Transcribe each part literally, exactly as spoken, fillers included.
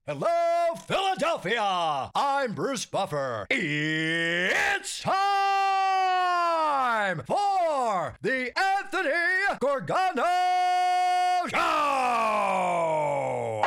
Hello, Philadelphia! I'm Bruce Buffer. It's time for the Anthony Gargano Show!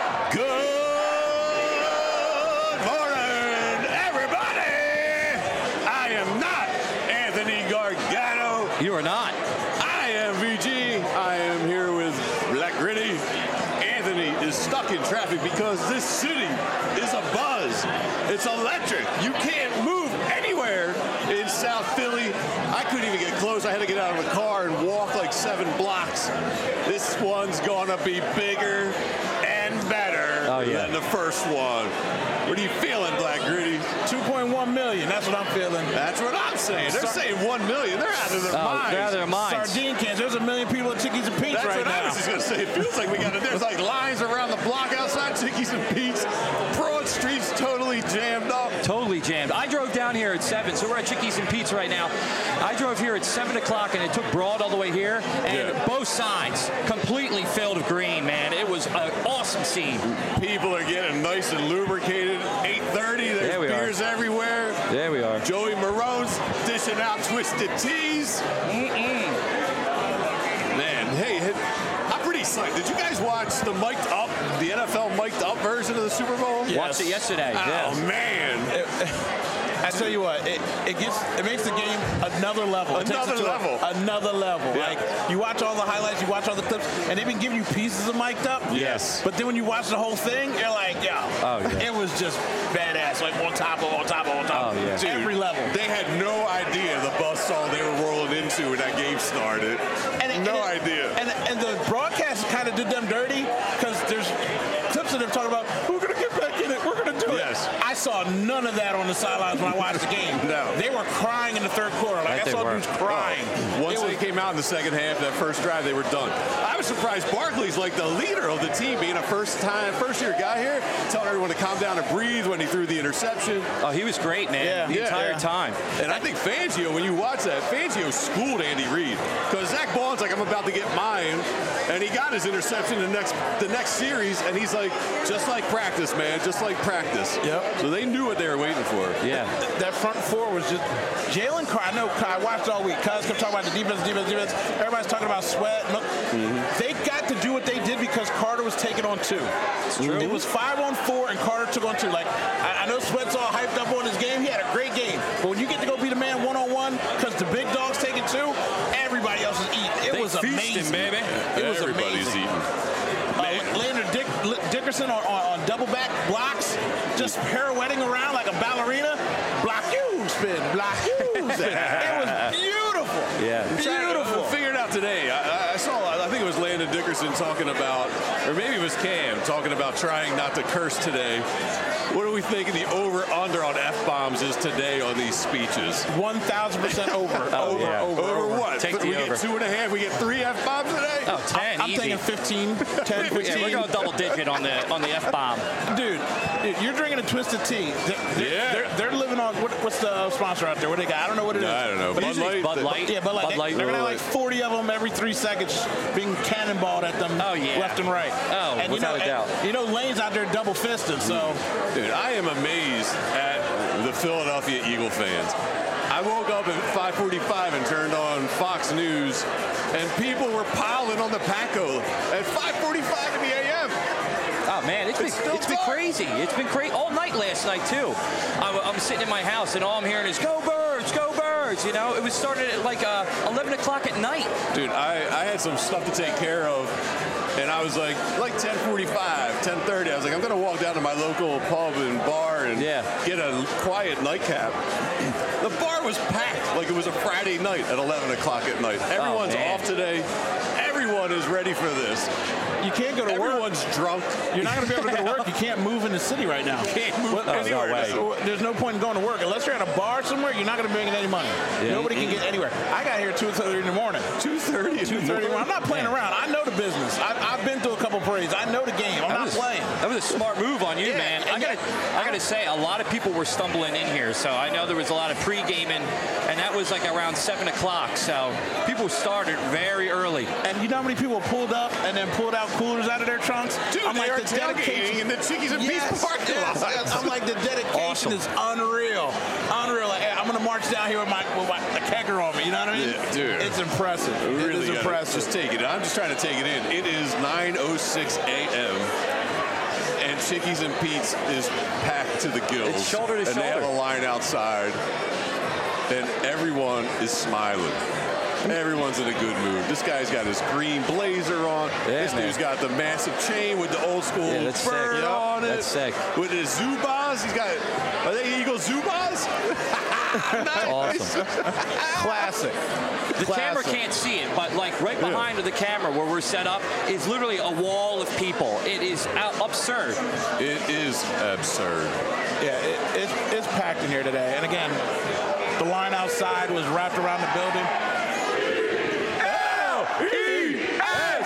Good morning, everybody! I am not Anthony Gargano. You are not. I am V G. I am here with Black Gritty. Anthony is stuck in traffic because this city is abuzz. It's electric. You can't move anywhere in South Philly. I couldn't even get close. I had to get out of the car and walk like seven blocks. This one's gonna be bigger and better oh, yeah. than the first one. What are you feeling, Black Gritty? two point one million. That's what I'm feeling. That's what I'm saying. They're Sar- saying one million. They're out of their oh, minds. They're out of their minds. Sardine cans. There's a million people at Chickies and Pete's That's right what now. I was just going to say. It feels like we got to, there's like lines around the block outside Chickies and Pete's. Broad Street's totally jammed up. Totally jammed. I drove down here at seven, so we're at Chickies and Pete's right now. I drove here at seven o'clock, and it took Broad all the way here, and Yeah. both sides completely filled with green, man. It was an awesome scene. People are getting nice and lubricated. eight thirty, there's There we are. beers everywhere. There we are. Joey Marone's dishing out Twisted Teas. Mm-mm. Man, hey, hey, I'm pretty psyched. Did you guys watch the mic'd up, the N F L mic'd up version of the Super Bowl? Yes. Watched it yesterday. Oh, yes. man. I tell you what, it, it gets it makes the game another level. It takes Another it to level. A, another level. Yeah. Like you watch all the highlights, you watch all the clips, and they've been giving you pieces of mic'd up. Yes. But then when you watch the whole thing, you're like, yeah, Oh, yeah. it was just badass. Like on top of, on top of, on top of. Oh, yeah. Dude, Every level. They had no idea the buzzsaw they were rolling into when that game started. And it- no and it- idea. And and the broadcast kind of did them dirty because there's clips of them talking about we're gonna get back in it, we're gonna do Yes. it. I saw none of that on the sidelines when I watched the game. No. They were crying in the third quarter. Like Right, I they saw were. dudes crying. Once It they was- came out in the second half, that first drive, they were done. I was surprised Barkley's like the leader of the team, being a first-time, first-year guy here, telling everyone to calm down and breathe when he threw the interception. Oh, he was great, man. Yeah. the Yeah, entire yeah. time. And I think Fangio, when you watch that, Fangio schooled Andy Reid. Because Zach Bond's like, I'm about to get mine. And he got his interception the next the next series, and he's like, just like practice, man, just like practice. Yep. So they knew what they were waiting for. Yeah. That front four was just Jalen Carter. I know I watched all week. Cuz kept talking about the defense, defense, defense. Everybody's talking about Sweat. Look, they got to do what they did because Carter was taking on two. true. It was five on four, and Carter took on two. Like I, I know Sweat's all hyped up on his game. He had a great game, but when you get to go beat a man one on one, because the big dog's taking two, everybody else is eating. It They was feasting, amazing, baby. It was Everybody's amazing. eating. Uh, Leonard Dick, Dickerson on, on, on double back blocks, just pirouetting around like a ballerina. Block you, spin, block you. Spin. It was beautiful. Yeah. Beautiful. I figured it out today. I, I saw, I think it was Landon Dickerson talking about, or maybe it was Cam talking about trying not to curse today. What are we thinking the over-under on F-bombs is today on these speeches? one thousand percent over. Oh, over, yeah. over, Over over. what? Take the we over. get two and a half. We get three F-bombs today? Oh, ten, I'm easy. thinking fifteen, ten, Yeah, fifteen. we're going double digit on the on the F bomb. Dude, dude, you're drinking a Twisted Tea. They're, they're, Yeah. they're, they're living on, what, what's the sponsor out there? What do they got? I don't know what it is. I don't know. But Bud usually- Light. Bud Light. Yeah, but like Bud they, Light. they're gonna have Bud like Light. forty of them every three seconds being cannonballed at them Oh, yeah. left and right. Oh, and without you know, a doubt. And, you know, Lane's out there double fisted, so Dude, I am amazed at the Philadelphia Eagle fans. I woke up at five forty-five and turned on Fox News, and people were piling on the Paco at five forty-five in the A M. Oh man, it's been It's still it's been dark. crazy. It's been crazy all night last night too. I'm, I'm sitting in my house and all I'm hearing is "Go Birds, go Birds!" You know, it was started at like uh, eleven o'clock at night. Dude, I, I had some stuff to take care of, and I was like, like ten forty-five, ten thirty, I was like, I'm going to walk down to my local pub and bar and Yeah. get a quiet nightcap. The bar was packed like it was a Friday night at eleven o'clock at night. Everyone's man. off today. Everyone is ready for this. you can't go to work. Everyone's drunk. You're not going to be able to go to work. You can't move in the city right now. Can't move Well, anywhere. no way. so there's no point in going to work. Unless you're at a bar somewhere, you're not going to be making any money. Nobody can get anywhere. I got here at two thirty in the morning. two thirty in two the thirty. morning. I'm not playing Man. around. I know the business. I, I've been through a couple parades. I know the game. I'm That not was, playing. that was a smart move on you, Yeah, man. I and gotta, I gotta say, a lot of people were stumbling in here, so I know there was a lot of pre-gaming, and that was like around seven o'clock. So people started very early. And you know how many people pulled up and then pulled out coolers out of their trunks? Dude, I'm they like, are the tailgating dedication in the Chickies and yes, Pete's parking yes, lot. yes. I'm like, the dedication Awesome. is unreal. Unreal. Like, hey, I'm going to march down here with my, with my a kegger on me. You know what I mean? Yeah, dude. It's impressive. We it really is gotta impressive. Just take it. I'm just trying to take it in. It is nine oh six a.m. and Chickies and Pete's is packed to the gills. It's shoulder to and shoulder. they have a line outside, and everyone is smiling. Everyone's in a good mood. This guy's got his green blazer on. Yeah, this man. dude's got the massive chain with the old school Yeah, that's sick. bird Yep, on it. that's sick. With his Zubas. He's got, are they Eagle Zubas? Awesome. Classic. The camera Classic. can't see it, but like right behind the camera where we're set up is literally a wall of people. It is out- absurd. It is absurd. Yeah, it, it's, it's packed in here today. And again, the line outside was wrapped around the building. L E S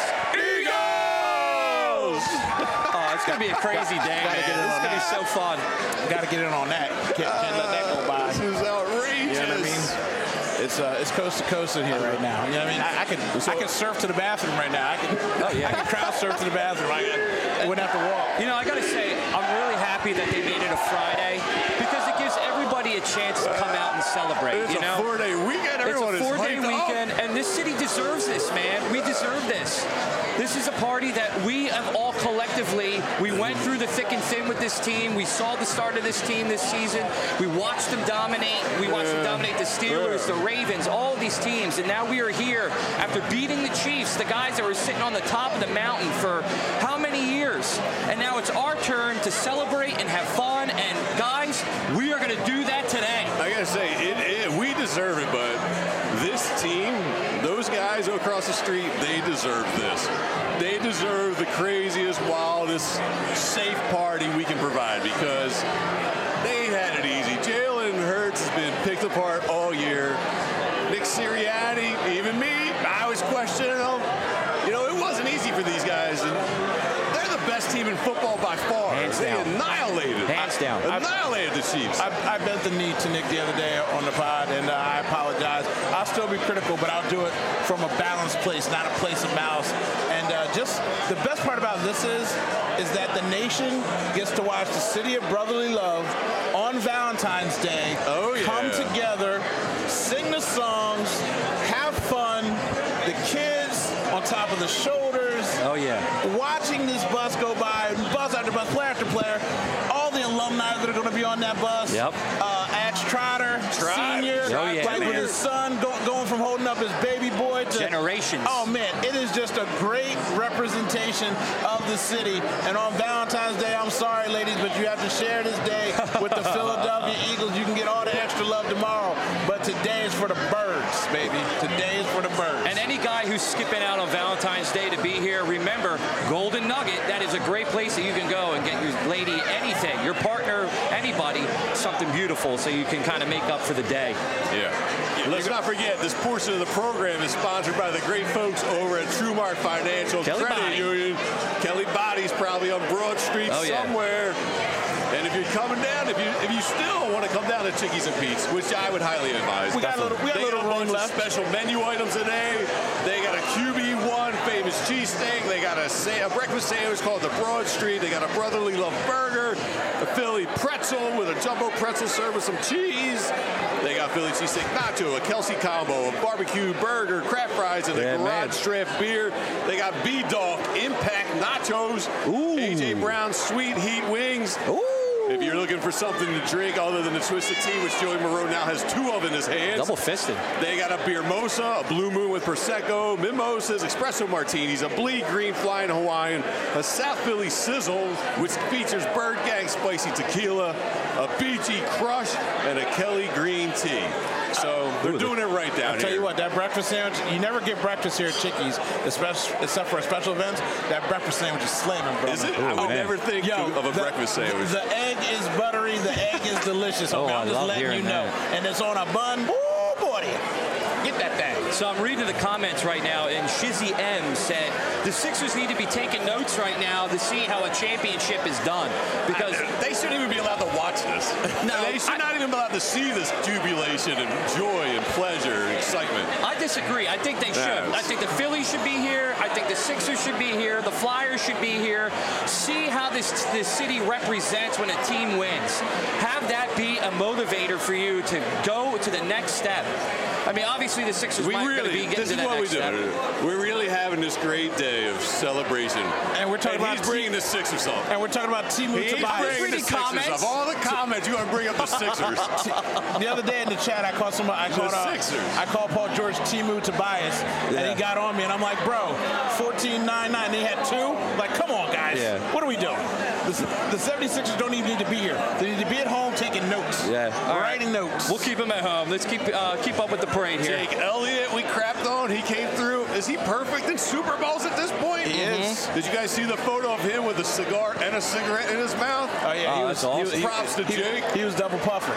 Eagles! Oh, it's gonna be a crazy day, Gotta man. get in This is on gonna be that. so fun. Got to get in on that. Can't, can't let that go by. This is outrageous. You know what I mean? It's uh, it's coast to coast in here right now. You know what I mean? I, I can I can surf to the bathroom right now. I can Oh, yeah. I can crowd surf to the bathroom. I, I wouldn't have to walk. You know, I gotta say, I'm really happy that they made it a Friday because it gives everybody a chance to come out and celebrate. It's you know, a four-day weekend. it's Everyone a four-day is hyped up. weekend, and this city deserves this, man. We deserve this. This is a party that we have all collectively, we went through the thick and thin with this team. We saw the start of this team this season. We watched them dominate. We watched them dominate the Steelers, the Ravens, all of these teams. And now we are here after beating the Chiefs, the guys that were sitting on the top of the mountain for how many years? And now it's our turn to celebrate and have fun. And guys, we are going to do that today. I gotta say, it, it, we deserve it, but this team, those guys across the street, they deserve this. They deserve the craziest, wildest, safe party we can provide because they had it easy. Jalen Hurts has been picked apart all year. Nick Sirianni, even me, I was questioning them. You know, it wasn't easy for these guys, and they're the best team in football by far. Hands they down. annihilated, Hands down. annihilated the Chiefs. I, I bent the knee to Nick the other day on the pod, and uh, I apologize. I'll still be critical, but I'll do it from a balanced place, not a place of malice. And uh, just the best part about this is, is that the nation gets to watch the city of brotherly love on Valentine's Day. Oh, yeah. Come together, sing the songs, have fun. The kids on top of the shoulders. Oh, yeah. Watching this bus go by, bus after bus, player after player, all the alumni that are going to be on that bus. Yep. Uh, Ash Trotter, Trotter. senior, Oh, yeah, like man. with his son go, going from holding up his baby boy to Generations. Oh man, it is just a great representation of the city. And on Valentine's Day, I'm sorry, ladies, but you have to share this day with the Philadelphia Eagles. You can get all the extra love tomorrow, but today is for the birds, baby. Today is for the birds. And any guy who's skipping out on Valentine's Day to be here, remember, Golden Nugget, that is a great place that you can go and get your lady anything, your partner, anybody, something beautiful so you can kind of make up for the day. Yeah. Let's not forget, this portion of the program is sponsored by the great folks over at TrueMark Financial Kelly Credit Body. Union. Kelly Body's probably on Broad Street Oh, yeah. somewhere. And if you're coming down, if you if you still want to come down to Chickies and Pete's, which I would highly advise. We got a little- we got a they little got a room bunch left. of special menu items today. They got a Q B one famous cheesesteak. They got a, sa- a breakfast sandwich called the Broad Street. They got a Brotherly Love burger, a Philly pretzel with a jumbo pretzel served with some cheese. They got Philly cheesesteak nacho, a Kelsey combo, a barbecue burger, crab fries, and a Yeah, man. garage draft beer. They got B-Dog Impact nachos, Ooh. A J Brown Sweet Heat wings. Ooh. If you're looking for something to drink other than the Twisted Tea, which Joey Moreau now has two of in his hands, Double fisted. they got a Beer Mosa, a Blue Moon with Prosecco, Mimosas, Espresso Martinis, a Bleed Green Flying Hawaiian, a South Philly Sizzle, which features Bird Gang Spicy Tequila, a B G Crush, and a Kelly Green Tea. So they're doing it right down I'll tell here. you what, that breakfast sandwich, you never get breakfast here at Chickies, especially, except for special events. That breakfast sandwich is slamming, bro. Is it? I would man. never think Yo, of a the- breakfast sandwich. The egg is buttery. The egg is delicious. Oh, Okay, I I'm just love letting hearing you know. that. And it's on a bun. Ooh, snowboarding. Get that thing. So I'm reading the comments right now, and Shizzy M said the Sixers need to be taking notes right now to see how a championship is done. Because I, they shouldn't even be allowed to watch this. No, they should I, not even be allowed to see this jubilation and joy and pleasure and excitement. I disagree. I think they should. Yes. I think the Phillies should be here. I think the Sixers should be here. The Flyers should be here. See how this this city represents when a team wins. Have that be a motivator for you to go to the next step. I mean, obviously the Sixers We might really, be getting this to is that what we next do. step. We're really having this great day of celebration. And we're talking and about he's bringing the Sixers up. And we're talking about Timu He's Tobias. bringing the Reading Sixers comments. up. All the comments, you want to bring up the Sixers. The other day in the chat, I called somebody. I called, uh, Sixers. I called Paul George Timu Tobias, Yeah. and he got on me, and I'm like, bro, fourteen nine nine. They had two. Like, come on, guys. Yeah. What are we doing? The, the seventy-sixers don't even need to be here. They need to be at home taking notes. Yeah. All right. Writing notes. We'll keep him at home. Let's keep uh, keep up with the parade here. Jake Elliott, we crapped on. He came through. Is he perfect in Super Bowls at this point? He is. Did you guys see the photo of him with a cigar and a cigarette in his mouth? Oh yeah, Oh, he that's was. awesome. He, he, Props to he, Jake. He was double puffing.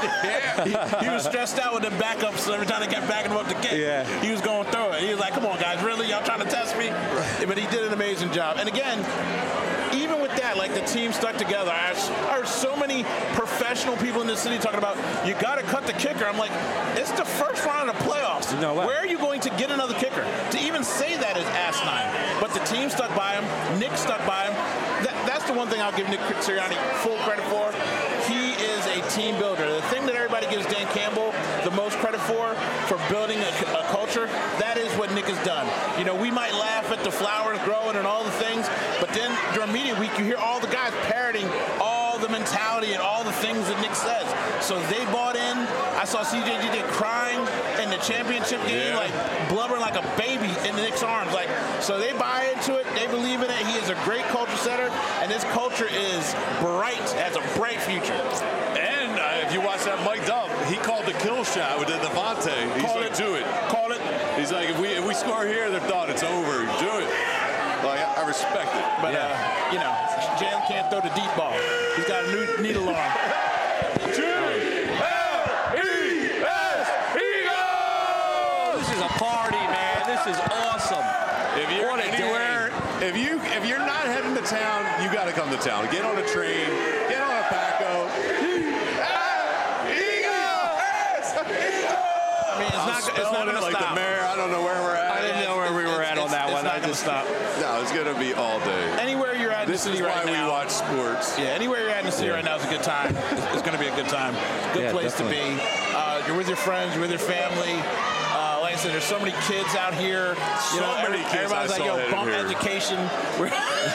Yeah. he, he was stressed out with the backups. So every time they kept backing him up to kick, Yeah. he was going through it. He was like, "Come on, guys, really? Y'all trying to test me?" But he did an amazing job. And again, even with that, like the team stuck together. I heard so many professional people in the city talking about you got to cut the kicker. I'm like, it's the first round of the playoffs. No way. Where are you going to get another kicker? To even say that is asinine. But the team stuck by him. Nick stuck by him. That, that's the one thing I'll give Nick Sirianni full credit for. He is a team builder. The thing that everybody gives Dan Campbell the most credit for, for building a, a culture, that is what Nick has done. You know, we might laugh at the flowers growing and all the things, but then during media week, you hear all the guys parroting all the mentality and all the things that Nick says. So they bought in. I saw C J G crying in the championship game, Yeah. like blubbering like a baby in Nick's arms. Like, so they buy into it. They believe in it. He is a great culture setter, and this culture is bright, has a bright future. And uh, if you watch that Mike Dub, he called the kill shot with the Devontae. He's Call like, it. do it. Call it. He's like, if we if we score here, they're done. It's over. Do it. Like, I, I respect it. But, uh, you know, Jalen can't throw the deep ball. He's got a new needle arm. This is a party, man. This is awesome. If you're What a anywhere, if you if you're not heading to town, you got to come to town. Get on a train. Get on a Paco. I mean, it's not, it's not going to like stop. the mayor. I don't know where we're at. I didn't know where we were at on that It's one. not I going to just stop. No, it's gonna be all day. Anywhere you're at in the This city is why right we now. watch sports. Yeah, anywhere you're at in the city right now is a good time. It's, it's going to be a good time. Good Yeah, place definitely. to be. Uh, you're with your friends, you're with your family. Uh, like I said, there's so many kids out here. You So know, many every- kids Everybody's I like, saw yo, headed bump here. education. We're-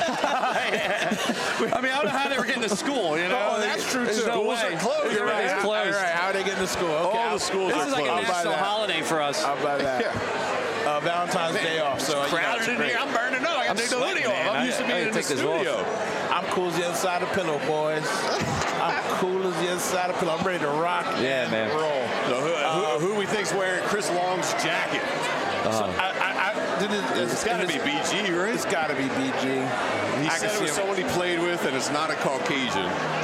I mean, I don't know how they were getting to school, you know? Oh, that's true, There's too. no Schools way. are closed, You're right, right? it's closed. All right, how are they getting to school? Okay, All I'll- the schools This are is like a closed. buy national that. holiday for us. How about that? Uh, Valentine's Day off. So, you know, Crowded it's in great. here. I'm burning up. I I'm gotta take the sweating, hoodie man. off. I'm I- used to I being gotta in the take this off. studio. I'm cool as the other side of the pillow, boys. I'm cool as the other side of the pillow. I'm ready to rock Yeah, and man. roll. So who, who, who we think's wearing Chris Long's jacket? So I, I, I did it. It's got to be B G, right? It's got to be B G. He I said can it was see him. someone he played with, and it's not a Caucasian.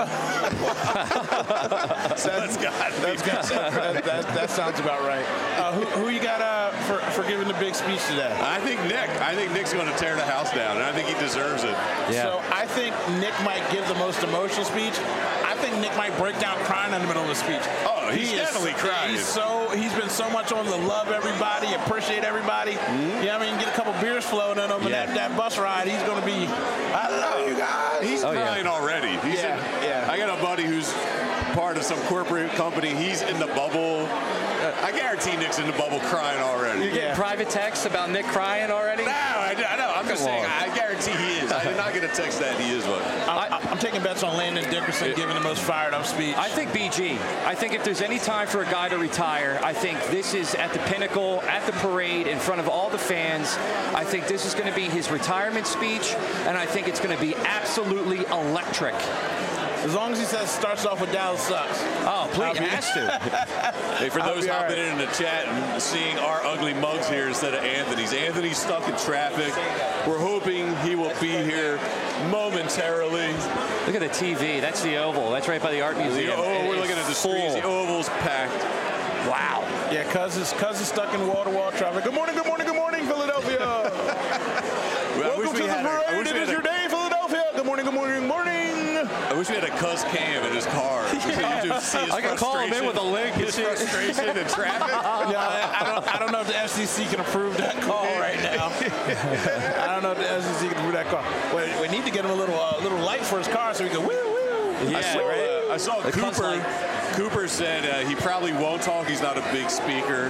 That's got to be. That's got, that, that, that sounds about right. Uh, who, who you got uh, for, for giving the big speech today? I think Nick. I think Nick's going to tear the house down, and I think he deserves it. Yeah. So I think Nick might give the most emotional speech. I think Nick might break down crying in the middle of the speech. Oh, he's He is- definitely crying. He's so he's been so much on the love everybody, appreciate everybody. Mm-hmm. Yeah, I mean, get a couple beers flowing in him, and Yeah. that, that bus ride, he's going to be. I love you guys. He's Oh, yeah. crying already. He's Yeah, in, yeah. I got a buddy who's part of some corporate company. He's in the bubble. I guarantee Nick's in the bubble crying already. You're getting Yeah. private texts about Nick crying already? No, I, I know. I'm just Come saying. on. I guarantee he is. I did not get a text that he is one. I'm, I'm taking bets on Landon Dickerson giving the most fired up speech. I think B G. I think if there's any time for a guy to retire, I think this is at the pinnacle, at the parade, in front of all the fans. I think this is going to be his retirement speech, and I think it's going to be absolutely electric. As long as he says starts off with Dallas sucks. Oh, please, I'll it be- has to. Hey, for I'll those be all hopping right. in the chat and seeing our ugly mugs here instead of Anthony's. Anthony's stuck in traffic. We're hoping he will be here momentarily. Look at the T V. That's the Oval. That's right by the Art The, Museum. oh, It we're is looking at the full. screens. The Oval's packed. Wow. Yeah, cuz is cuz is stuck in wall-to-wall traffic. Good morning, good morning, good morning, Philadelphia. Well, Welcome to the a, parade. It is your day, Philadelphia. Good morning, good morning, good morning. I wish we had a Cuz Cam in his car. Yeah. You just see his I can call him in with a link. His frustration and traffic. Yeah, I, I don't I don't know if the F C C can approve that call right now. I don't know if the F C C can approve that call. We, we need to get him a little uh, little light for his car so he can woo woo. Yeah, I saw, right. uh, I saw The Cuz Cooper. light. Cooper said uh, he probably won't talk. He's not a big speaker.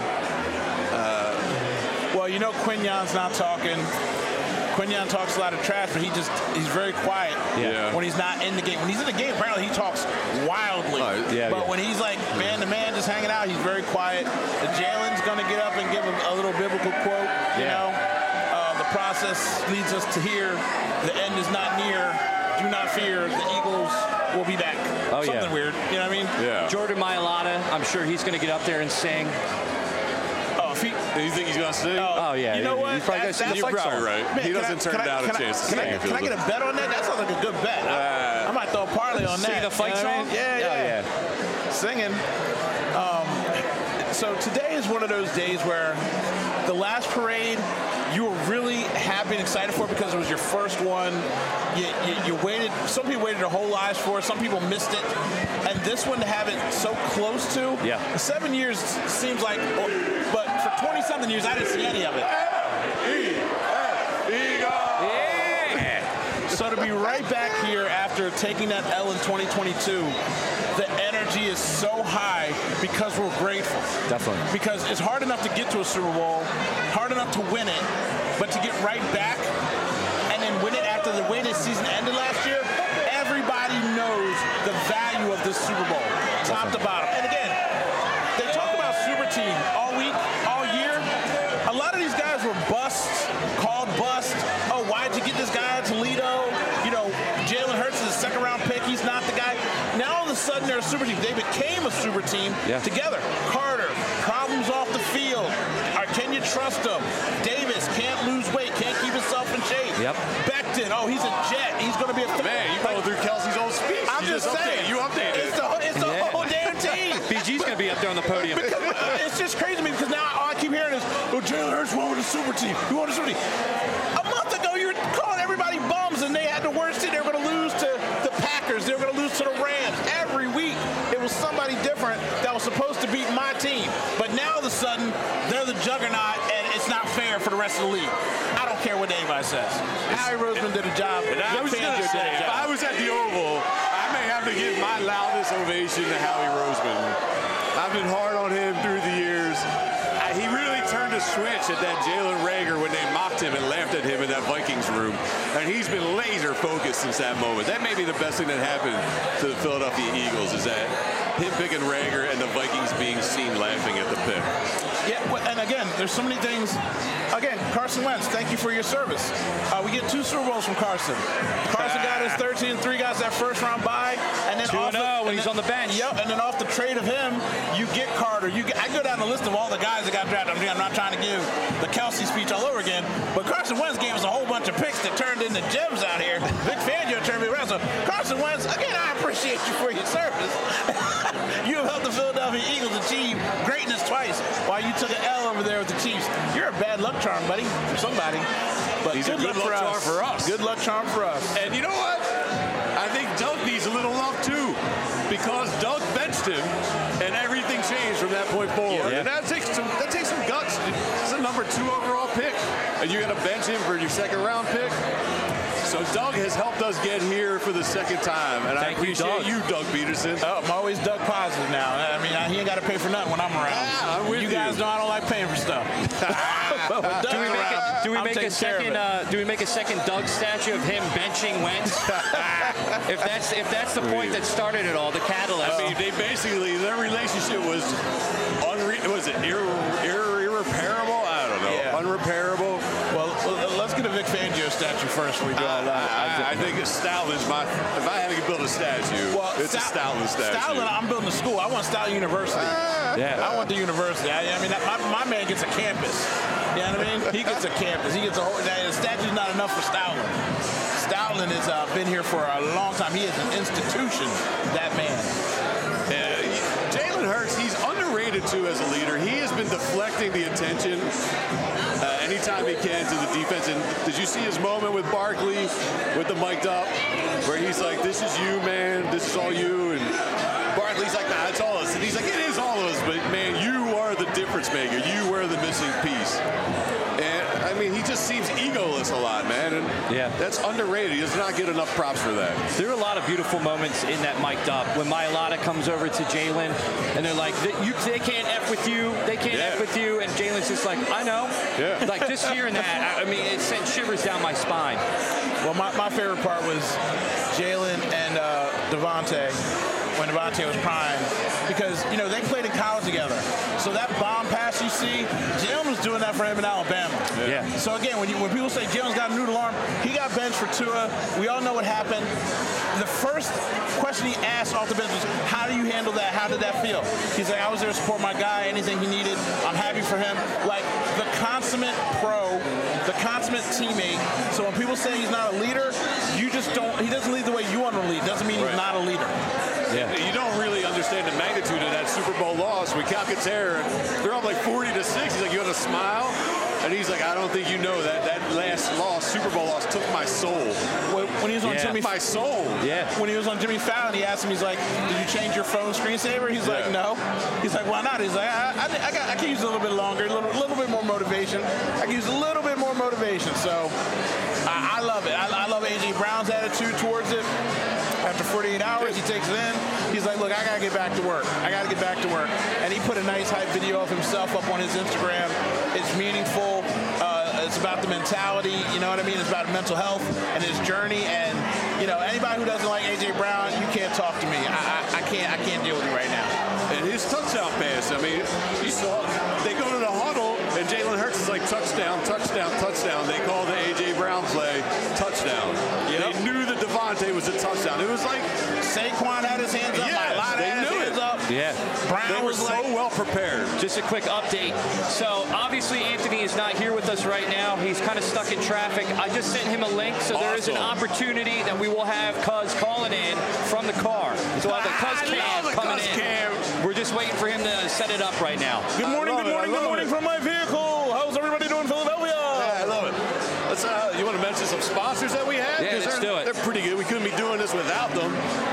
Well, you know Quignon's not talking. Quignon talks a lot of trash, but he just he's very quiet Yeah. when he's not in the game. When he's in the game, apparently he talks wildly. Oh, yeah, but yeah. when he's like man to man, just hanging out, he's very quiet. And Jalen's going to get up and give him a little biblical quote. You Yeah. know, uh, the process leads us to here. The end is not near. Do not fear. The Eagles will be back. Oh, yeah. Something weird. You know what I mean? Yeah. Jordan Mailata, I'm sure he's going to get up there and sing. Oh, if he, Do you think he's gonna sing? Oh, yeah. You know what? He's probably That's- gonna sing the You're fight probably song. right. Man, he can doesn't I- turn can I- down can a I- chance to can sing. I, if he can I doesn't. get a bet on that? That sounds like a good bet. I, Uh, I might throw a parlay on that. Sing the fight You know what I song? mean? Yeah, yeah. Oh, Singing. Um, so today is one of those days where the last parade you were really happy and excited for because it was your first one. You, you, you waited. Some people waited their whole lives for it. Some people missed it. And this one to have it so close to. Yeah. Seven years seems like, but for twenty-something years, I didn't see any of it. Yeah. So to be right back here after taking that L in twenty twenty-two, the energy is so high because we're grateful. Definitely. Because it's hard enough to get to a Super Bowl, hard enough to win it, but to get right back and then win it after the way this season ended last year, everybody knows the value of this Super Bowl, top to bottom. And again, they talk about Super Team all week, all year. A lot of these guys were busts, called bust. Oh, why'd you get this guy Toledo? You know, Jalen Hurts is a second round pick. He's not the guy. Now all of a sudden they're a super team. They became a super team Yeah. together. Carter, problems off the field. Or can you trust him? Davis can't lose weight, can't keep himself in shape. Yep. Becton, oh, he's a jet. He's going to be a Man, you going through Kelsey's old speech. I'm you just updated- saying. You updated it. It's the, it's the Yeah. whole damn team. B G's going to be up there on the podium. Because uh, it's just crazy to me because now all I keep hearing is, oh, Jalen Hurts won with a super team. He won with a super team. A month ago, you were calling everybody bums, and they had the worst team. They were going to lose to the Packers. They were going to lose to the Rams. Every week, it was somebody different that was supposed to beat my team. But now, all of a sudden, they're the juggernaut, and it's not fair for the rest of the league. I don't care what anybody says. Howie Roseman did a job. And I was Vic going Fangio to did say, a if job. I was at the Oval, I may have to give my loudest ovation to Howie Roseman. I've been hard on him through the years. I, he really turned a switch at that Jalen Reagor when they mocked him and laughed at him in that Vikings room. And he's been laser focused since that moment. That may be the best thing that happened to the Philadelphia Eagles is that him picking Reagor and the Vikings being seen laughing at the pick. Yeah, well, and again, there's so many things. Again, Carson Wentz, thank you for your service. Uh, we get two Super Bowls from Carson. Carson got his thirteen and three, got that first round bye, and then two off and oh the, when he's then- on the bench. Yep, and then off the trade of him, you get Carter. You get, I go down the list of all the guys that got drafted. I mean, I'm not trying to give the Kelsey speech all over again, but Carson Wentz gave us a whole bunch of picks that turned into gems out here. Vic Fangio turned me around. So Carson Wentz, again, I appreciate you for your service. You have helped the Philadelphia Eagles achieve greatness twice while you took an L over there with the Chiefs. You're a bad luck charm, buddy, for somebody. But He's a good, good luck, luck for, charm us. for us. Good luck charm for us. And you know what? I think Doug needs a little love too, because Doug benched him, and everything changed from that point forward. Yeah. And that takes some that takes some guts. It's a number two overall pick, and you got to bench him for your second round pick. So Doug has helped us get here for the second time, and Thank I you, appreciate Doug. you, Doug Peterson. Oh, I'm always Doug positive now. I mean, he ain't got to pay for nothing when I'm around. Yeah, I'm with you you. guys know I don't like paying for stuff. But when Doug's Do we make around, a, do we I'm make a taking care of second? it. Uh, do we make a second Doug statue of him benching Wentz? if that's if that's the point that started it all, the catalyst. I mean, they basically their relationship was unre- was it irre- irre- irreparable? I don't know. Yeah. Unrepairable. Well, well, let's get a Vic Fangio statue first before we do all that. I, I, I think Stoulin's my. If I had to build a statue, it's a Stoutland statue. Stoutland, I'm building a school. I want Stoutland University. Yeah. I want the university. I, I mean, that, my, my man gets a campus. You know what I mean? He gets a campus. He gets a whole. The statue's not enough for Stoutland. Stoutland has uh, been here for a long time. He is an institution. That man. Uh, Jalen Hurts, he's underrated underrated, too, as a leader. He has been deflecting the attention uh, anytime he can to the defense. And did you see his moment with Barkley, with the mic'd up, where he's like, this is you, man. This is all you. And Barkley's like, nah, it's all us. And he's like, it is all of us. But, man, you are the difference maker. You were the missing piece. And, I mean, he just seems egoless a lot, man. And yeah. that's underrated. He does not get enough props for that. There are a lot of beautiful moments in that mic'd up. When Mailata comes over to Jalen, and they're like, they, you, they can't F with you. They can't yeah. F with you. And Jalen's just like, I know. Yeah. Like, just hearing that, I mean, it sent shivers down my spine. Well, my, my favorite part was Jalen and uh, Devontae, when Devontae was prime, because, you know, they played in college together. So that bomb pass you see, Jalen was doing that for him in Alabama. Yeah. yeah. So, again, when you when people say Jalen's got a noodle arm, he got benched for Tua. We all know what happened. The first question he asked off the bench was, how do you handle that? How did that feel? He's like, I was there to support my guy, anything he needed. I'm happy for him. Like, the consummate pro, the consummate teammate. So when people say he's not a leader, you just don't, he doesn't lead the way you want to lead. Doesn't mean right. he's not a leader. Yeah. You don't really understand the magnitude of that Super Bowl loss. With Calcaterra, they're up like forty to six. He's like, you want to smile? And he's like, I don't think you know that that last loss, Super Bowl loss, took my soul. When, when he was on yeah. Jimmy, my soul. Yeah. When he was on Jimmy Fallon, he asked him, he's like, did you change your phone screensaver? He's yeah. like, no. He's like, why not? He's like, I, I, I, got, I can use a little bit longer, a little, little bit more motivation. I can use a little bit more motivation. So I, I love it. I, I love A J Brown's attitude towards it. After forty-eight hours, he takes it in. He's like, look, I got to get back to work. I got to get back to work. And he put a nice hype video of himself up on his Instagram. It's meaningful. Uh, it's about the mentality. You know what I mean? It's about mental health and his journey. And, you know, anybody who doesn't like A J Brown, you can't talk to me. I, I, I can't I can't deal with you right now. And his touchdown pass, I mean, you saw, they go to the huddle, and Jalen Hurts is like, touchdown, touchdown, touchdown. They call the A J Brown play touchdown. Yep. They knew that Devontae was a touchdown. It was like Saquon had his hands up. Yes, Mailata they had his knew hands it. up. Yeah. Brown they were was so like, well prepared. Just a quick update. So obviously Anthony is not here with us right now. He's kind of stuck in traffic. I just sent him a link, so awesome. there is an opportunity that we will have Cuz calling in from the car. So we'll have the Cuz cam the coming Cuz in. Cam. We're just waiting for him to set it up right now. good morning, good it, morning, good morning it. from my vehicle. How's everybody doing in Philadelphia? Yeah, I love it. Let's, uh, you want to mention some sponsors that we have? Yeah, let's they're, do it. They're pretty good. We couldn't be doing this without them.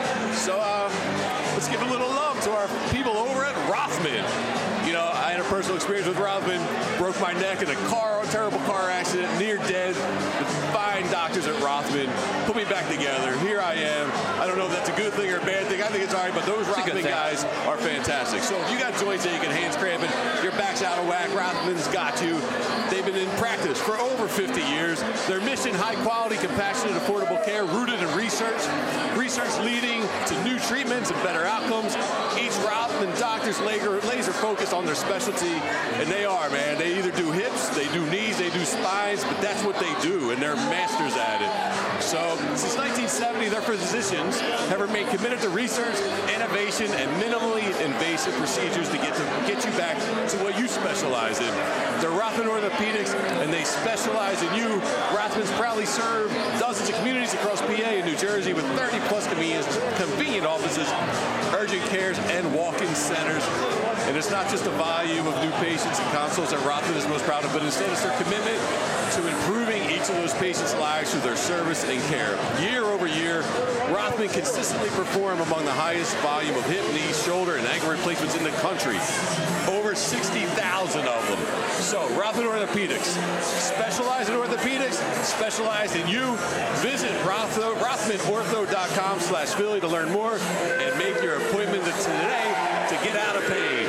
So uh, let's give a little love to our people over at Rothman. You know, I had a personal experience with Rothman. Broke my neck in a car, a terrible car accident, near dead. The fine doctors at Rothman put me back together. Here I am. I don't know if that's a good thing or a bad thing. I think it's all right, but those Rothman guys are fantastic. So if you got joints aching, hands cramping, your back's out of whack, Rothman's got you. They've been in practice for over fifty years. Their mission, high quality, compassionate, affordable care, rooted in research. Research leading to new treatments and better outcomes. Each Rothman doctor's laser, laser focused on their specialty, and they are, man. They either do hips, they do knees, they do spines, but that's what they do, and they're masters at it. So since nineteen seventy, their physicians have remained committed to research, innovation, and minimally invasive procedures to get to get you back to what you specialize in. They're Rothman Orthopedics, and they specialize in you. Rothman's proudly serve dozens of communities across P A and New Jersey with thirty plus convenient, convenient offices, urgent cares, and walk-in centers. And it's not just the volume of new patients and consults that Rothman is most proud of, but instead it's their commitment to improving each of those patients' lives through their service and care. Year over year, Rothman consistently perform among the highest volume of hip, knee, shoulder, and ankle replacements in the country. Over sixty thousand of them. So, Rothman Orthopedics. Specialize in orthopedics, specialize in you. Visit Rothman Ortho dot com slash Philly to learn more and make your appointment today to get out of pain.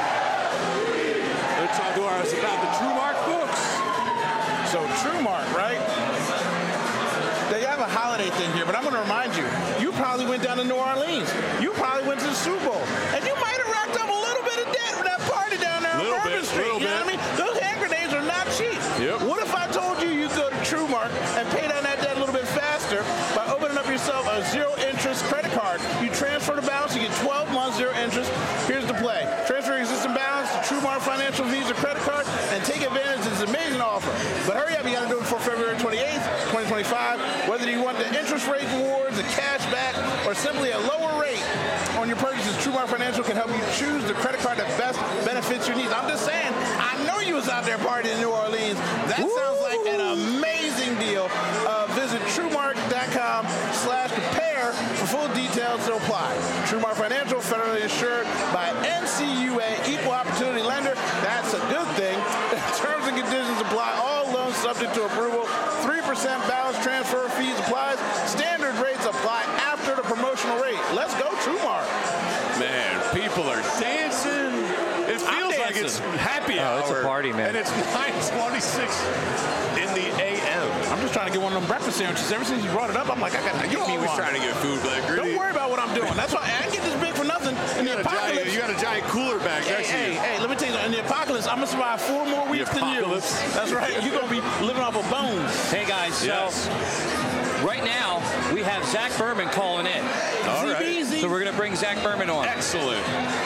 Let's talk to us about the TrueMark books. So TrueMark, right? They have a holiday thing here, but I'm going to remind you, you probably went down to New Orleans. You probably went to the Super Bowl. And you might have racked up a little bit of debt with that party down there on Bourbon Street. Little you know bit. what I mean? Those hand grenades are not cheap. Yep. What if I told you you go to TrueMark and pay down that debt a little bit faster by opening up yourself a zero-interest credit card? You transfer the balance, you get twelve months, zero interest. Here's the play. Transfer your existing balance to TrueMark Financial Visa credit card and take advantage of this amazing offer. But hurry up, you got to do it before February twenty-eighth, twenty twenty-five. Whether you want the interest rate rewards, the cash back, or simply simply a lower rate on your purchases. TrueMark Financial can help you choose the credit card that best benefits your needs. I'm just saying, I know you was out there partying in New Orleans. That Woo! Sounds like an amazing deal. Uh, visit TrueMark.com slash compare for full details to apply. TrueMark Financial, federally insured by N C U A, equal opportunity lender. That's a good thing. Terms and conditions apply. All loans subject to approval. three percent balance transfer fees applies. Standard rates apply after the promotional rate. Let's go, TrueMark. Man, people are dancing. It feels like it's happy hour. Oh, it's a party, man. And it's nine twenty-six in the A M. I'm just trying to get one of them breakfast sandwiches. Ever since you brought it up, I'm like, I got to get me You're always one. trying to get food, Black Gritty. Don't worry about what I'm doing. That's why I ain't get this big for nothing. In You the got, a giant, apocalypse, you got a giant cooler bag hey, next to hey, you. hey, let me tell you, in the apocalypse, I'm going to survive four more weeks than you. apocalypse. That's right. You're going to be living off of bones. Hey, guys, so Yes. right now we have Zach Berman calling in. All right. So we're going to bring Zach Berman on. Excellent.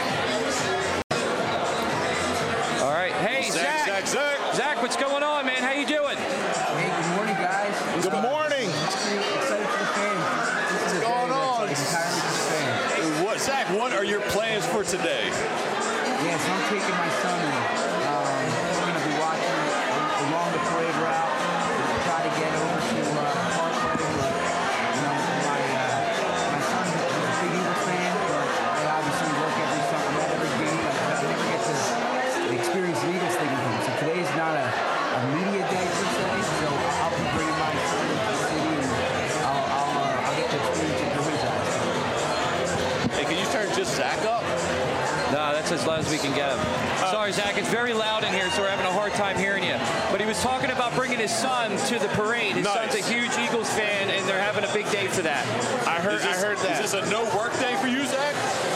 All right. Hey, Zach. Zach, Zach, Zach. Zach, what's going on, man? How you doing? Hey, good morning, guys. Good morning. Excited for the fans. What's going on? Entirely for the fans. What, Zach, what are your plans for today? Yeah, so I'm taking my son in. Um, we're going to be watching uh, along the parade route. We'll try to get over to uh, Parkway. But, you know, my, uh, my son is a big Eagles fan, but I obviously work every summer, not every game. I, I never get to experience the Eagles thing with him. So today is not a, a media day per se, so I'll be bringing my son to the city and I'll, I'll, uh, I'll get to experience it through his eyes. Hey, can you turn just Zach up? No, that's as loud as we can get him. Sorry, Zach. It's very loud in here, so we're having a hard time hearing you. But he was talking about bringing his son to the parade. His Nice. son's a huge Eagles fan, and they're having a big day for that. I heard, Is this, I heard that. Is this a no work day for you, Zach?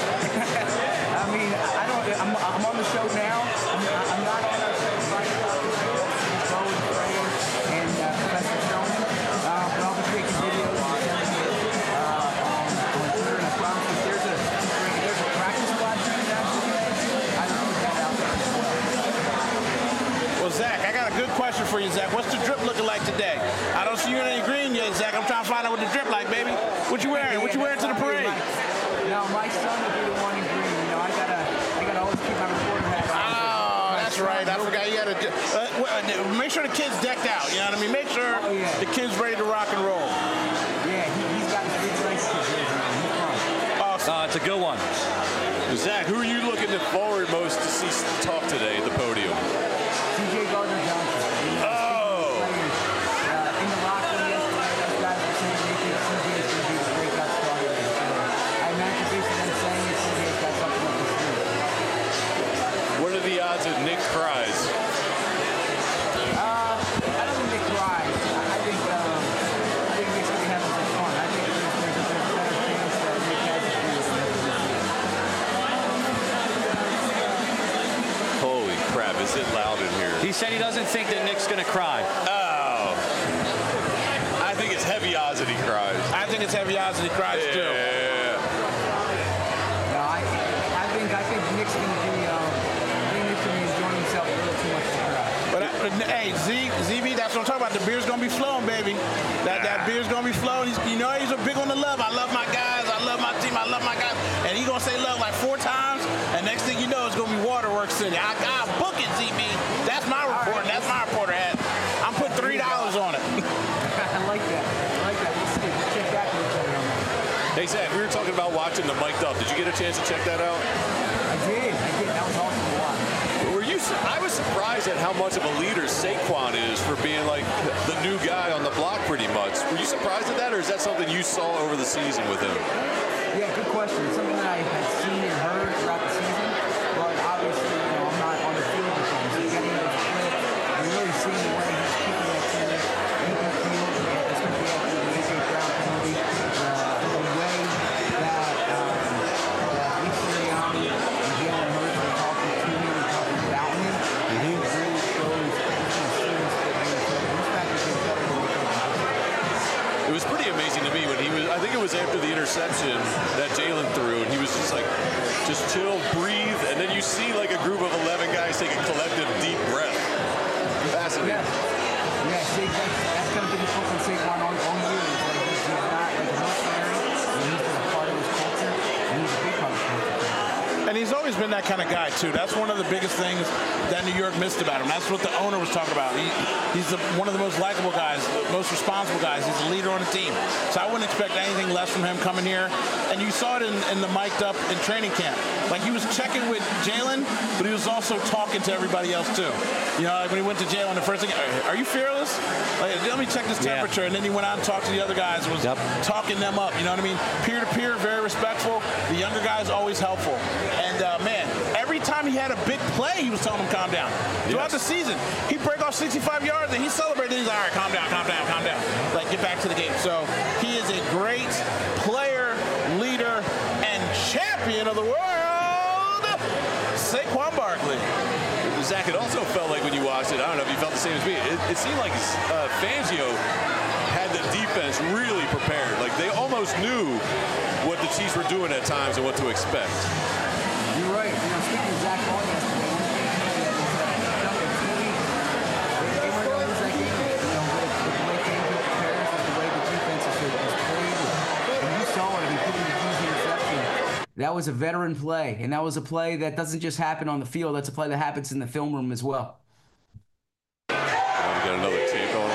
I mean, I don't. I'm, I'm on the show now. I'm, I'm not on a right now. Bo and Freya and uh, Professor Showman. Uh, but I'll be taking videos and sending it uh, on, on Twitter. And I promise you, there's a there's a practice squad coming down today. I don't put that out there as well. Well, Zach, I got a good question for you, Zach. What's the drip looking like today? I don't see you in any green yet, Zach. I'm trying to find out what the drip like, baby. What you wearing? What you wearing to the parade? No, my son will be the one in green. You know, I gotta, I gotta always keep my reporter hat on. Oh, that's right. I forgot you had to uh, well, uh, make sure the kid's decked out. You know what I mean? Make sure Oh, yeah. the kid's ready to rock and roll. Yeah, he, he's got his big nice kids around. He's fun. Awesome. Uh, it's a good one. Zach, who are you looking forward most to see talk today at the podium? C J Gardner-Johnson. You know, Oh. players, uh, in the locker room yesterday, those guys were saying they think C J is going to be the breakout star today. So I imagine based on them saying it, C J's got something up his sleeve. What are the odds that Nick cries? Uh, I don't think Nick cries. I, I think um, I think Nick's going to have some fun. I think there's, there's, a, there's a better chance that Nick has to do with Holy crap, is it loud in here? He said he doesn't think that Nick's going to cry. Oh. I think it's heavy odds that he cries. I think it's heavy odds that he cries too. Yeah. No, I, I think I think Nick's going to be um, I think Nick's going to be enjoying himself a little too much to cry. But, I, but hey, Z, Z B, that's what I'm talking about. The beer's gonna be flowing, baby. That that beer's gonna be flowing. He's, you know, he's a big on the love. I love my guys. I love my team. I love my guys. And he's gonna say love like four times. And next thing you know, it's gonna be Waterworks City. I got book it, Z B. That's my report. That's my reporter hat. I'm putting three dollars on it. I like that. I like that. We'll see. We'll check back with each other on that. Hey, Zach, we were talking about watching the Mic'd Up. Did you get a chance to check that out? I did. I did. That was awesome to watch. Were you? su- I was surprised at how much of a leader Saquon is for being like the new guy on the block pretty much. Were you surprised at that, or is that something you saw over the season with him? Yeah, good question. It's something that I had seen and heard throughout the season, but obviously, you know, I'm not on the field with him. So getting those clips and really seeing the way he's keeping that team in the field, especially after the A J Brown penalty, uh, the way that um, uh, Lisa Leoni and Jalen Hurts were talking to him and talking about him, I think it really shows how serious that he is. So this fact is better than we thought. It was pretty amazing to me when he was. I think it was after the interception that Jalen threw, and he was just like, just chill, breathe, and then you see like a group of eleven guys take a collective deep breath. Fascinating. Yeah, yeah. See, that's, that's going to be the focus on Saquon all, all year. Is like he's not like a mercenary, and he's just a part of his And he's always been that kind of guy, too. That's one of the biggest things that New York missed about him. That's what the owner was talking about. He, he's the, one of the most likable guys, most responsible guys. He's a leader on the team. So I wouldn't expect anything less from him coming here. And you saw it in, in the mic'd up in training camp. Like, he was checking with Jalen, but he was also talking to everybody else, too. You know, like when he went to Jalen, the first thing, are you fearless? Like, let me check this temperature. Yeah. And then he went out and talked to the other guys, was yep. talking them up. You know what I mean? Peer-to-peer, very respectful. The younger guys always helpful. And, uh, man, every time he had a big play, he was telling him calm down. Throughout yes. the season, he'd break off sixty-five yards, and he celebrated. He's like, all right, calm down, calm down, calm down. Like, get back to the game. So he is a great player, leader, and champion of the world, Saquon Barkley. Zach, it also felt like when you watched it, I don't know if you felt the same as me, it, it seemed like uh, Fangio had the defense really prepared. Like, they almost knew what the Chiefs were doing at times and what to expect. You're right. You know, speaking of Zach Ball yesterday, they were going to lose that game. You know, with, with the way Fangio prepares, with the way the defense is, is played. And you saw it. I mean, putting the Chiefs interception. That was a veteran play, and that was a play that doesn't just happen on the field. That's a play that happens in the film room as well. Oh, we got another take on.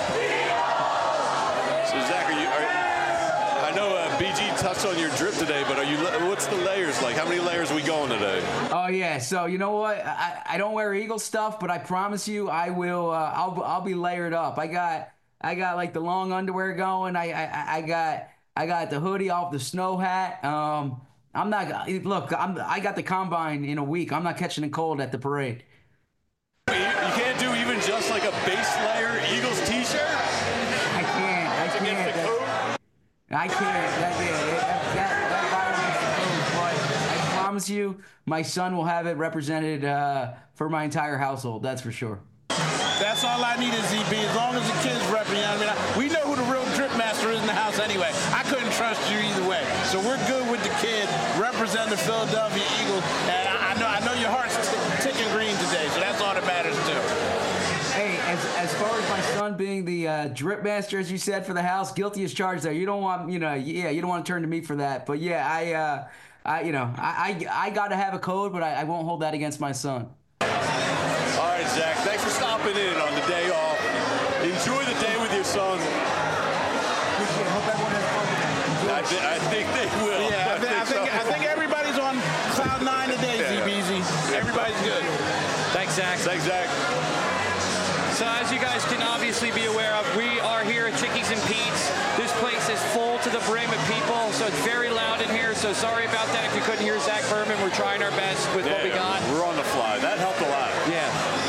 So, Zach, are you, are, I know uh, B G touched on your drip today, but are you? What's the layers like? How many layers are we going today? Oh yeah, so you know what? I, I don't wear Eagles stuff, but I promise you, I will. Uh, I'll I'll be layered up. I got I got like the long underwear going. I I, I got I got the hoodie off, the snow hat. Um. I'm not, look, I'm, I got the combine in a week. I'm not catching a cold at the parade. You, you can't do even just like a base layer Eagles t-shirt? I can't, I can't. That, I can't, that, yeah, that, that, that virus is the code, but I promise you, my son will have it represented uh, for my entire household, that's for sure. That's all I need is Z B. As long as the kids rep me, I mean, I, we know who the real drip master is in the house anyway. I couldn't trust you either way. So we're good with the kid representing the Philadelphia Eagles. And I, I know I know your heart's t- ticking green today, so that's all that matters too. Hey, as as far as my son being the uh, drip master, as you said, for the house, guilty as charged there. You don't want, you know, yeah, you don't want to turn to me for that. But yeah, I, uh, I you know, I I, I got to have a code, but I, I won't hold that against my son. All right, Zach, thanks for stopping in on the day off. Enjoy the day with your son. Appreciate it. Hope everyone has fun. I, th- I think they will. Yeah, I, th- I, think, I think everybody's on cloud nine today, yeah. Z B Z. Everybody's good. Thanks, Zach. Thanks, Zach. So as you guys can obviously be aware of, we are here at Chickies and Pete's. This place is full to the brim of people, so it's very loud in here. So sorry about that if you couldn't hear Zach Berman. We're trying our best with yeah, what we got. We're on the fly. That helped a lot. Yeah.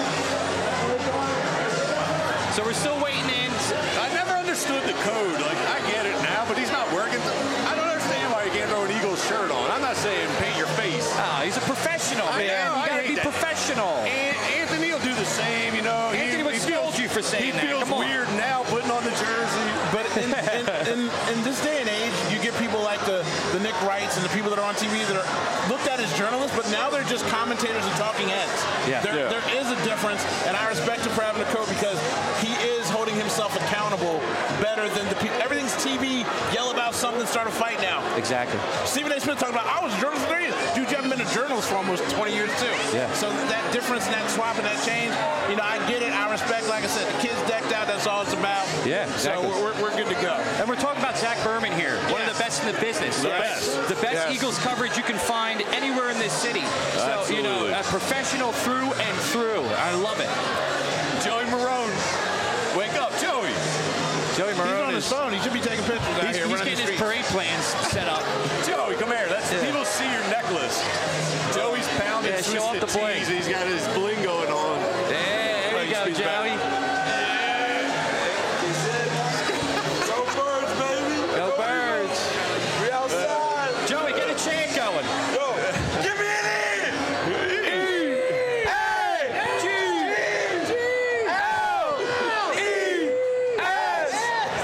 So we're still waiting in. I never understood the code. Like, I get it now, but he's not working. I don't understand why you can't throw an Eagles shirt on. I'm not saying paint your face. Ah, he's a professional, I man. Know, you gotta be that. professional. And Anthony will do the same, you know. Anthony he, would he scold feels, you for saying he that. He feels Come on. weird now putting on the jersey. But in, in, in, in this day and age, you get people like the, the Nick Wrights and the people that are on T V that are looked at as journalists, but now they're just commentators and talking heads. Yeah. There, yeah. there is a difference, and I respect him for having a code because he is holding himself accountable better than the people. Everything's T V, yell about something, start a fight now. Exactly. Stephen A. Smith talking about, I was a journalist for three years. Dude, you haven't been a journalist for almost twenty years, too. Yeah. So that difference and that swap and that change, you know, I get it. I respect, like I said, the kids decked out. That's all it's about. Yeah, exactly. So we're, we're good to go. And we're talking about Zach Berman here, one yes. of the best in the business. The yes. best. The best yes. Eagles coverage you can find anywhere in this city. So, Absolutely. you know, a professional through and through. I love it. Joey Marone. Wake up, Joey. Joey Marone He's on his is, phone. He should be taking pictures out he's, here. He's getting his parade plans set up. Joey, come here. That's, Yeah. People see your necklace. Joey's pounding Yeah, show off twisted the bling. tees. He's got his bling going on. There, there you go, Joey. Go Birds, baby. Go Birds. We outside. Joey, get a chant going. Go. Give me an E. E. A. G. G. L. E. S.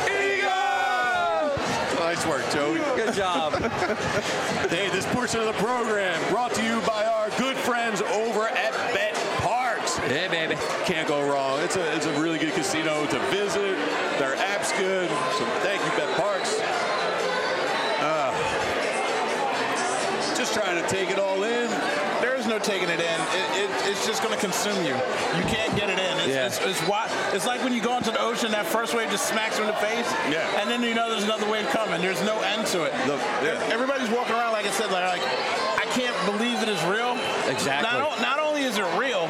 Eagles. Nice work, Joey. Good job. Hey, this portion of the program brought to you by our good friends over at Bet Parks. Yeah, baby. Can't go wrong. It's a it's a really good casino to visit. Their app's good. So thank you, Bet Parks. Uh, just just trying to take it all in. There is no taking it in. It, it, it's just going to consume you. You can't get it in. It's, Yeah. it's, it's, why, it's like when you go into the ocean, that first wave just smacks you in the face, Yeah. and then you know there's another wave coming. There's no end to it. Look, yeah. Everybody's walking around, like I said, like, like I can't believe it is real. Exactly. Not, o- not only is it real,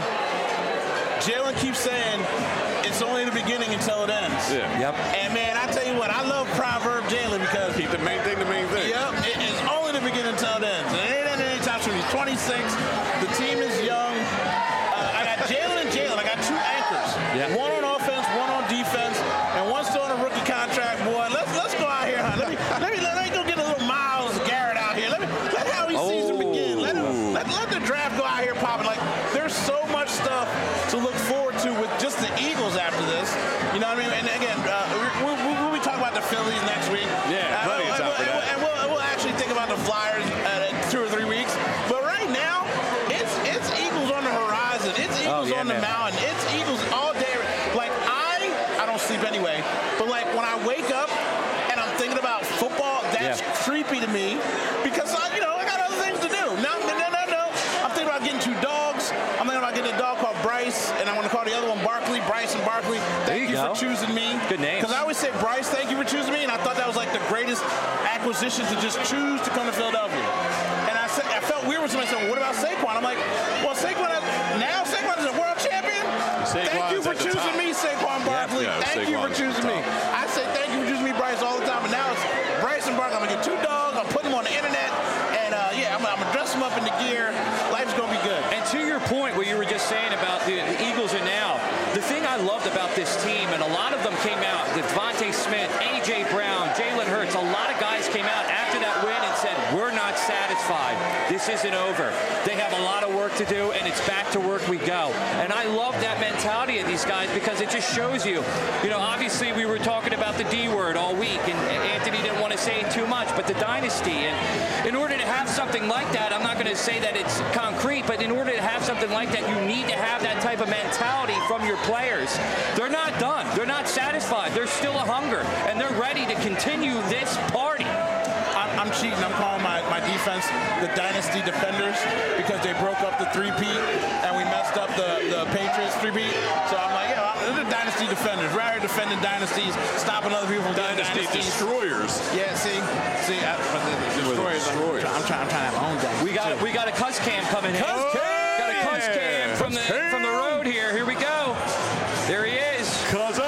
Jalen keeps saying it's only the beginning until it ends. Yeah. Yep. And, man, I tell you what, I love Proverb Jalen because Keep the main thing the main thing. Yep, it is only the beginning until it ends. And it ain't ending anytime soon. He's twenty-six. The team is young. Uh, I got Jalen and Jalen. I got two anchors. Yeah. One on offense, one on defense, and one still on a rookie contract. Boy, let's let's go out here. Huh? Let me let me let me go get a little Miles Garrett out here. Let me let Howie season begin. Let, him, let let the draft go out here popping. Like there's so much stuff to look forward to with just the Eagles after this. You know what I mean? And again, uh, we'll, we'll, we'll be talking about the Phillies next week. Yeah, Uh, plenty of and time we'll- for that. And we'll, we'll actually think about the Flyers uh, in two or three weeks. But right now, it's it's Eagles on the horizon. It's Eagles yeah, on the man. mountain. It's Eagles all day. Like I, I don't sleep anyway. But like when I wake up and I'm thinking about football, that's Yeah. creepy to me because I, you know, I got other things to do. No, no, no, no, no. I'm thinking about getting two dogs. I'm thinking about getting a dog called Bryce, and I want to call the other one Barkley. Bryce and Barkley. Thank you you, go. for choosing me. Good names. Because I always say Bryce, thank you for choosing me, and I thought that was like the greatest acquisition to just choose to come to Philadelphia. And I said, I felt weird when somebody said, well, what about Saquon? I'm like, well, Saquon has, now Saquon is a world champion. Thank you Saquon's for at the choosing top. me, Saquon Barkley. Yeah, thank you for Saquon's at the choosing me. top. I say thank you for choosing me, Bryce, all the time. But now it's Bryce and Barkley. I'm gonna get two dogs. I'm putting them on the internet, and uh, yeah, I'm, I'm gonna dress them up in the gear. Life's gonna be good. And to your point, what you were just saying about the, the Eagles are now, the thing I loved about this team, and a lot of them came out, Devontae Smith, A J. Brown, Jalen Hurts, a lot of guys came out after that win and said, we're not satisfied. This isn't over. They have a lot of work to do, and it's back to work we go. And I love that mentality of these guys because it just shows you, you know, obviously we were talking about the D word all week, and Anthony didn't want to say too much, but the dynasty. And in order to have something like that, I'm not going to say that it's concrete, but in order to have something like that, you need to have that type of mentality from your players. They're not done. They're not satisfied. There's still a hunger, and they're ready to continue this party. I'm, I'm cheating. I'm calling my, my defense the Dynasty Defenders because they broke up the three-peat and we messed up the, the Patriots three-peat. So I'm like, yeah, they're the Dynasty Defenders. We're out here defending dynasties, stopping other people from getting Dynasty dynasties. destroyers. Yeah, see, see, I, but the, the destroyers. destroyers. I'm, trying, I'm trying to have my own dynasty. We got too. we got a cuss cam coming in. Cuss cam! Got a cuss cam from the from the road here. Here we go. There he is. Cuzzo!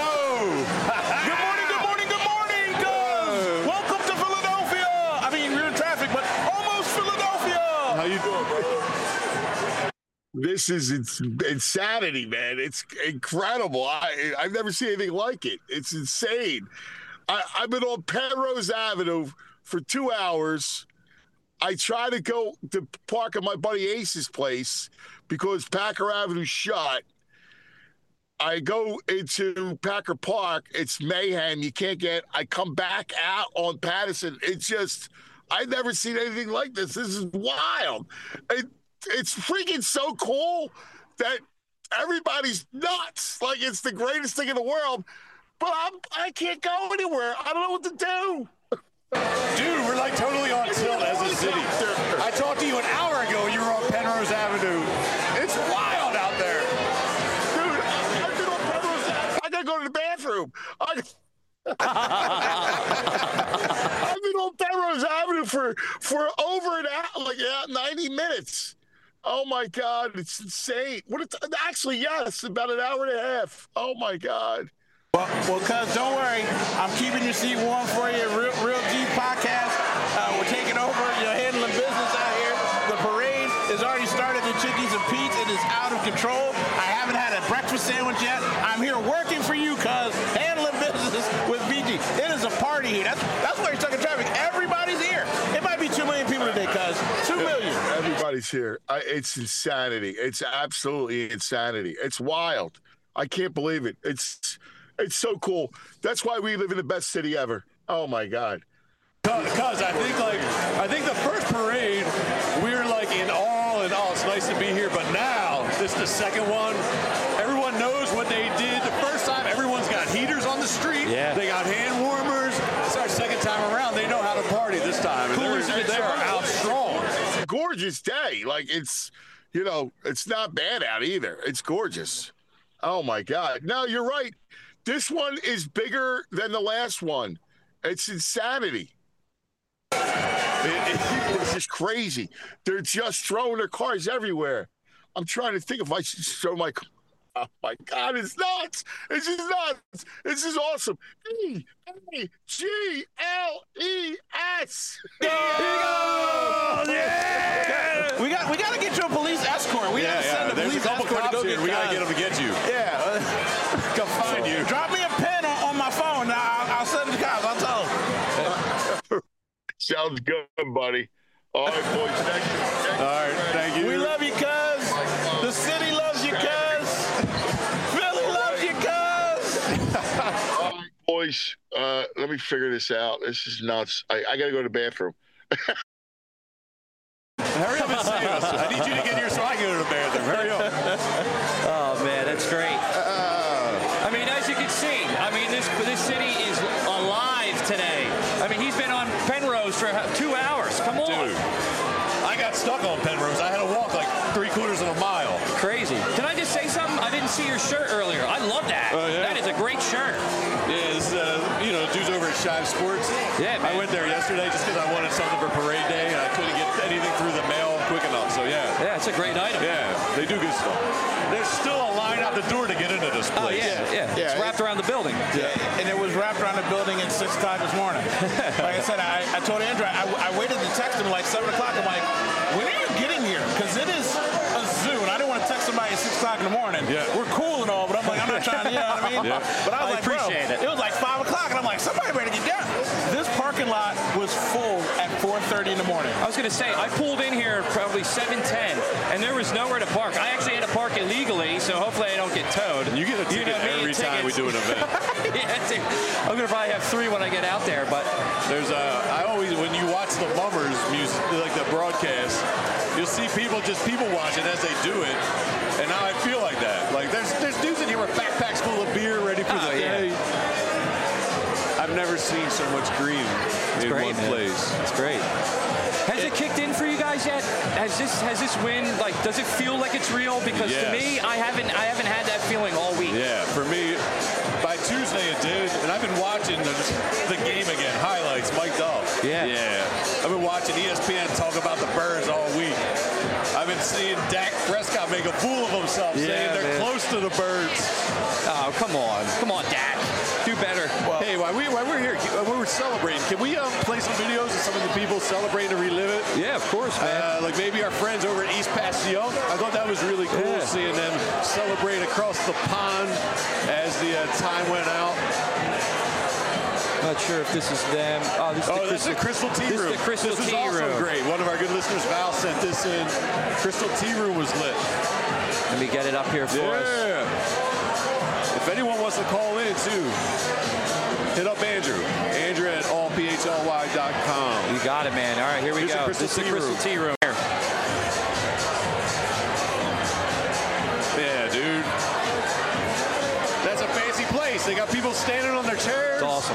Good morning, good morning, good morning, Cuz. Welcome to Philadelphia. I mean, we're in traffic, but almost Philadelphia. How you doing, bro? This is it's insanity, man. It's incredible. I I've never seen anything like it. It's insane. I, I've been on Penrose Avenue for two hours. I try to go to park at my buddy Ace's place because Packer Avenue's shut. I go into Packer Park. It's mayhem. You can't get. I come back out on Patterson. It's just. I've never seen anything like this. This is wild. It, it's freaking so cool that everybody's nuts. Like it's the greatest thing in the world. But I'm, I can't go anywhere. I don't know what to do. Dude, we're like totally on tilt as a city. I talked to you an hour ago. You were on Penrose Avenue. It's wild out there. Dude, I've been on Penrose Avenue. I gotta go to the bathroom. I, I've been on Penrose Avenue for, for over an hour, like yeah, ninety minutes. Oh my God, it's insane. What? It's, actually, yes, about an hour and a half. Oh my God. Well, well, cuz, don't worry. I'm keeping your seat warm for you. Real, Real G podcast. Uh, we're taking over. You're handling business out here. The parade has already started at Chickies and Pete's. It is out of control. I haven't had a breakfast sandwich yet. I'm here working for you, cuz, handling business with B G. It is a party here. That's that's why you're stuck in traffic. Everybody's here. It might be two million people today, cuz. Two million. Everybody's here. I, it's insanity. It's absolutely insanity. It's wild. I can't believe it. It's it's so cool. That's why we live in the best city ever. Oh my God. Cuz I think like I think the first parade we were like in awe and oh it's nice to be here, but now this is the second one. Everyone knows what they did the first time. Everyone's got heaters on the street. Yeah. They got hand warmers. It's our second time around. They know how to party this time. And Cool they're, as it they are is. out strong. gorgeous day. Like it's, you know, it's not bad out either. It's gorgeous. Oh my God. No, you're right. This one is bigger than the last one. It's insanity. It, it, it's just crazy. They're just throwing their cars everywhere. I'm trying to think if I should show my. Oh my God, it's nuts. It's just nuts. This is awesome. E A G L E S. Go! Yeah! We got we got to get you a police escort. We yeah, got to send yeah. a There's police a couple escort to cops go here. get We got to guys. get them to get you. Yeah. Come find you. Drop me a pen on, on my phone. I'll, I'll send the cops. I'll tell them. Sounds good, buddy. All right, boys. Thank you. Thank All right, you. thank you. We love you, cuz. The city loves you, cuz. Philly loves you, cuz. All right, boys. Uh, let me figure this out. This is nuts. I, I got to go to the bathroom. Hurry up and see us. I need you to get here so I can go to the bathroom. Hurry up. Oh, man, that's great. Uh, I mean, as you can see, I mean, this this city is alive today. I mean, he's been on Penrose for two hours. Come on. dude, I got stuck on Penrose. I had to walk like three quarters of a mile. Crazy. Can I just say something? I didn't see your shirt earlier. I love that. Oh, yeah? That is a great shirt. Yeah, it's, uh, you know, dudes over at Shive Sports. Yeah, man. I went there yesterday just because I wanted something for parade day, and I couldn't get anything through the mail quick enough. So, yeah. Yeah, it's a great item. Yeah, they do good stuff. There's still a line out the door to get into this Oh, place. yeah, yeah. Yeah, It's wrapped around the building. Yeah, and it was wrapped around the building at six o'clock this morning. Like I said, I, I told Andrew, I, I waited to text him like seven o'clock. I'm like, when are you getting here? Because it is a zoo, and I didn't want to text somebody at six o'clock in the morning. Yeah. We're cool and all, but I'm like, I'm not trying to, you know what I mean? Yeah. But I was I like, appreciate bro, it. it was like five o'clock, and I'm like, somebody better get down. This parking lot was full at four thirty in the morning. I was going to say, I pulled in here probably seven ten, and there was nowhere to park. I actually had to park illegally, so hopefully I don't get towed. You get a ticket know me, every time we tickets. do an event. Yeah, it's a- I'm going to probably have three when I get out there, but There's a, I always, when you watch the Mummers music, like the broadcast, you'll see people just people watching as they do it. And now I feel like that. Like there's there's dudes in here with backpacks full of beer ready for Oh, the yeah. day. I've never seen so much green in great, one man. place. it's great. Has it kicked in for you guys yet? Has this has this win, like, does it feel like it's real? Because Yes. to me, I haven't I haven't had that feeling all week. Yeah, for me, by Tuesday it did, and I've been watching the, the game again, highlights, mic'd up. Yeah. Yeah. I've been watching E S P N talk about the Birds all week. I've been seeing Dak Prescott make a fool of himself, Yeah, saying they're man. close to the Birds. Oh, come on. Come on, Dak. Do better. Hey, while, we, while we're here, while we're celebrating, can we um, play some videos of some of the people celebrating to relive it? Yeah, of course, man. Uh, like maybe our friends over at East Passion. I thought that was really cool Yeah. seeing them celebrate across the pond as the uh, time went out. Not sure if this is them. Oh, this is Oh, the that's the Crystal Tea this Room. is the Crystal this is Tea also Room. great. One of our good listeners, Val, sent this in. Crystal Tea Room was lit. Let me get it up here for us. Yeah. If anyone wants to call in too, hit up Andrew. Andrew at all p h l y dot com. You got it, man. All right, here we Here's the go. Crystal This is the Tea Crystal Room. Tea Room. Yeah, dude. That's a fancy place. They got people standing on their chairs. It's awesome.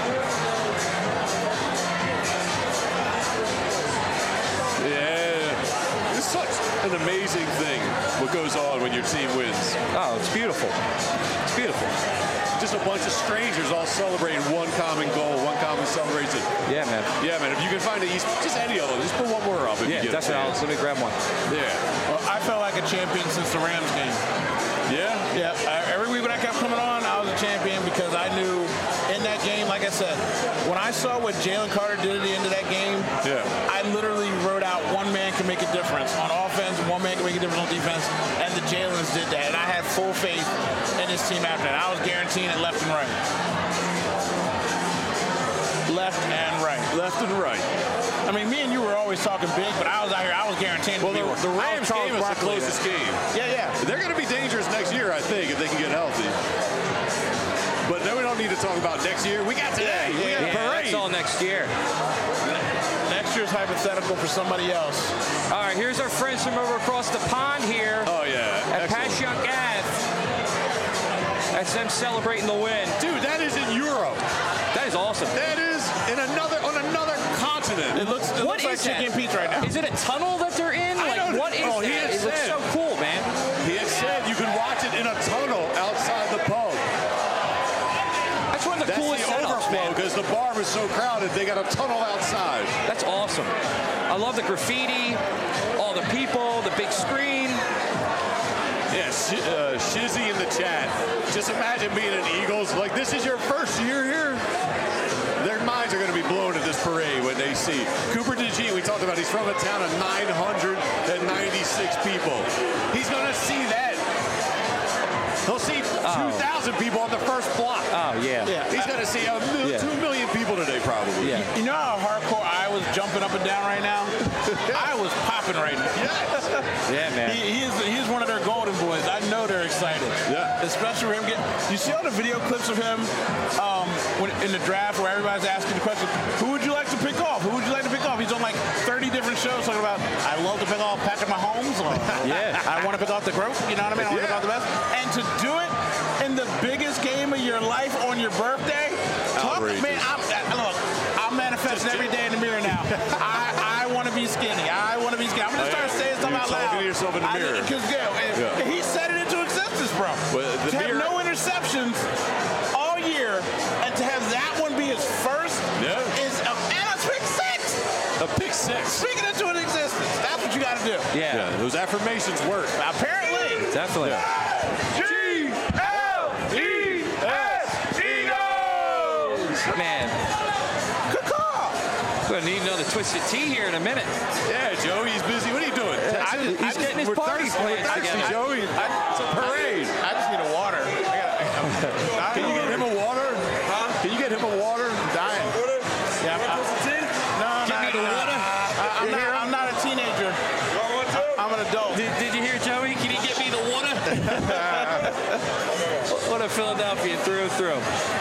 Yeah. It's such an amazing thing what goes on when your team wins. Oh, it's beautiful. It's beautiful. Just a bunch of strangers all celebrating one common goal, one common celebration. Yeah, man. Yeah, man, if you can find it, just any of them, just put one more up if Yeah, you get definitely. a I'll- chance. Let me grab one. Yeah. Well, I felt like a champion since the Rams game. Yeah? Yeah, I, every week when I kept coming on, I was a champion because I knew in that game, like I said, when I saw what Jalen Carter did at the end of that game, Yeah. I literally wrote out one man can make a difference on offense, one man can make a difference on defense, and the Jalen's did that. And I had full faith in this team after that. I was guaranteeing it left and right. Left and right. Left and right. I mean, me and you were always talking big, but I was out here, I was guaranteeing Well, the, people. the I Rams was Charles game is the Barkley closest there. game. Yeah, yeah. They're going to be dangerous next year, I think, if they can get healthy. But then we don't need to talk about next year. We got today. Yeah, we got Yeah, a parade. that's all next year. Next year's hypothetical for somebody else. All right, here's our friends from over across the pond here Oh, yeah. at Excellent. Passyunk Ave. That's them celebrating the win. Dude, that is in Europe. That is awesome. That is in another on another continent. It looks, it What looks like is chicken that? and Pete's right now. Is it a tunnel that they're in? the graffiti, all the people, the big screen. Yeah, sh- uh, Shizzy in the chat. Just imagine being an Eagles. Like, this is your first year here. Their minds are going to be blown at this parade when they see Cooper DeJean. We talked about he's from a town of nine hundred ninety-six people. He's going to see that. He'll see two thousand oh. people on the first block. Oh, yeah. Yeah. He's going to see a mil- yeah. two million people today, probably. Yeah. You know how hardcore I was jumping up and down right now? I was popping right now. Yes. Yeah, man. He, he is he's one of their golden boys. I know they're excited. Yeah. Especially for him getting. You see all the video clips of him um, when, in the draft where everybody's asking the question, who would you like to pick off? Who would you like to pick off? He's on like thirty different shows talking about, I love to pick off Patrick Mahomes. Or, yeah. I want to pick off the GOAT. You know what I mean? I want to Yeah. pick off the best. And to do it in the biggest game of your life on your birthday, talk, man, I'm, I, look, I'm manifesting every day in the mirror now. I, I want to be skinny. I want to be skinny. I'm going to start saying stuff You're out loud. talking to yourself in the mirror. Because yeah, Yeah. he set it into existence, bro. Well, the to mirror- have no interceptions all year and to have that one be his first Yeah. is a, and a pick six. A pick six. Speaking into an existence. That's what you got to do. Yeah. Yeah, those affirmations work. Apparently. Definitely. G L E S Eagles! Man, Caw-caw. we're going to need another Twisted Tea here in a minute. Yeah, Joe, he's busy. What are you doing? I just- he's getting his we're party thirsty. plans We're thirsty, together. Joey. It's a parade. I just need a water. I gotta, Can you get him a water? Huh? Can you get him a water? I'm dying. Yeah, I, no, Give no, me the no. water. I, I'm, not, I'm not a teenager. I'm an adult. Did, did you hear Joey? Can you get me the water? What a Philadelphia through and through.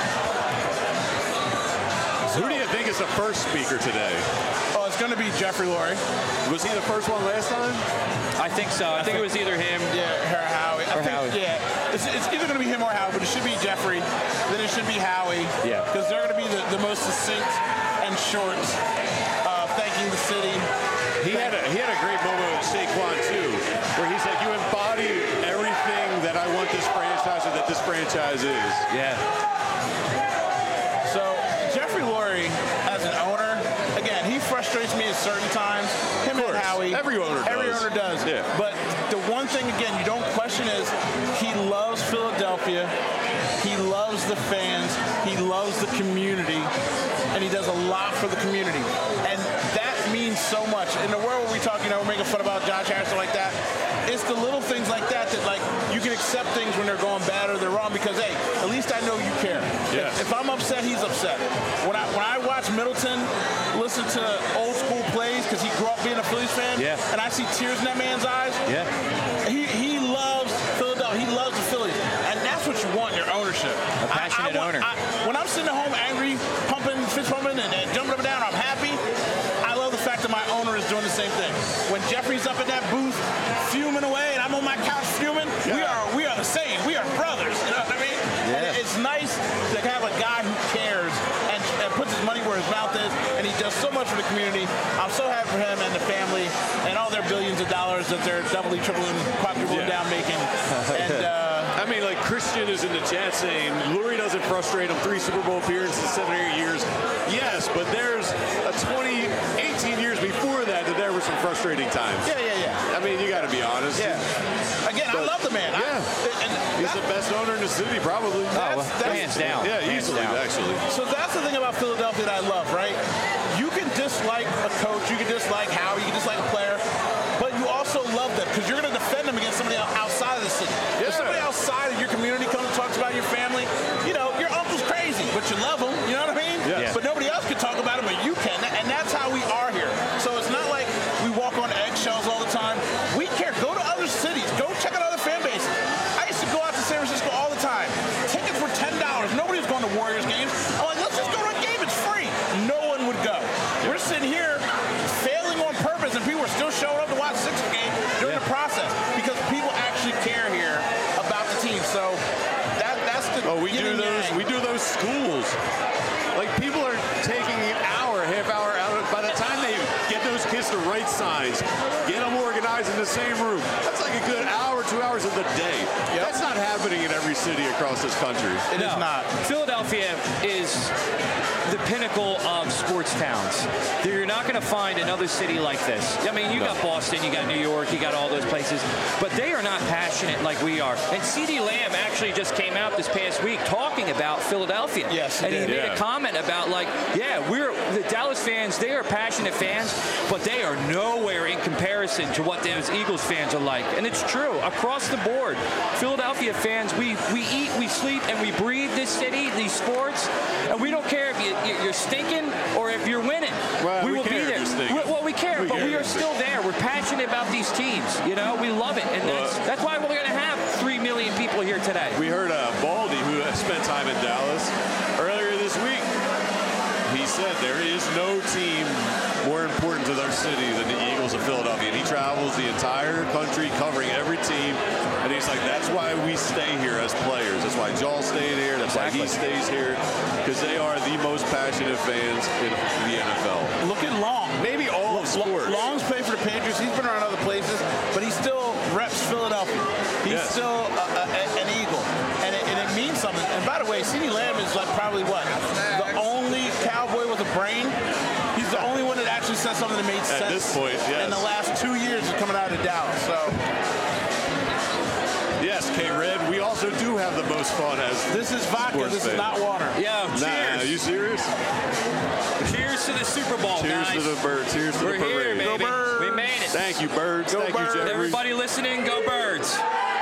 Who do you think is the first speaker today? Oh, it's going to be Jeffrey Lurie. Was he the first one last time? I think so. I think it was either him. Yeah, her Howie. I Or think, Howie. Yeah, it's, it's either going to be him or Howie, but it should be Jeffrey. Then it should be Howie. Yeah. Because they're going to be the, the most succinct and short, uh, thanking the city. He had a he had a great moment with Saquon too, where he's like, "You embody everything that I want this franchise or that this franchise is." Yeah. So Jeffrey Lurie, as an owner, again, he frustrates me at certain times. Him and course. Howie. Every owner Every does. owner does. Yeah. But the one thing, again, you don't question is he loves Philadelphia. He loves the fans. He loves the community. And he does a lot for the community. And that means so much. In the world where we talk, you know, we're making fun about Josh Harrison like that, it's the little things like that that, like, you can accept things when they're going bad or they're wrong because, hey, at least I know you care. Yes. If, if I'm upset, he's upset. When I when I watch Middleton listen to old school plays because he grew up being a Phillies fan, Yeah. and I see tears in that man's eyes, Yeah. he, he loves Philadelphia. He loves the Phillies. And that's what you want in your ownership. A passionate I, I want, owner. I, when I'm sitting at home angry, pumping, fist pumping, and, and jumping up and down, I'm happy. I love the fact that my owner is doing the same thing. When Jeffrey's up in that booth fuming away and I'm on my couch fuming, we are we are the same. We are brothers. You know what I mean? Yeah. And it's nice to have a guy who cares and, and puts his money where his mouth is, and he does so much for the community. I'm so happy for him and the family and all their billions of dollars that they're doubly, tripling, quadrupling Yeah. down making. And uh, I mean, like Christian is in the chat saying Lurie doesn't frustrate him. Three Super Bowl appearances, seven or eight years. Yes, but there's a twenty, eighteen years before that that there were some frustrating times. yeah, yeah, yeah. I mean, you got to be honest. Yeah. Again, I But- love the man. I- Yeah. and He's that- the best owner in the city, probably. Oh, well, that's- hands down. Yeah, Hands easily, down. actually. So that's the thing about Philadelphia that I love, right? You can dislike a coach, you can dislike Howie, you can dislike a player, but you also love them because you're going to defend them against somebody outside of the city. If Yeah. somebody outside of your community comes and talks about your family, you know, your uncle's crazy, but you love him, you know what I mean? Yeah. But nobody else can talk about him, but you can, and that's how we are here. So it's not like we walk on eggshells all the time. We care. Go to other cities. Go check out other fan bases. I used to go out to San Francisco all the time. Tickets were ten dollars. Nobody was going to Warriors games. I'm like, let's just go to a game. It's free. No one would go. We're sitting here failing on purpose, and people are still showing up to watch Sixers game during Yeah. the process because people actually care here about the team. So that that's the Oh, we yin do and those. yang. We do those schools. Like people are taking an hour, half hour out. By the time they get those kids to write signs, get them organized in the same room, that's like a good hour, two hours of the day. Yep. That's not happening in every city across this country. It is No. not. Philadelphia is the pinnacle of sports towns. You're not going to find another city like this. I mean, you got Boston, you got New York, you got all those places, but they are not passionate like we are. And CeeDee Lamb actually just came out this past week talking about Philadelphia. Yes, he and he did. made Yeah. a comment about, like, yeah, we're the Dallas fans, they are passionate fans, but they are nowhere in comparison to what those Eagles fans are like. And it's true. Across the board, Philadelphia fans, we, we eat, we sleep, and we breathe this city, these sports, and we don't care if you, you're stinking or if you're winning. Well, we, we will be care if there. you're stinking. We- well, we care, We but care we if are you're still there. We're passionate about these teams. You know, we love it, and that's, Well, that's why we're going to have three million people here today. We heard uh, Baldy, who has spent time in Dallas, earlier this week. He said there is no team more important to their city than the Eagles of Philadelphia. And he travels the entire country covering every team. And he's like, that's why we stay here as players. That's why Joel stayed here. That's Exactly. why he stays here. Because they are the most passionate fans in the N F L. Look at Long. Maybe all of sports. Long's played for the Patriots. He's been around other places, but he still reps Philadelphia. He's Yes. still a, a, an Eagle, and it, and it means something. And by the way, CeeDee Lamb is like probably what the only Cowboy with a brain. He's the only one that actually said something that made At sense. this point, yes. In the last two years of coming out of Dallas, so Yes, K-Red, we also do have the most fun as this is vodka. sports This fans. is not water. Yo, Nah, cheers. are you serious? Cheers to the Super Bowl, Cheers guys. to the birds. Cheers to We're the here, parade. baby. Birds. We made it. Thank you, birds. Go Thank Birds. you, Jeffrey. Everybody listening, go Birds.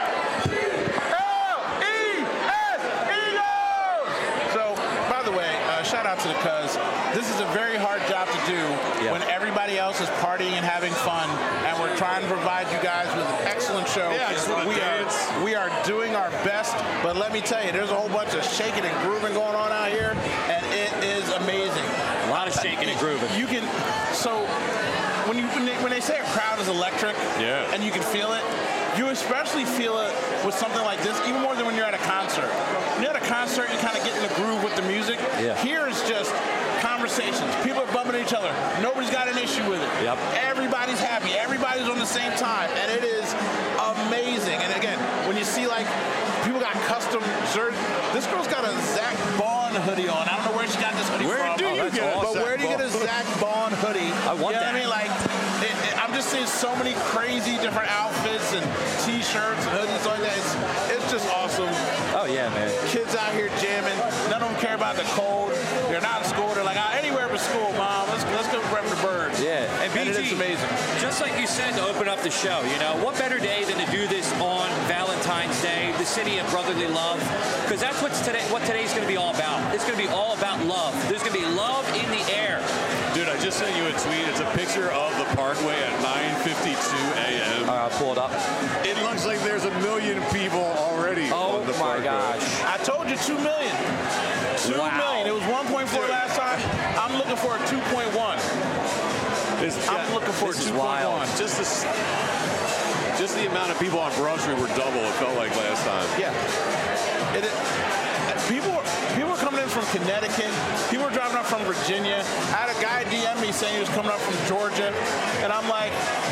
So, by the way, uh, shout out to the Cuz. This is a very hard job to do Yeah. when everybody else is partying and having fun, and we're trying to provide you guys with an excellent show. Yeah, I just wanna we dance. are we are doing our best, but let me tell you, there's a whole bunch of shaking and grooving going on out here, and it is amazing. A lot of shaking and grooving. You can so when you when they, when they say a crowd is electric, Yeah. and you can feel it, you especially feel it with something like this, even more than when you're at a concert. When you're at a concert, you kind of get in the groove with the music. Yeah. Here is just conversations. People are bumping into each other. Nobody's got an issue with it. Yep. Everybody's happy. Everybody's on the same time, and it is amazing. And again, when you see like people got custom shirts. This girl's got a Zach Baun hoodie on. I don't know where she got this hoodie Where from. do you that's get it? awesome. But where do you get a Zach Baun hoodie? I want you know that. what I mean? Like, it, it, I'm just seeing so many crazy different outfits and T-shirts and hoodies like that. It's, it's just awesome. Oh, yeah, man. Kids out here jamming. None of them care about the cold. They're not in school. They're like, ah, anywhere but school, Mom. Let's let's go rep the birds. Yeah, and B G, it is amazing. just like you said to open up the show, you know, what better day than to do this on Valentine's Day, the city of brotherly love, because that's what's today. What today's going to be all about. It's going to be all about love. There's going to be love in the air. Dude, I just sent you a tweet. It's a picture of the Parkway at nine fifty-two a.m. I'll pull it up. It looks like there's a million people already Oh on the my Parkway. gosh. I told you two million. Two Wow. million. It was one point four Dude. last time. I'm looking for a two point one. It's, I'm looking for This a is two point one. wild. just the, s- just the amount of people on Broad Street were double, it felt like last time. Yeah. It, it, people, were- people were coming in from Connecticut. People were driving up from Virginia. I had a guy D M me saying he was coming up from Georgia. And I'm like,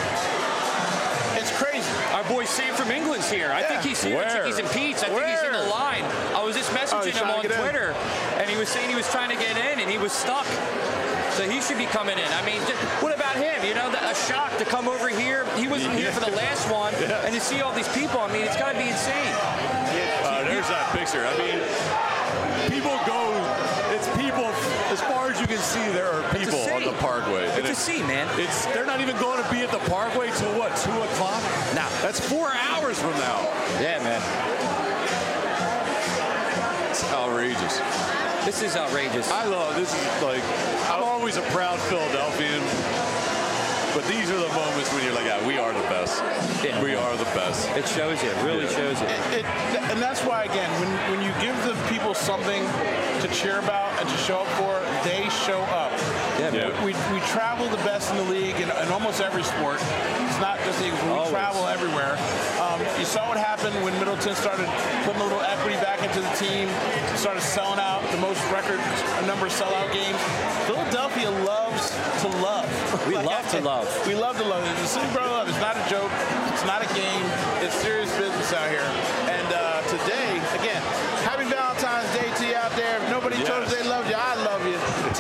it's crazy. Our boy Sam from England's here. I Yeah. think he's here. Where? at Chickies and Pete's. I think he's in the Where? line. I was just Oh, messaging he's him trying on to get in. Twitter, and he was saying he was trying to get in, and he was stuck. So he should be coming in. I mean, just, what about him? You know, the, a shock to come over here. He wasn't here for the last one, and to see all these people. I mean, it's got to be insane. Uh, there's that picture. I mean, people go, it's people, as far as you can see, there are It's a people on city. the Parkway. And It's a sea, man. It's they're not even going to be at the Parkway till what, two o'clock? Nah. That's four hours from now. Yeah, man. It's outrageous. This is outrageous. I love this is like I'm always a proud Philadelphian, but these are the moments when you're like, yeah, we are the best. Yeah. We are the best. It shows you. It really Yeah. shows you. It, and that's why, again, when, when you give the people something to cheer about and to show up for, they show up. Yeah, man. Yeah. We, we travel the best in the league in, in almost every sport. It's not just the Eagles. We Always. travel everywhere. Um, you saw what happened when Middleton started putting a little equity back into the team, started selling out the most record number of sellout games. Philadelphia loves to love. We love to love. We love to love. The city brother love. It's not a joke. It's not a game. It's serious business out here. And uh, today, again, happy Valentine's Day to you out there. If nobody Yes. told you they loved you, I love you.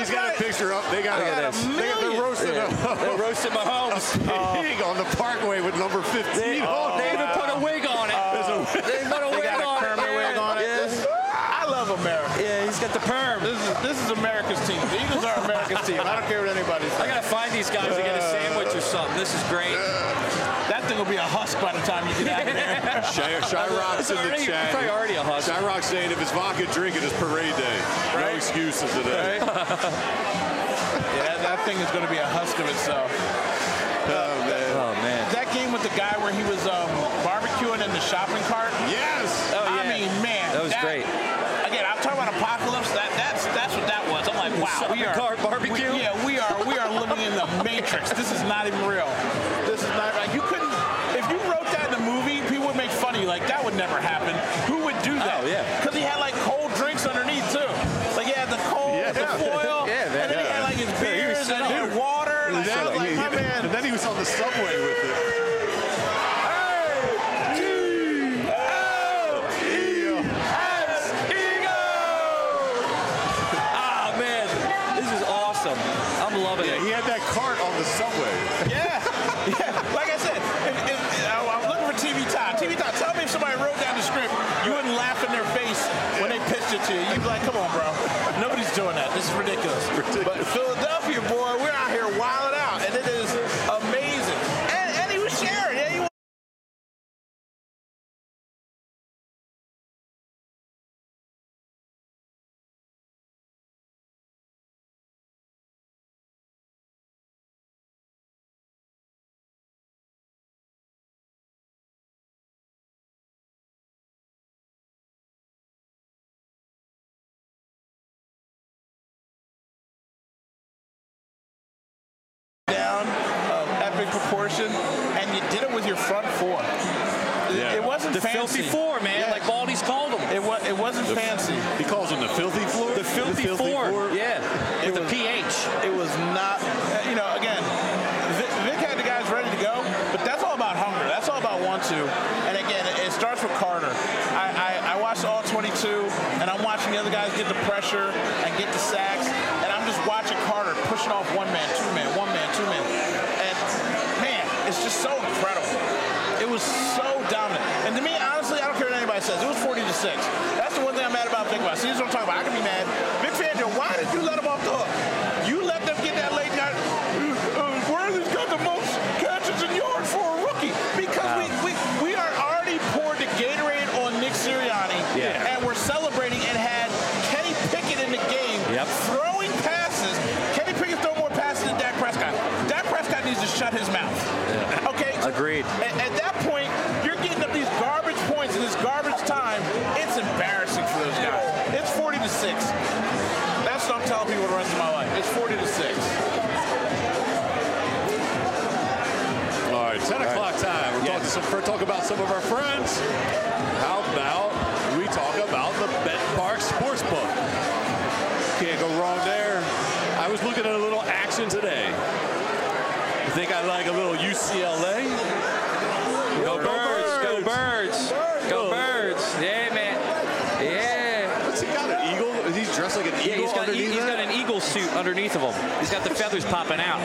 He's got a picture up. They got, Look at a, this. they got the roasted Yeah. They're roasting Mahomes. pig on the Parkway with number fifteen. They, on they it. even put a wig on it. They put a They wig got a on Kermit it. wig on it. Yeah. This- I love America. Yeah, he's got the perm. This is this is America's team. The Eagles are America's team. I don't care what anybody I says. gotta find these guys to get a sandwich or something. This is great. That thing will be a husk by the time you get out of there. Shy, Shy Rock's It's in the already- chat. it's probably already a hustle. Shy Rock's saying if it's vodka drinking, it's parade day. No Right. excuses today. Right? Yeah, that, that thing is going to be a husk of itself. Oh, man. Oh man. That game with the guy where he was um, barbecuing in the shopping cart. Yes. Oh, I yeah. mean, man, That was great. Again, I'm talking about apocalypse. That that's that's what that was. I'm like, wow, we Shopping are cart barbecue? we- yeah, we are we are living in the Matrix. This is not even real. This is not like you couldn't. If you wrote that in a movie, people would make fun of you. Like that would never happen. Who would do that? Oh, yeah. Because he had like cold drinks underneath too. Like he had the cold, Yeah. the foil, Yeah, man. and then he had like his Yeah, he was beers and he had set up. water. And Like, then, I was like, my man. and then he was on the subway with it. Ah man, this is awesome. I'm loving Yeah, it. he had that cart on the subway. Yeah, yeah. Like I said, if, if, I- I'm looking for T V time. T V time. Tell me if somebody wrote down the script, you wouldn't laugh in their face when they pitched it to you. You'd be like, "Come on, bro. Nobody's doing that. This is ridiculous." But Philadelphia, boy, we're out here wilding out, and it is amazing. And, and he was sharing. Yeah, he was. Down of epic proportion, and you did it with your front four. It, Yeah. it wasn't The fancy. filthy four, man, Yeah. like Baldy's called them. It was. It wasn't fancy. He calls him the filthy floor. The filthy, four. Yeah, with the was- P H. It was not. uh, You know, again, Vic, Vic had the guys ready to go, but that's all about hunger. That's all about want to. And again, it, it starts with Carter. I, I, I watched all twenty-two, and I'm watching the other guys get the pressure and get the sacks, and I'm just watching Carter pushing off one man, two man, one man, two man, and man, it's just so incredible. It was so dominant. And to me, honestly, I don't care what anybody says. It was forty to six. That's the one thing I'm mad about Vic about. See, this is what I'm talking about. I can be mad. Vic Fangio, why did you let him off the hook? You let them get that late night. Uh, uh, Worthy's got the most catches and yards for a rookie. Because we, we, we are already poured the Gatorade on Nick Sirianni. Yeah. And we're celebrating and had Kenny Pickett in the game Yep. throwing passes. Kenny Pickett throw more passes than Dak Prescott. Dak Prescott needs to shut his mouth. Okay? So Agreed. At, at that point, you're getting up these garbage points in this garbage time. It's embarrassing for those guys. It's forty to six. That's what I'm telling people the rest of my life. It's forty to six. All right, ten o'clock time. We're talking some, we're talking about some of our friends. How about we talk about the Bet Park Sportsbook? Can't go wrong there. I was looking at a little action today. I think I like a little U C L A. Go birds, go birds, go birds. Yeah, man. Yeah. What's he got? An eagle? Is he dressed like an Yeah, eagle he's got, he, underneath he's that? got an eagle suit underneath of him. He's got the feathers popping out.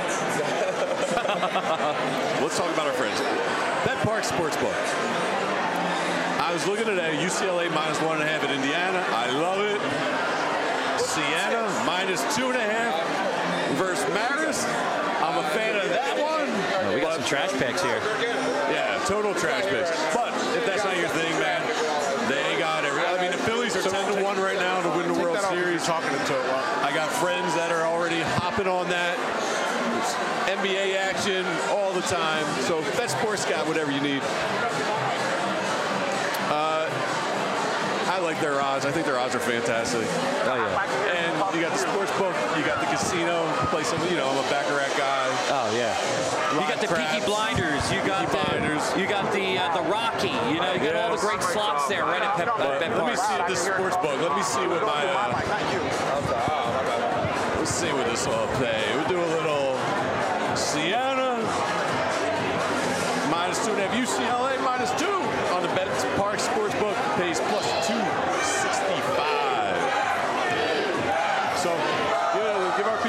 Let's talk about our friends. Bet Park Sportsbook. I was looking today, U C L A minus one and a half at Indiana. I love it. Siena minus two and a half versus Marist. I'm a fan of that one. Oh, we got some trash picks here. Yeah, total trash picks. But if that's not your thing, man, they got it. I mean, the Phillies are ten to one right now to win the World Series. Talking to it. I got friends that are already hopping on that. N B A action all the time. So Bet Sports got whatever you need. Uh, I like their odds. I think their odds are fantastic. Oh yeah. And you got the sports book, you got the casino, play some, you know, I'm a Baccarat guy. Oh yeah. You got the Craps. Peaky Blinders. You got Peaky the Blinders. you got the uh, the Rocky. You know, you got all the great slots there right at Pep, uh, Bet Let me Park. see this sports book. Let me see what my. Uh, let's see what this will pay. We'll do a little Siena minus two and a half. U C L A minus two on the Bet Park Sportsbook pays plus two sixty-five. So, you know, give our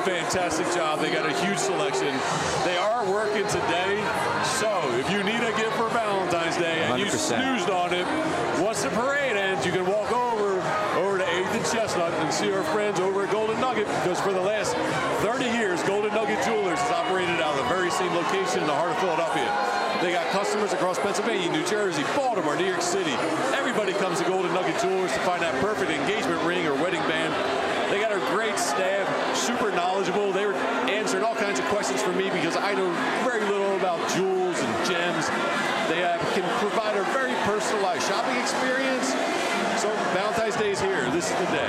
fantastic job. They got a huge selection. They are working today, so if you need a gift for Valentine's Day and you snoozed on it, once the parade ends, you can walk over over to eighth and Chestnut and see our friends over at Golden Nugget, because for the last thirty years, Golden Nugget Jewelers has operated out of the very same location in the heart of Philadelphia. They got customers across Pennsylvania, New Jersey, Baltimore, New York City. Everybody comes to Golden Nugget Jewelers to find that perfect engagement ring or wedding band. They got a great staff, super knowledgeable. They were answering all kinds of questions for me because I know very little about jewels and gems. They uh, can provide a very personalized shopping experience. So Valentine's Day is here. This is the day.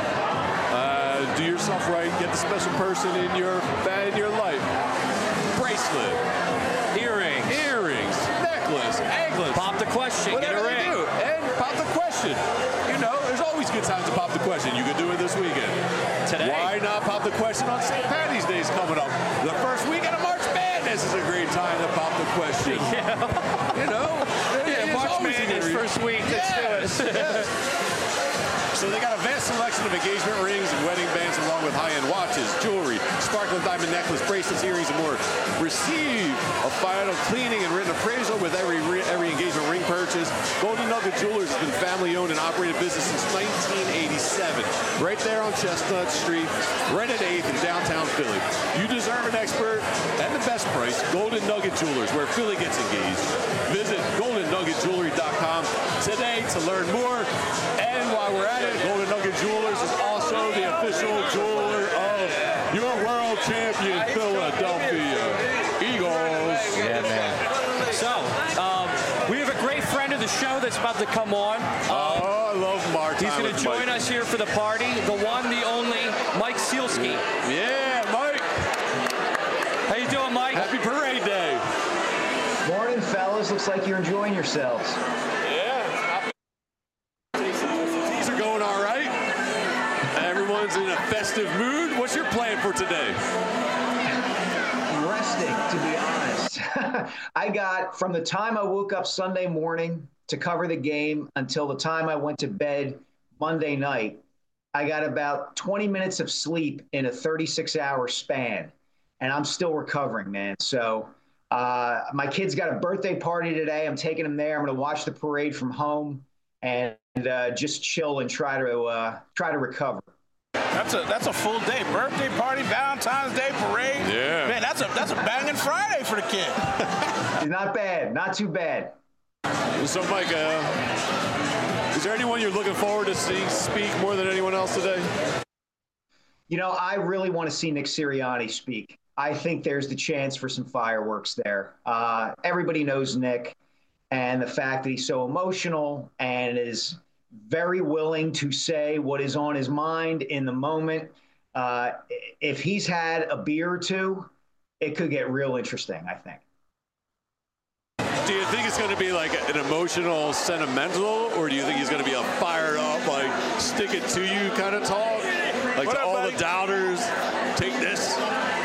Uh, do yourself right. Get the special person in your in your life. Bracelet, Earrings. earrings, necklace, anklets. Pop the question. Get a Whatever ring. you do. And pop the question. You know, there's always good times to pop the question. You could do it this weekend. Today. Why not pop the question on Saint Patty's Day is coming up? The first weekend of March Madness is a great time to pop the question. Yeah. You know? Yeah, it's March always a Madness good first week. Let's Yes, do it. yes. So they got a vast selection of engagement rings and wedding bands, along with high-end watches, jewelry, sparkling diamond necklace, bracelets, earrings, and more. Receive a final cleaning and written appraisal with every re- every engagement ring purchase. Golden Nugget Jewelers has been family-owned and operated business since nineteen eighty-seven. Right there on Chestnut Street, right at eighth in downtown Philly. You deserve an expert and the best price. Golden Nugget Jewelers, where Philly gets engaged. Visit golden nugget jewelry dot com today to learn more. And while we're at it, Golden Nugget Jewelers is also the official jeweler of your world champion Philadelphia Eagles. Yeah, man. So, um, we have a great friend of the show that's about to come on. Um, Oh, I love Mark. he's going to join us here for the party. The one, the only, Mike Sealski. Yeah, Mike. How you doing, Mike? Happy Parade Day. Morning, fellas. Looks like you're enjoying yourselves. Yeah. These are going all right. Everyone's in a festive mood. What's your plan for today? Resting, to be honest. I got, from the time I woke up Sunday morning to cover the game until the time I went to bed Monday night, I got about twenty minutes of sleep in a thirty-six hour span. And I'm still recovering, man. So uh, my kid's got a birthday party today. I'm taking him there. I'm going to watch the parade from home and uh, just chill and try to uh, try to recover. That's a that's a full day. Birthday party, Valentine's Day parade. Yeah. Man, that's a that's a banging Friday for the kid. Not bad. Not too bad. So, Mike, uh, is there anyone you're looking forward to seeing speak more than anyone else today? You know, I really want to see Nick Sirianni speak. I think there's the chance for some fireworks there. Uh, everybody knows Nick, and the fact that he's so emotional and is very willing to say what is on his mind in the moment. Uh, if he's had a beer or two, it could get real interesting, I think. Do you think it's going to be like an emotional, sentimental, or do you think he's going to be a fired up, like stick it to you kind of talk? Like What to up, all buddy? the doubters, take this?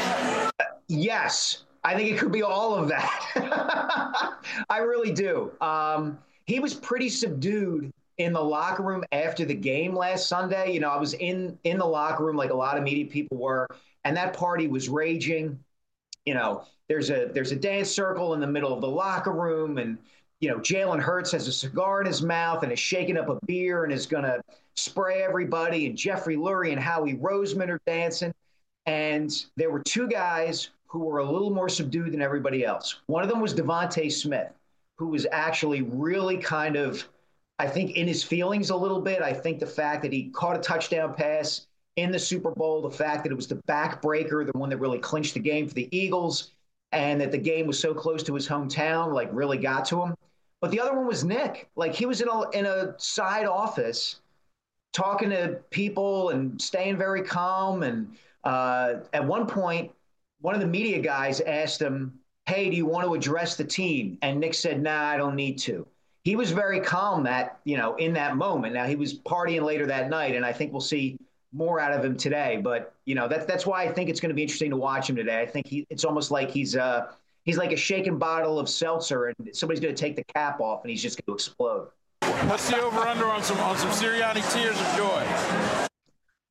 Yes, I think it could be all of that. I really do. Um, he was pretty subdued in the locker room after the game last Sunday. You know, I was in in the locker room like a lot of media people were, and that party was raging. You know, there's a there's a dance circle in the middle of the locker room, and you know, Jalen Hurts has a cigar in his mouth and is shaking up a beer and is going to spray everybody. And Jeffrey Lurie and Howie Roseman are dancing. And there were two guys who were a little more subdued than everybody else. One of them was Devontae Smith, who was actually really kind of, I think, in his feelings a little bit. I think the fact that he caught a touchdown pass in the Super Bowl, the fact that it was the backbreaker, the one that really clinched the game for the Eagles, and that the game was so close to his hometown, like really got to him. But the other one was Nick. Like he was in a in a side office talking to people and staying very calm. And uh, at one point, one of the media guys asked him, "Hey, do you want to address the team?" And Nick said, "Nah, I don't need to." He was very calm that, you know, in that moment. Now he was partying later that night, and I think we'll see more out of him today. But, you know, that's that's why I think it's going to be interesting to watch him today. I think he it's almost like he's uh he's like a shaken bottle of seltzer, and somebody's going to take the cap off, and he's just going to explode. What's the over-under on some on some Sirianni tears of joy?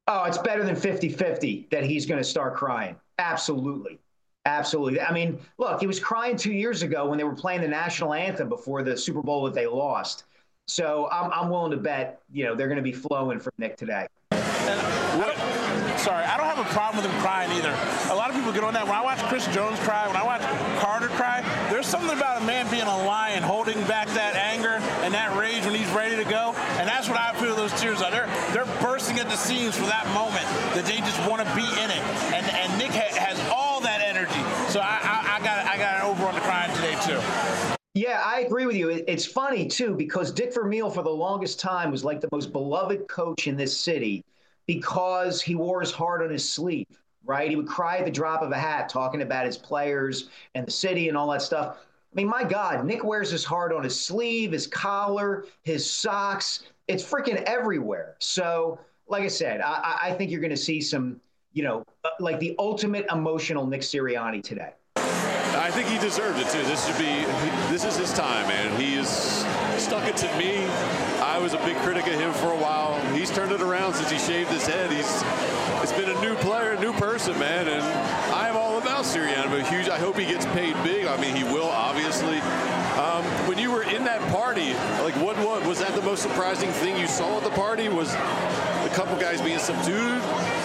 Oh, it's better than fifty-fifty that he's going to start crying. Absolutely. Absolutely. I mean, look, he was crying two years ago when they were playing the national anthem before the Super Bowl that they lost. So I'm, I'm willing to bet, you know, they're going to be flowing from Nick today. What? Sorry, I don't have a problem with him crying either. A lot of people get on that. When I watch Chris Jones cry, when I watch Carter cry, there's something about a man being a lion, holding back that anger and that rage when he's ready to go. And that's what I feel those tears are. They're, they're bursting at the seams for that moment, that they just want to be in it. And and Nick ha- has all that energy. So I, I, I got I got an over on the crying today, too. Yeah, I agree with you. It's funny, too, because Dick Vermeil for the longest time was like the most beloved coach in this city because he wore his heart on his sleeve, right? He would cry at the drop of a hat talking about his players and the city and all that stuff. I mean, my God, Nick wears his heart on his sleeve, his collar, his socks. It's freaking everywhere. So, like I said, I, I think you're going to see some, you know, like the ultimate emotional Nick Sirianni today. I think he deserved it too. This should be, this is his time, man. He has stuck it to me. I was a big critic of him for a while. He's turned it around since he shaved his head. He's, it's been a new player, a new person, man. And I am all about Sirianni, but huge. I hope he gets paid big. I mean, he will, obviously. Um, when you were in that party, like what, what was that the most surprising thing you saw at the party? Was a couple guys being subdued?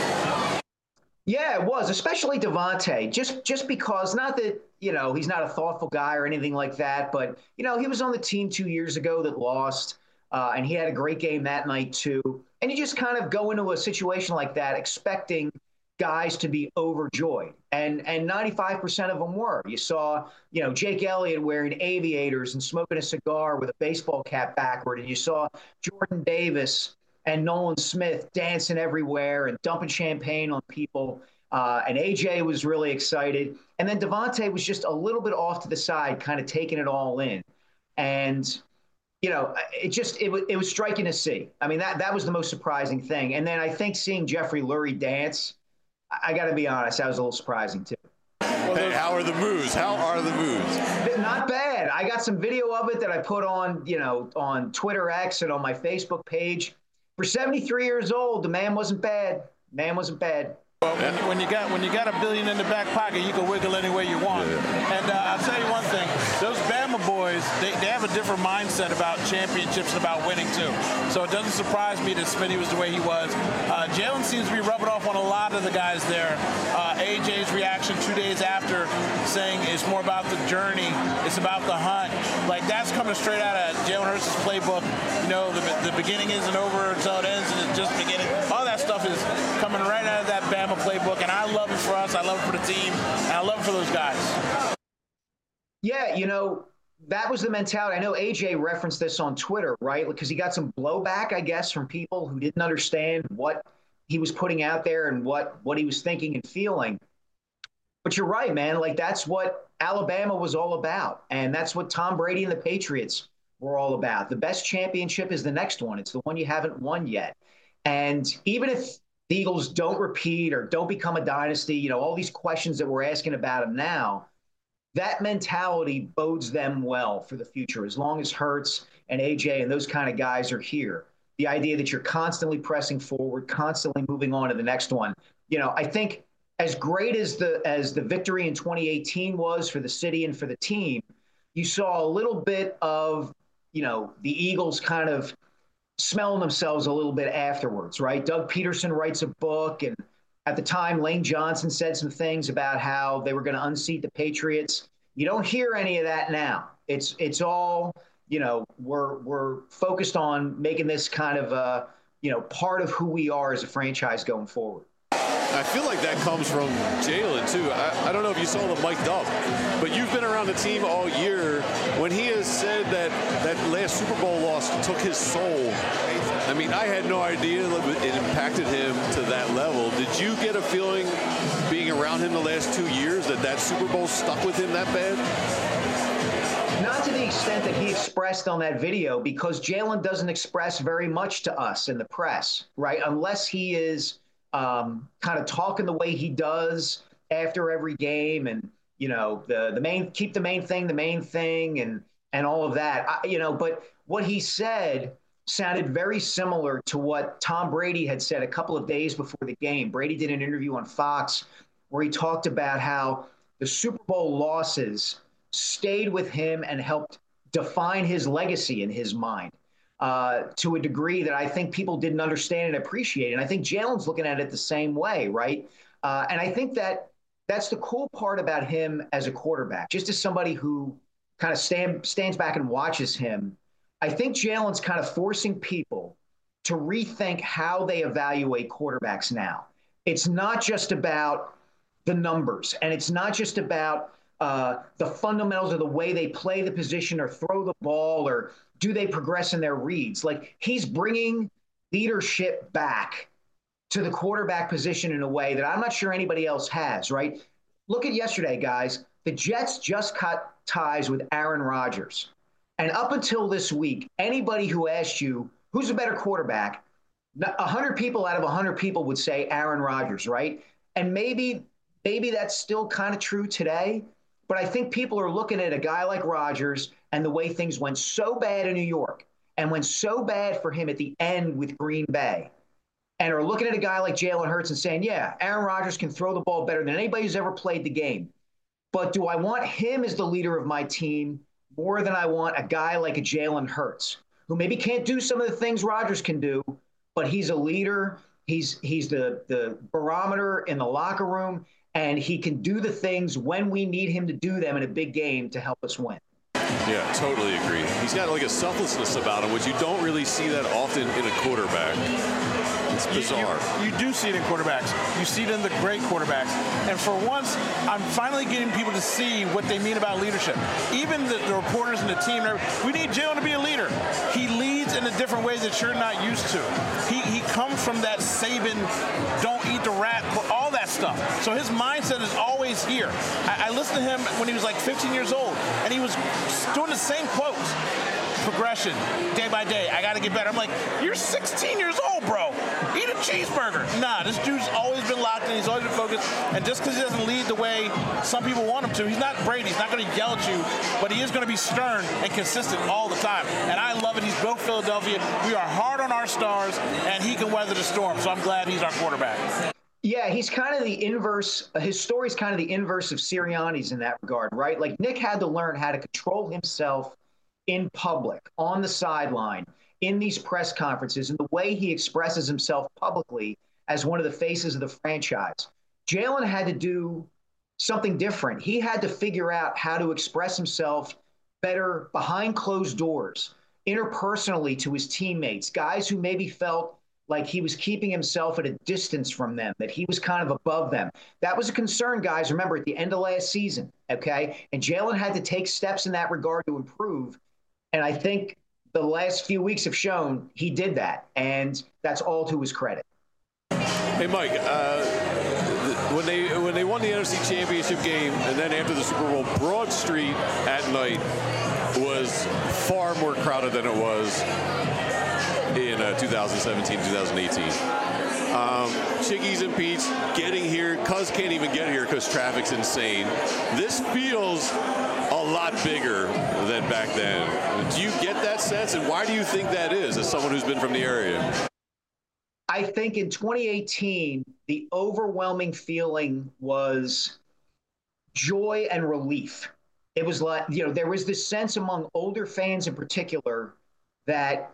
Yeah, it was, especially Devontae, just just because, not that, you know, he's not a thoughtful guy or anything like that, but, you know, he was on the team two years ago that lost, uh, and he had a great game that night too. And you just kind of go into a situation like that expecting guys to be overjoyed, and and ninety-five percent of them were. You saw, you know, Jake Elliott wearing aviators and smoking a cigar with a baseball cap backward, and you saw Jordan Davis and Nolan Smith dancing everywhere and dumping champagne on people. Uh, and A J was really excited. And then Devontae was just a little bit off to the side, kind of taking it all in. And, you know, it just, it, was it was striking to see. I mean, that, that was the most surprising thing. And then I think seeing Jeffrey Lurie dance, I, I got to be honest, that was a little surprising too. Hey, how are the moves? How are the moves? Not bad. I got some video of it that I put on, you know, on Twitter X and on my Facebook page. For seventy-three years old, the man wasn't bad. Man wasn't bad. Well, when you, when you got when you got a billion in the back pocket, you can wiggle any way you want. Yeah. And uh, I'll tell you one thing: those Bama boys, they, they have a different mindset about championships and about winning too. So it doesn't surprise me that Smitty was the way he was. Uh, Jalen seems to be rubbing off on a lot of the guys there. Uh, A J's reaction two days after, saying it's more about the journey, it's about the hunt. Like that's coming straight out of Jalen Hurts' playbook. You know, the, the beginning isn't over until it ends, and it's just beginning. All that stuff is coming right out of that Bama playbook, and I love it for us. I love it for the team, and I love it for those guys. Yeah, you know, that was the mentality. I know A J referenced this on Twitter, right? Because he got some blowback, I guess, from people who didn't understand what he was putting out there and what what he was thinking and feeling. But you're right, man. Like, that's what Alabama was all about, and that's what Tom Brady and the Patriots were all about. The best championship is the next one. It's the one you haven't won yet. And even if the Eagles don't repeat or don't become a dynasty, you know, all these questions that we're asking about them now, that mentality bodes them well for the future. As long as Hurts and A J and those kind of guys are here, the idea that you're constantly pressing forward, constantly moving on to the next one. You know, I think as great as the as the victory in twenty eighteen was for the city and for the team, you saw a little bit of, you know, the Eagles kind of smelling themselves a little bit afterwards, right? Doug Peterson writes a book, and at the time, Lane Johnson said some things about how they were going to unseat the Patriots. You don't hear any of that now. It's it's all, you know, we're we're focused on making this kind of a, you know, part of who we are as a franchise going forward. I feel like that comes from Jalen, too. I, I don't know if you saw the mic'd up, but you've been around the team all year. When he has said that that last Super Bowl loss took his soul, I mean, I had no idea it impacted him to that level. Did you get a feeling being around him the last two years that that Super Bowl stuck with him that bad? Not to the extent that he expressed on that video, because Jalen doesn't express very much to us in the press, right? Unless he is um, kind of talking the way he does after every game, and, you know, the the main keep the main thing the main thing and and all of that, I, you know. But what he said sounded very similar to what Tom Brady had said a couple of days before the game. Brady did an interview on Fox where he talked about how the Super Bowl losses stayed with him and helped define his legacy in his mind uh, to a degree that I think people didn't understand and appreciate. And I think Jalen's looking at it the same way, right? Uh, and I think that that's the cool part about him as a quarterback, just as somebody who kind of stand, stands back and watches him. I think Jalen's kind of forcing people to rethink how they evaluate quarterbacks now. It's not just about the numbers, and it's not just about uh, the fundamentals of the way they play the position or throw the ball or do they progress in their reads. Like, he's bringing leadership back to the quarterback position in a way that I'm not sure anybody else has, right? Look at yesterday, guys. The Jets just cut ties with Aaron Rodgers. And up until this week, anybody who asked you, who's a better quarterback, one hundred people out of one hundred people would say Aaron Rodgers, right? And maybe maybe that's still kind of true today, but I think people are looking at a guy like Rodgers and the way things went so bad in New York and went so bad for him at the end with Green Bay, and are looking at a guy like Jalen Hurts and saying, yeah, Aaron Rodgers can throw the ball better than anybody who's ever played the game. But do I want him as the leader of my team more than I want a guy like a Jalen Hurts, who maybe can't do some of the things Rodgers can do, but he's a leader. He's he's the, the barometer in the locker room, and he can do the things when we need him to do them in a big game to help us win. Yeah, totally agree. He's got like a selflessness about him, which you don't really see that often in a quarterback. It's bizarre. You, you, you do see it in quarterbacks. You see it in the great quarterbacks. And for once, I'm finally getting people to see what they mean about leadership. Even the, the reporters and the team, we need Jalen to be a leader. He leads in a different way that you're not used to. He, he comes from that Saban, don't eat the rat, all that stuff. So his mindset is always here. I, I listened to him when he was like fifteen years old, and he was doing the same quotes. Progression, day by day. I got to get better. I'm like, you're sixteen years old, bro. Eat a cheeseburger. Nah, this dude's always been locked in. He's always been focused. And just because he doesn't lead the way some people want him to, he's not Brady. He's not going to yell at you, but he is going to be stern and consistent all the time. And I love it. He's built Philadelphia. We are hard on our stars, and he can weather the storm. So I'm glad he's our quarterback. Yeah, he's kind of the inverse. His story's kind of the inverse of Sirianni's in that regard, right? Like, Nick had to learn how to control himself in public, on the sideline, in these press conferences, and the way he expresses himself publicly as one of the faces of the franchise. Jalen had to do something different. He had to figure out how to express himself better behind closed doors, interpersonally to his teammates, guys who maybe felt like he was keeping himself at a distance from them, that he was kind of above them. That was a concern, guys, remember, at the end of last season, okay? And Jalen had to take steps in that regard to improve. And I think the last few weeks have shown he did that, and that's all to his credit. Hey, Mike, uh, when they when they won the N F C Championship game, and then after the Super Bowl, Broad Street at night was far more crowded than it was in uh, two thousand seventeen, two thousand eighteen. Um, Chickies and Pete's getting here. Cuz can't even get here because traffic's insane. This feels a lot bigger than back then. Do you get that sense, and why do you think that is, as someone who's been from the area? I think in twenty eighteen, the overwhelming feeling was joy and relief. It was like, you know, there was this sense among older fans in particular that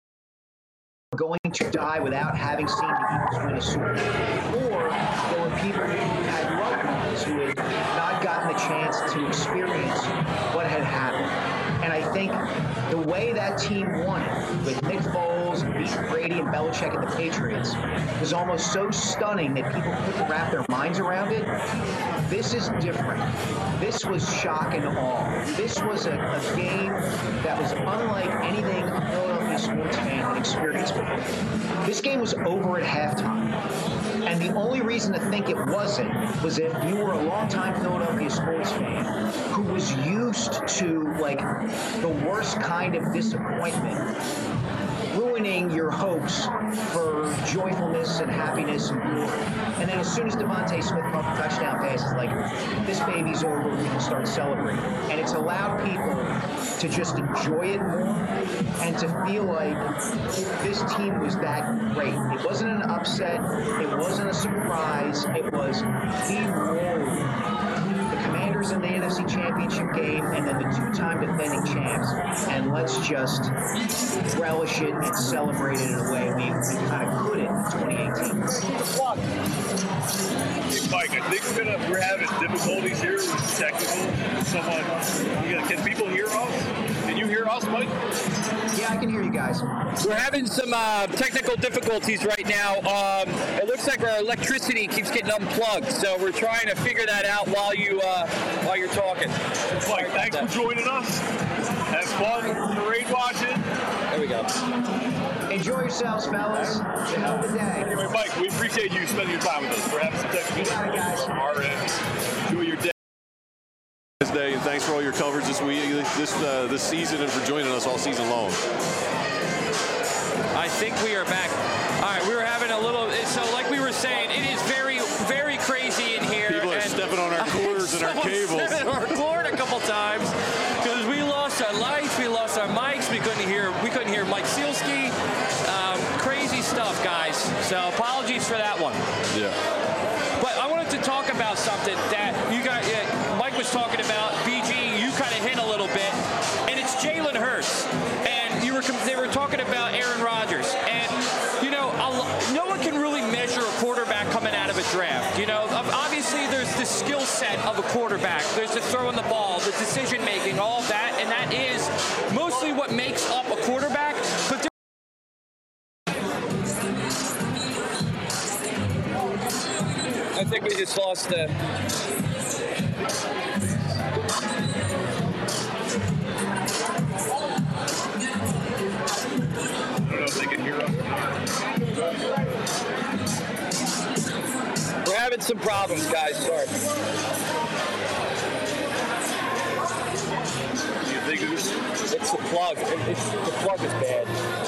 going to die without having seen the Eagles win a Super Bowl. Or there were people who had loved ones who had not gotten the chance to experience what had happened. And I think the way that team won it, with Nick Foles and beating Brady and Belichick and the Patriots, was almost so stunning that people couldn't wrap their minds around it. This is different. This was shock and awe. This was a, a game that was unlike anything a Philadelphia sports fan had experienced before. This game was over at halftime. And the only reason to think it wasn't was if you were a longtime Philadelphia sports fan who was used to, like, the worst kind of disappointment, ruining your hopes for joyfulness and happiness and glory. And then as soon as Devontae Smith caught the touchdown pass, it's like, this baby's over, we can start celebrating. And it's allowed people to just enjoy it more and to feel like this team was that great. It wasn't an upset. It wasn't a surprise. It was he rolled the Commanders in the N F C Championship game and then the two-time defending champs. And let's just relish it and celebrate it in a way we, we kind of couldn't in twenty eighteen. Mike, I think we're gonna we're having difficulties here with technical. Someone, you know, can people hear us? Can you hear us, Mike? Yeah, I can hear you guys. We're having some uh, technical difficulties right now. Um, it looks like our electricity keeps getting unplugged, so we're trying to figure that out while you uh, while you're talking. Mike, thanks for joining us. Have fun parade watching. There we go. Enjoy yourselves, fellas. It's a hell of a day. Anyway, Mike, we appreciate you spending your time with us. We're having some technical difficulties on our end. Enjoy your day. Day, and thanks for all your coverage this week, this uh, this season, and for joining us all season long. I think we are back. All right, we were having a little. So, like we were saying, it is very, very crazy in here. People are and stepping on our cords and our cables. Stepping on our cord a couple times because we lost our lights, we lost our mics, we couldn't hear. We couldn't hear Mike Sealski. Um, crazy stuff, guys. So, apologies for that one. Yeah. But I wanted to talk about something that you got. Uh, Mike was talking about. B G, you kind of hint a little bit, and it's Jalen Hurts. And you were they were talking about Aaron Rodgers, and you know, no one can really measure a quarterback coming out of a draft. You know, obviously there's the skill set of a quarterback. There's the throwing the ball, the decision making, all of that, and that is mostly what makes up a quarterback. But I think we just lost the. I don't know if they can hear us. We're having some problems, guys. Sorry. You think it's, It's the plug. It's, the plug is bad.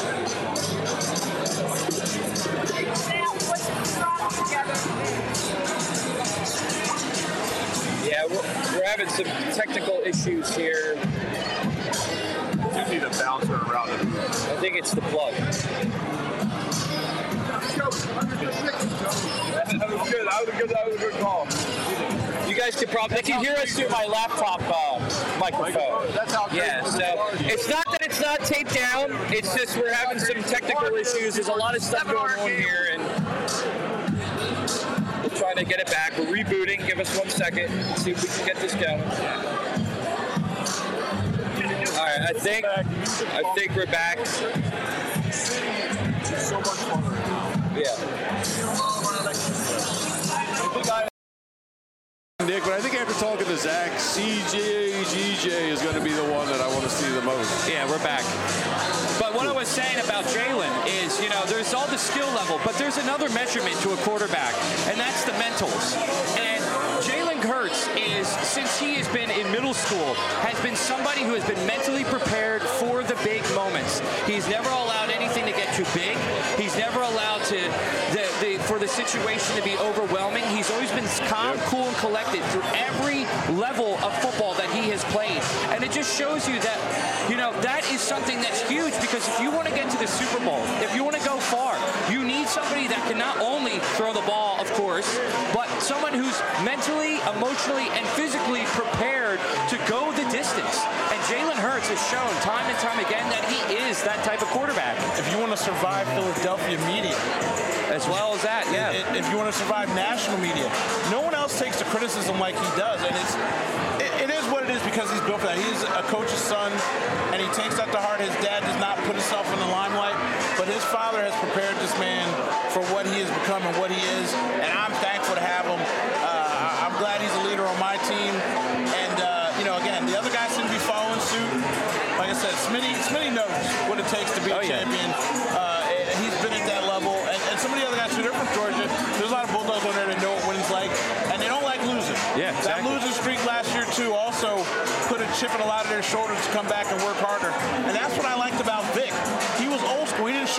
Yeah, we're, we're having some technical issues here. you need a bouncer around it? I think it's the plug. That was good. That was a good, that was a good call. You guys can probably they can hear us through my laptop uh, microphone. That's how Yeah, so it's not that it's not taped down. It's just we're having some technical issues. There's a lot of stuff going on here, and we're trying to get it back. We're rebooting. Give us one second. See if we can get this going. All right, I think I think we're back. so much fun. Yeah. Nick, but I think after talking to Zach, C J G J is going to be the one that I want to see the most. Yeah, we're back. But what I was saying about Jalen is, you know, there's all the skill level, but there's another measurement to a quarterback, and that's the mentals. And Jalen Hurts is, since he has been in middle school, has been somebody who has been mentally prepared for the big moments. He's never allowed anything to get too big. He's never allowed to the, the for the situation to be overwhelming. He's always been calm, yep. cool, and collected through every level of football that he has played. And it just shows you that, you know, that is something that's huge, because if you want to get to the Super Bowl, if you want to go far, you need somebody that can not only throw the ball, of course, but someone who's mentally, emotionally, and physically prepared to go the distance. And Jalen Hurts has shown time and time again that he is that type of quarterback. If you want to survive Philadelphia media, as well as that, yeah. If you want to survive national media, no one else takes the criticism like he does, and it's it, it is what it is because he's built for that. He's a coach's son, and he takes that to heart. His dad does not put himself in the limelight, but his father has prepared this man for what he has become and what he is, and I'm thankful to have him. Uh, I'm glad he's a leader on my team, and uh, you know, again, the other guys seem to be following suit. Like I said, Smitty, Smitty knows what it takes to be a oh, champion. Yeah. Uh, he's been at that level, and, and some of the other guys who are from Georgia, there's a lot of Bulldogs on there that know what winning's like, and they don't like losing. Yeah, exactly. That losing streak last year, too, also put a chip in a lot of their shoulders to come back and work harder. And that's what I liked about Vic. He was old school. He didn't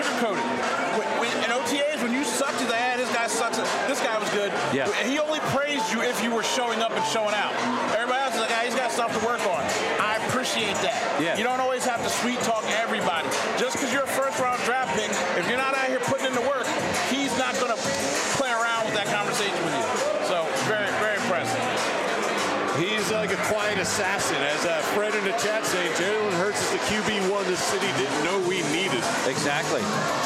praised you if you were showing up and showing out. Everybody else is like, ah, he's got stuff to work on. I appreciate that. Yeah. You don't always have to sweet talk everybody. Just because you're a first round draft pick, if you're not out here putting in the work, he's not going to play around with that conversation with you. So very, very impressive. He's like a quiet assassin. As uh, Fred in the chat saying, Jalen Hurts is the Q B one the city didn't know we needed. Exactly.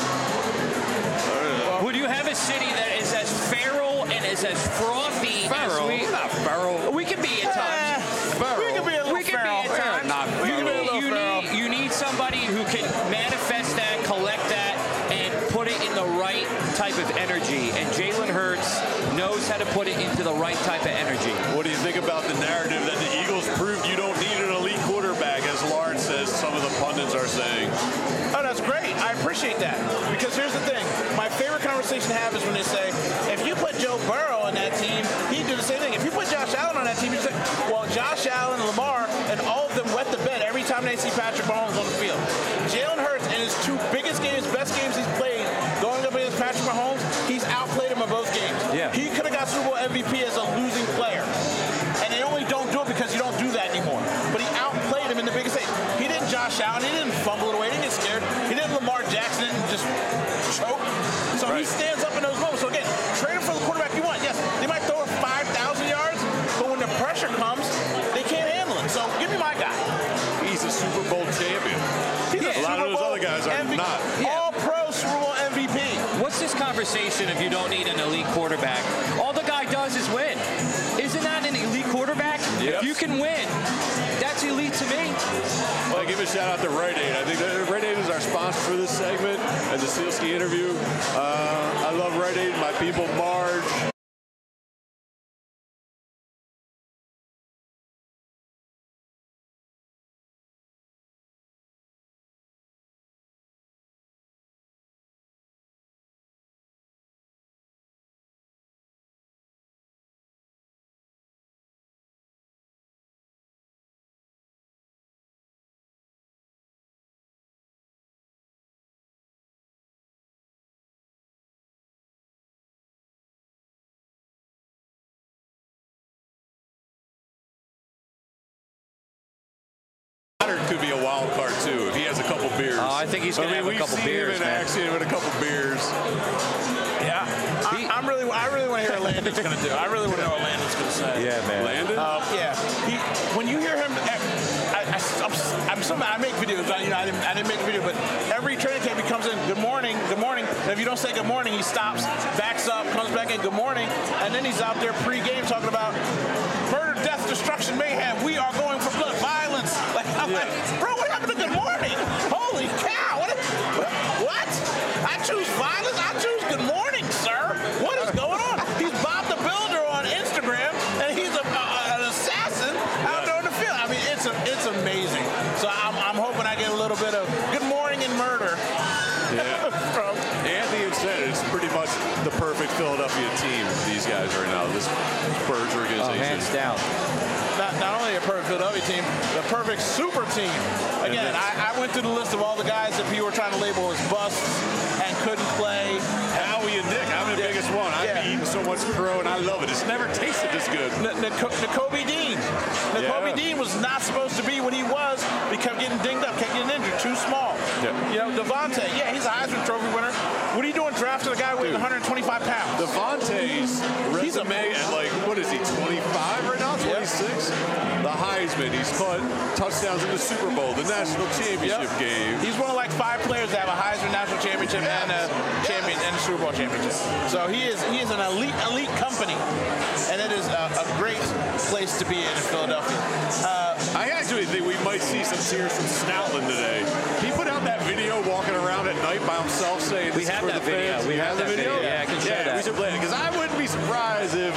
Uh, Would you have a city that is as feral and is as frothy Feral? as we? We're not feral. We can be at times. Feral. We can be a little We can feral. be at times. Not you, feral. need, you, Little feral. need, you need somebody who can manifest that, collect that, and put it in the right type of energy. And Jalen Hurts knows how to put it into the right type of energy. What do you think about the narrative that the Eagles proved you don't need an elite quarterback, as Lawrence says some of the pundits are saying? Oh, that's great. I appreciate that. Because here's the thing. My favorite conversation to have is when they say, if you put Joe Burrow on that team, he'd do the same thing. If you put Josh Allen on that team, you say, well, Josh Allen, Lamar, and all of them wet the bed every time they see Patrick Mahomes on the field. Jalen Hurts, in his two biggest games, best games he's played, going up against Patrick Mahomes, he's outplayed him in both games. Yeah. He could have got Super Bowl M V P as a losing player. And they only don't do it because you don't do that anymore. But he outplayed him in the biggest stage. He didn't Josh Allen. He didn't fumble it away. He didn't get scared. He didn't Lamar Jackson. Didn't just choke. So Right. he stands up in those moments. So again, trade him for the quarterback you want. Yes, they might throw it five thousand yards, but when the pressure comes, they can't handle it. So give me my guy. He's a Super Bowl champion. He's A lot of those other guys are M V P, not. All pro Super Bowl M V P. What's this conversation if you don't need an elite quarterback? All the guy does is win. Isn't that an elite quarterback? Yep. If you can win, that's elite to me. Well, give a shout out to Rite Aid. I think that Rite Aid is our sponsor for this segment and the Sealski interview. Uh, I love Rite Aid. My people, Marge. Could be a wild card too if he has a couple beers. Oh, I think he's gonna I mean, have a we've couple seen beers, him in man. action with a couple beers. Yeah. I, I'm really, I really want to hear what Landon's going to do. I really want to know what Landon's going to say. Yeah, man. Landon? Um, yeah. He, when you hear him, I, I, I'm, I'm some, I make videos. I, you know, I didn't, I didn't make a video, but every training camp he comes in, good morning, good morning. And if you don't say good morning, he stops, backs up, comes back in, good morning, and then he's out there pre-game talking about murder, death, destruction, mayhem. We are going for blood, violence. Like, I'm Yeah. like, bro, what happened to good morning? Holy cow! What? What? I choose violence. I choose good morning, sir. What is going on? He's Bob the Builder on Instagram, and he's a, a, an assassin out there on the field. I mean, it's a, it's amazing. So I'm, I'm hoping I get a little bit of good morning and murder. Yeah. from Anthony said it's pretty much the perfect Philadelphia team, these guys right now, this Birds Oh, organization. hands down. not, not only a perfect Philadelphia team, the perfect super team. Again, I, I went through the list of all the guys that people were trying to label as busts and couldn't play. Howie and Nick, I'm the Yeah. biggest one. I've Yeah. eaten so much crow, and I love it. It's never tasted this good. N- Nico- N'Kobe Dean. N'Kobe Yeah. Dean was not supposed to be what he was. He kept getting dinged up, kept getting injured, too small. Yeah. You know, Devontae, yeah, he's a Heisman Trophy winner. What are you doing drafting a guy weighing Dude. one hundred twenty-five pounds? Devontae's He's a- resume at like, what is he, twenty-five right now, twenty-six? The Heisman, he's caught touchdowns in the Super Bowl, the national championship Yep. game. He's one of like five players that have a Heisman National Championship and a champion and a Super Bowl championship. So he is he is an elite elite company, and it is a, a great place to be in in Philadelphia. Uh, I actually think we might see some tears from Stoutland today. He put out that video walking around at night by himself saying, We "This is have for that the video. fans." We You have the that video. Yeah, I can show yeah, that. we should play it because I wouldn't be surprised if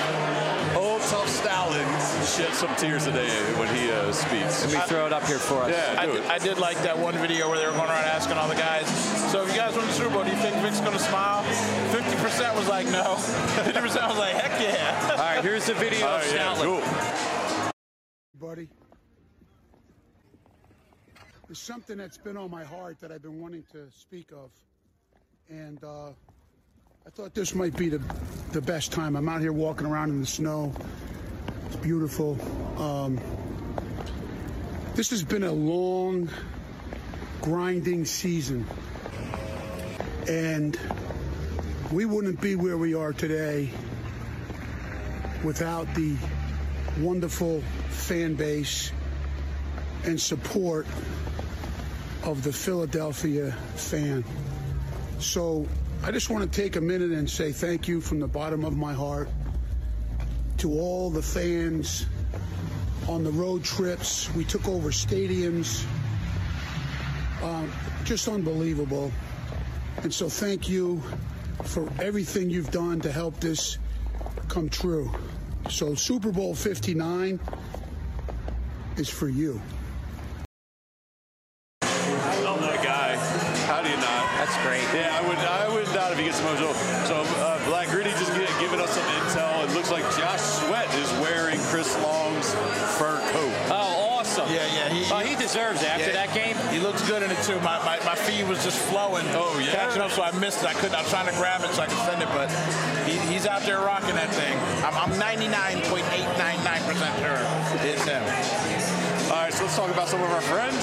old tough Stoutland shed some tears today when he uh, speaks. Let me throw it up here for us. Yeah, I do did, it. I did like that one video where they were going around asking all the guys, so if you guys win the Super Bowl, do you think Vic's going to smile? fifty percent was like, no. fifty percent was like, heck yeah. All right, here's the video Oh, of yeah, Stoutland. cool. Buddy, there's something that's been on my heart that I've been wanting to speak of, and uh, I thought this might be the, the best time. I'm out here walking around in the snow. It's beautiful. Um, this has been a long, grinding season. And we wouldn't be where we are today without the wonderful fan base and support of the Philadelphia fan. So I just want to take a minute and say thank you from the bottom of my heart to all the fans on the road trips. We took over stadiums. Um, just unbelievable. And so thank you for everything you've done to help this come true. So Super Bowl fifty-nine is for you. Love that guy. How do you not? That's great. Yeah, I would I would not if he gets emotional. So uh, Black Gritty just get, giving us some intel. It looks like Josh Sweat is wearing Chris Long's fur coat. Oh, awesome. Yeah, yeah. He, oh, he deserves it after yeah, that game. He looks good in it, too. My, my, my feed was just flowing. Oh, yeah. Catching up, so I missed it. I couldn't. I was trying to grab it so I could send it, but he, he's out there rocking that thing. I'm, I'm ninety-nine point eight nine nine percent sure it's him. All right, so let's talk about some of our friends.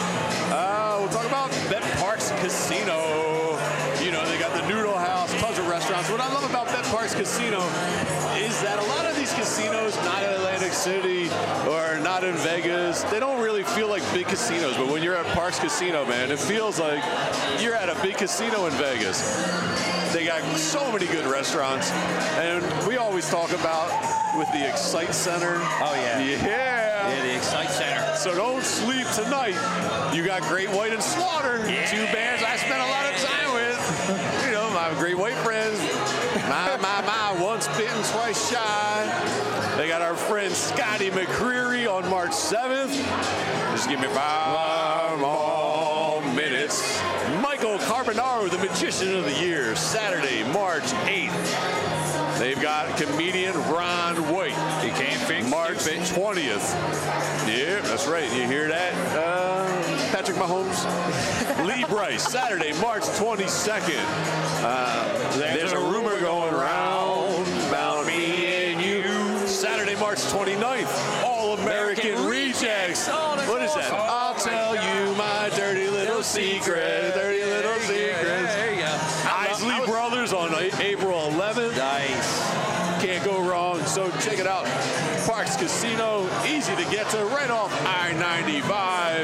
Uh, we'll talk about Bet Parks Casino. You know, they got the Noodle House, tons of restaurants. What I love about Bet Parks Casino is that a lot of these casinos, not in Atlantic City or not in Vegas, they don't really feel like big casinos. But when you're at Parks Casino, man, it feels like you're at a big casino in Vegas. They got so many good restaurants. And we always talk about with the Excite Center. Oh, yeah. Yeah. Yeah, the Excite Center. So don't sleep tonight. You got Great White and Slaughter, yeah. two bands I spent a lot of time with. You know, my Great White friends. My, my, my, once bitten, twice shy. They got our friend Scotty McCreery on March seventh. Just give me five more minutes. Michael Carbonaro, the Magician of the Year, Saturday, March eighth. They've got comedian Ron White. He can't fix March twentieth. Yeah, that's right. You hear that? Uh, Patrick Mahomes. Lee Bryce, Saturday, March twenty-second. Uh, there's, there's a rumor going around about me and you. Saturday, March twenty-ninth. All American, American Rejects. Oh, what is that? I'll tell you my dirty little secret. Dirty little secret. There you go. Isley Brothers on April eleventh. Nice. Can't go wrong. So check it out. Parks Casino, easy to get to, right off I ninety-five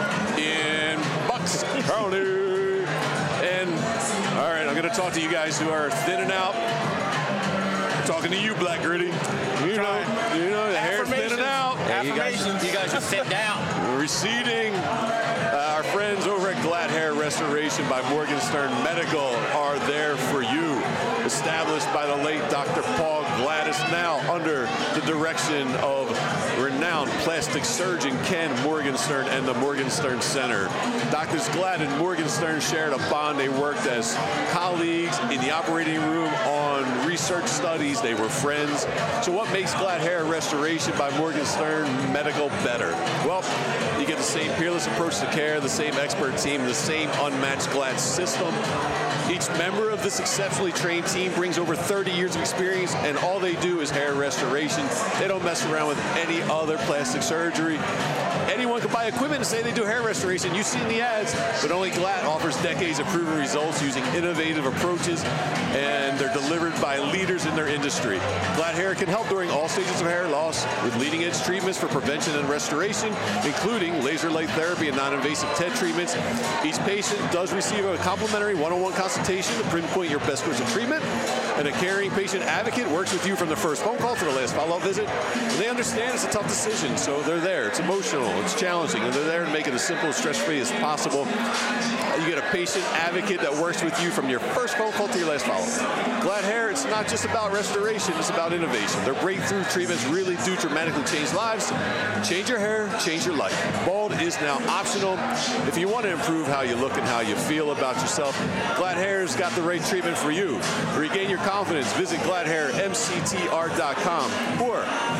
in Bucks County. And all right, I'm going to talk to you guys who are thinning out. I'm talking to you, Black Gritty. You know, you know, the hair's thinning out. Yeah, you guys, you guys are thinned out. Receding. Uh, our friends over at Glad Hair Restoration by Morgenstern Medical are there for you. Established by the late Doctor Paul Gladys, now under the direction of renowned plastic surgeon Ken Morgenstern and the Morgenstern Center. Doctors Glad and Morgenstern shared a bond. They worked as colleagues in the operating room on research studies. They were friends. So what makes Glad Hair Restoration by Morgenstern Medical better? Well, you get the same peerless approach to care, the same expert team, the same unmatched Glad system. Each member of this exceptionally trained team brings over thirty years of experience, and all they do is hair restoration. They don't mess around with any other plastic surgery. Anyone can buy equipment and say they do hair restoration. You've seen the ads, but only Glad offers decades of proven results using innovative approaches, and they're delivered by leaders in their industry. Glad Hair can help during all stages of hair loss with leading-edge treatments for prevention and restoration, including laser light therapy and non-invasive T E D treatments. Each patient does receive a complimentary one-on-one consultation to pinpoint your best course of treatment, and a caring patient advocate works with you from the first phone call to the last follow-up visit. And they understand it's a tough decision, so they're there. It's emotional, it's challenging, and they're there to make it as simple, stress-free as possible. You get a patient advocate that works with you from your first phone call to your last follow-up. Glad Hair, it's not just about restoration, it's about innovation. Their breakthrough treatments really do dramatically change lives. Change your hair, change your life. Bald is now optional. If you want to improve how you look and how you feel about yourself, Glad Hair's got the right treatment for you. Regain your confidence. Visit glad hair m c t r dot com or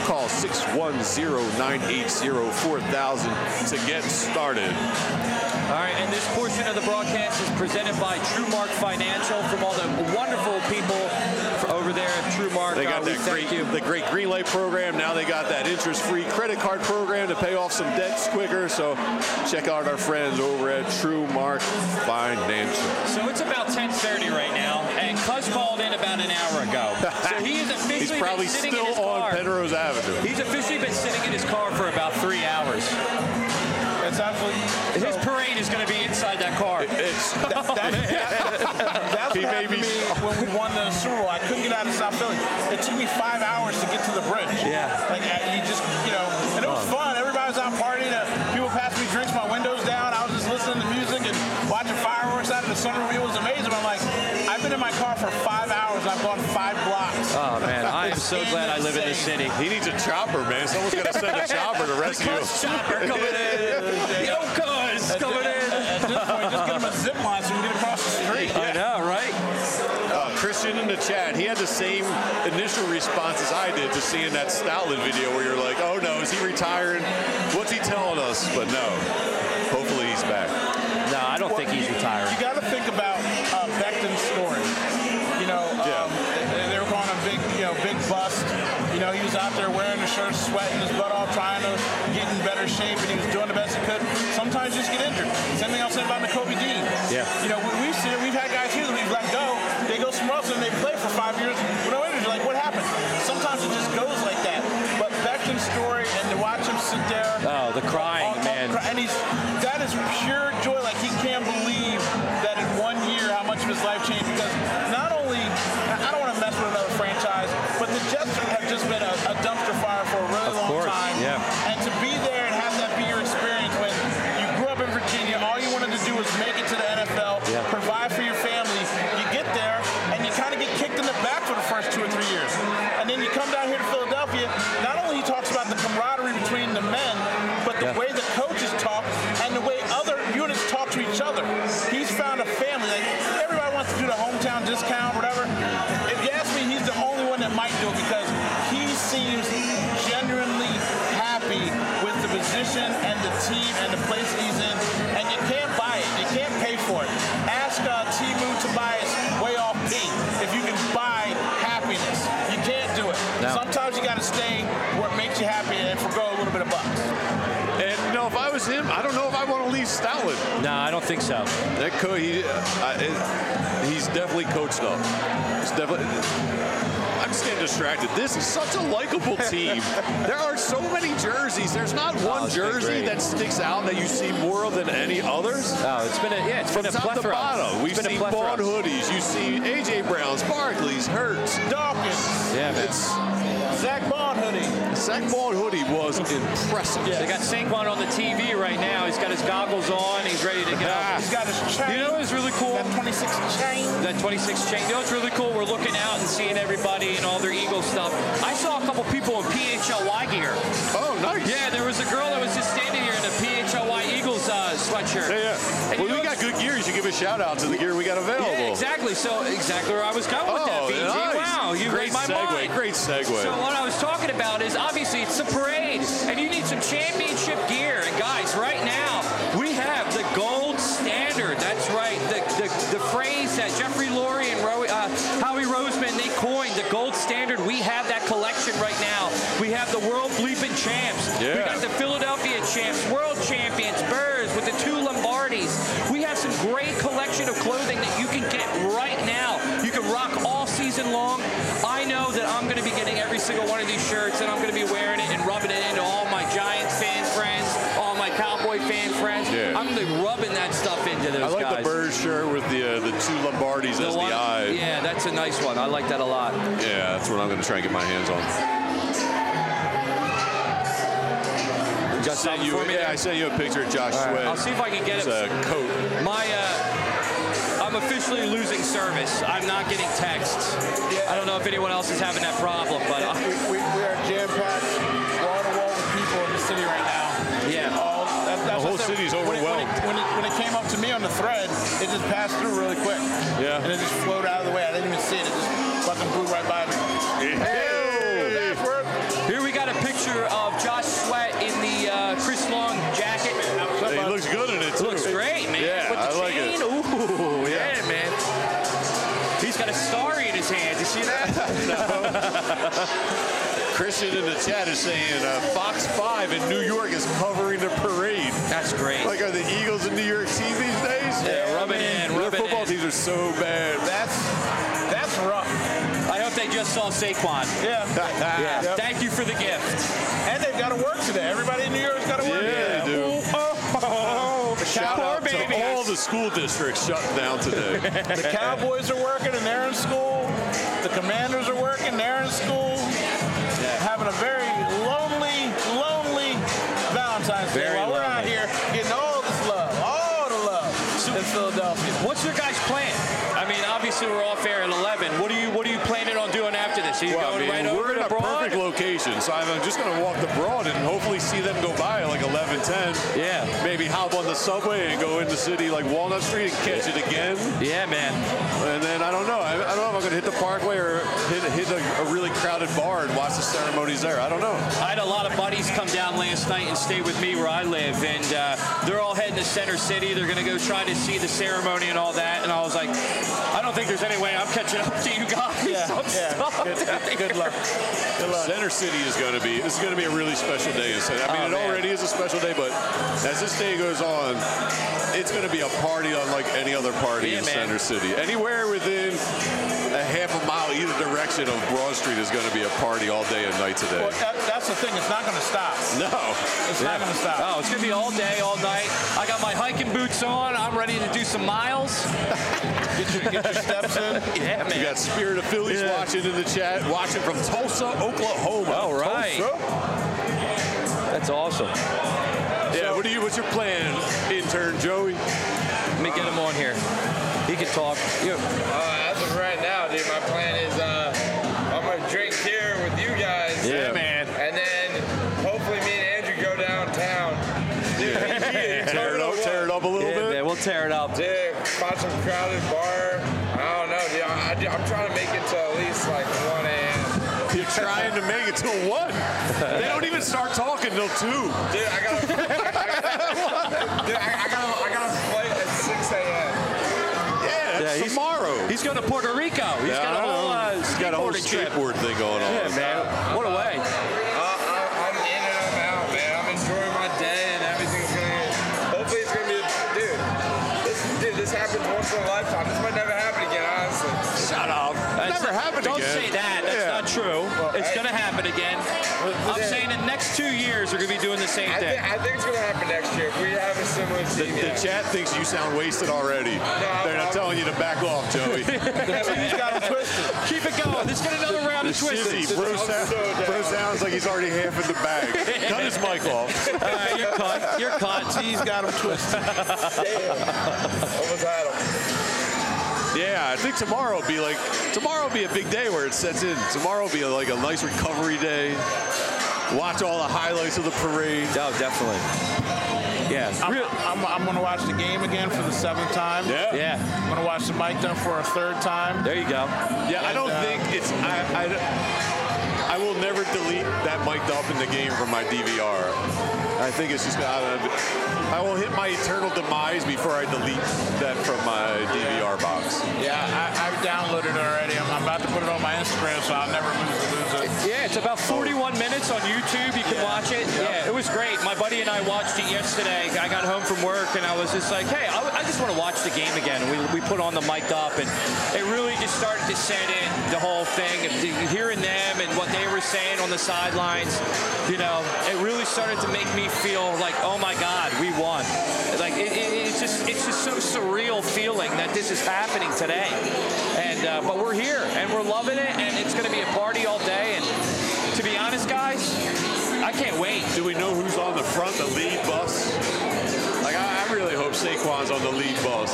Call six one zero, nine eight zero, four thousand to get started. All right, and this portion of the broadcast is presented by TrueMark Financial from all the wonderful people over there at TrueMark. They got uh, that great, the great Greenlight program. Now they got that interest-free credit card program to pay off some debts quicker. So check out our friends over at TrueMark Financial. So it's about ten thirty right now, and Cuz called in about an hour ago. So he is officially He's probably been sitting still in his on car. Penrose Avenue. He's officially been sitting in his car for about three hours. It's absolutely. His parade is going to be inside that car. It's, That, that, that, that's He what may happened be- to me when we won the Super Bowl. I couldn't get out of South Philly. It took me five hours to get to the bridge. Yeah. Like, uh, you just, you know, and it was fun. Everybody was out partying. Uh, people passed me drinks, my windows down. I was just listening to music and watching fireworks out of the sunroof. It was amazing. I'm like, I've been in my car for five hours. I've gone five blocks. Oh, man, I am so glad I live in this city. he needs a chopper, man. Someone's going to send a chopper to rescue him. Chopper coming in. Yo, Cuz coming in. At this point, just get him a zip line so we can get across the street. I know, right? Uh, Christian in the chat, he had the same initial response as I did to seeing that Stoutland video where you're like, oh no, is he retiring? What's he telling us? But no, hopefully he's back. No, I don't think he's retired. You got to think about uh, Becton's story. You know, um, Yeah. they, they were calling him big, you know, big bust. You know, he was out there wearing the shirt, sweating his butt off, trying to get in better shape, and he was doing the best he could. Sometimes you just get injured. Same thing I was saying about Nakobe Dean. Yeah. You know, we, we've seen it. We've had guys here that we've let go. They go somewhere else and they play for five years with no injury. Like, what happened? Sometimes it just goes like that. But Becton's story, and to watch him sit there. Oh, the crying, on- on- man. And he's, that is pure joy. Like, he can't believe that in one year how much of his life changed. Because not only, I don't want to mess with another franchise, but the Jets have just been a, a dumpster fire for a really Of long course, time. yeah. And to be there and have that be your experience when you grew up in Virginia, all you wanted to do was make it to the N F L, Yeah. provide for your family. You get there and you kind of get kicked in the back for the first two or three years. And then you come down here to Philadelphia. Not only he talks about the camaraderie between the men, but the Yeah. way the coaches talk and the way other units talk to each other. He's found a family. Like, everybody wants to do the hometown discount, whatever. If you ask me, he's the only one that might do it because he seems genuinely happy with the position and the team and the place that he's in. And you can't buy it. You can't pay for it. Ask uh, Timu Tobias way off P if you can buy happiness. You can't do it. No. Sometimes you got to stay where it makes you happy and forgo a little bit of bucks. And you know, if I was him, I don't know if I want to leave Stoutland. No, I don't think so. That co- he, uh, it, he's definitely coached up. He's definitely. I'm just getting distracted. This is such a likable team. There are so many jerseys. There's not one it's been jersey great. that sticks out that you see more of than any others. Oh, it's been a yeah, it's From been a top to plethora. bottom, we've It's been a seen plethora. Bond hoodies. You see A J Browns, Barclays, Hurts. Dawkins, Yeah, man. It's Zach Bond hoodie. Zach Bond hoodie was impressive. They got Saquon on the T V right now. He's got his goggles on. He's ready to go. He's got his chain. You know what's really cool? That twenty-six chain. That twenty-six chain. You know what's really cool? We're looking out and seeing everybody and all their Eagle stuff. I saw a couple people in P H L Y gear. Oh, nice. Yeah, there was a girl that was just standing here in a P H L Y Eagles uh, sweatshirt. Yeah, yeah. And Well, you we know- got good gear. You should give a shout out to the gear we got available. Yeah, exactly. So exactly where I was going with that, Oh, B G. nice. Wow, you Great read my segue. mind. Great segue. So what I was talking about is obviously it's the parade, and you need some championship gear. And guys, right now we have the gold standard. That's right. The the, the phrase that Jeffrey Lurie and Ro- uh, Howie Roseman they coined, the gold standard. We have that collection right now. We have the world bleeping champs. We Yeah. got the Philadelphia champs, world champions, Birds with the two Lombardis. We have some great collection of clothing that you can get right now. You can rock all season long. I know that I'm going to be getting every single one of these shirts, and I'm going to be wearing it and rubbing it into all my Giants fan friends, all my Cowboy fan friends. Yeah. I'm going to be rubbing that stuff into those I like guys. the bird shirt with the uh, the two Lombardis The as one- the eye. Yeah, that's a nice one. I like that a lot. Yeah, that's what I'm going to try and get my hands on. Got Sent something you, for me yeah, there? I sent you a picture of Josh All right, Sweat. I'll see if I can get It's it. a coat. My, uh, I'm officially losing service. I'm not getting texts. I don't know if anyone else is having that problem, but uh, We, we, we are jam-packed, wall to wall with people in the city right now. yeah. All, that, that's The whole what I said. city's When it- overwhelmed. When it, when, it, when it came up to me on the thread, it just passed through really quick. Yeah. And it just flowed out of the way. I didn't even see it. It just fucking blew right by me. Hey! Password. Here we got a Christian in the chat is saying uh, Fox five in New York is covering the parade. That's great. Like, are the Eagles in New York team these days? Yeah, rub it in, Their rub it football in. teams are so bad. That's that's rough. I hope they just saw Saquon. Yeah. Yeah. Yep. Thank you for the gift. And they've got to work today. Everybody in New York's got to work Yeah, today. they do. Oh, oh, oh. Shout out to all the school districts shutting down today. The Cowboys are working and they're in school. The Commanders are working, they're in school. Yeah. Having a very lonely, lonely Valentine's Day Very while we're out lonely. here getting all this love, all the love in Philadelphia. What's your guys' plan? I mean, obviously we're off air at eleven. What are you What are you planning on doing after this? Are you Well, going I mean, right over we're in to a Broad? perfect location, so I'm just going to walk the Broad and hopefully see them go by at like eleven ten. Yeah. Maybe hop on the subway and go in the city like Walnut Street and catch it again. Yeah, man. And then I don't know. I, I don't know if I'm going to hit the Parkway or hit, hit a, a really crowded bar and watch the ceremonies there. I don't know. I had a lot of buddies come down last night and stay with me where I live, and uh, they're all heading to Center City. They're going to go try to see the ceremony and all that. And I was like, I don't think there's any way I'm catching up to you guys. Yeah, I'm yeah. stuck. Good, good, good luck. Good luck. Center City is going to be, this is going to be a really special day. I mean, Oh, it man. already is a special day, but as this day goes on, it's going to be a party unlike any other party Yeah, in man. Center City. Anywhere within a half a mile either direction of Broad Street is going to be a party all day and night today. Well, that, that's the thing. It's not going to stop. No. It's not going to stop. Oh, it's going to be all day, all night. I got my hiking boots on. I'm ready to do some miles. Get your, get your steps in. Yeah, We man. got Spirit of Phillies Yeah. watching in the chat, watching from Tulsa, Oklahoma. All right. Tulsa. That's awesome. Yeah, what do you? What's your plan, intern Joey? Let me get him on here. He can talk. You. Uh, as of right now, dude, my plan is uh, I'm gonna drink here with you guys. Yeah, man. And then hopefully me and Andrew go downtown. Dude, Tear it up, tear it up a little Yeah, bit. man. We'll tear it up. Dude, find some crowded bar. I don't know, dude. I, I, I'm trying to make it to at least like one a.m. You're trying to make it till what? They don't even start talking till two. Dude, I got a, I, I, dude, I, I got a, I got a flight at six a.m. Yeah, Yeah, it's he's- tomorrow. He's going to Puerto Rico. He's Yeah, got a I whole know. uh, He's got a whole skateboarding trip. skateboard thing going on. Yeah, man. What a way. Uh, I, I'm in and I'm out, man. I'm enjoying my day and everything's gonna. Hopefully, it's gonna be, a, dude. This, dude, this happens once in a lifetime. This might never happen again, honestly. Shut up. That's- Never happened Don't again. say that. That's Yeah. not true. It's I- going to happen again. I'm Yeah. saying the next two years are going to be doing the same I thing. think, I think it's gonna happen next year if we have a similar The, team. the yeah. chat thinks you sound wasted already. They're not I'm- telling you to back off, Joey. He's got him twisted. Keep it going. Let's get another round of Shizzy, twisted. bro, I'm sound, so down. bro sounds like he's already half in the bag. Cut his mic off. All right, you're cut. You're cut. He's got him twisted. Almost had him. Yeah, I think tomorrow will be like, tomorrow will be a big day where it sets in. Tomorrow will be like a nice recovery day. Watch all the highlights of the parade. Oh, definitely. Yeah. I'm, I'm, I'm going to watch the game again for the seventh time. Yeah. Yeah. I'm going to watch the mic done for a third time. There you go. Yeah, I don't And, uh, think it's, I, I, I will never delete that mic'd up in the game from my D V R. I think it's just, I, I will hit my eternal demise before I delete that from my D V R box. Yeah, I, I've downloaded it already. I'm, I'm about to put it on my Instagram, so I'll never lose it. Lose it. Yeah, it's about forty-one minutes on YouTube. You can Yeah. watch it. Yep. Yeah, it was great. My buddy and I watched it yesterday. I got home from work and I was just like, hey, I, I just want to watch the game again. And we, we put on the mic up and it really just started to set in the whole thing of the- hearing them and what they were saying on the sidelines. You know, it really started to make me feel like, oh my God, we won. Like it, it, it's just it's just so surreal feeling that this is happening today. And uh, but we're here and we're loving it and it's going to be a party all day. And to be honest, guys, I can't wait. Do we know who's on the front, the lead bus? Like, I, I really hope Saquon's on the lead bus.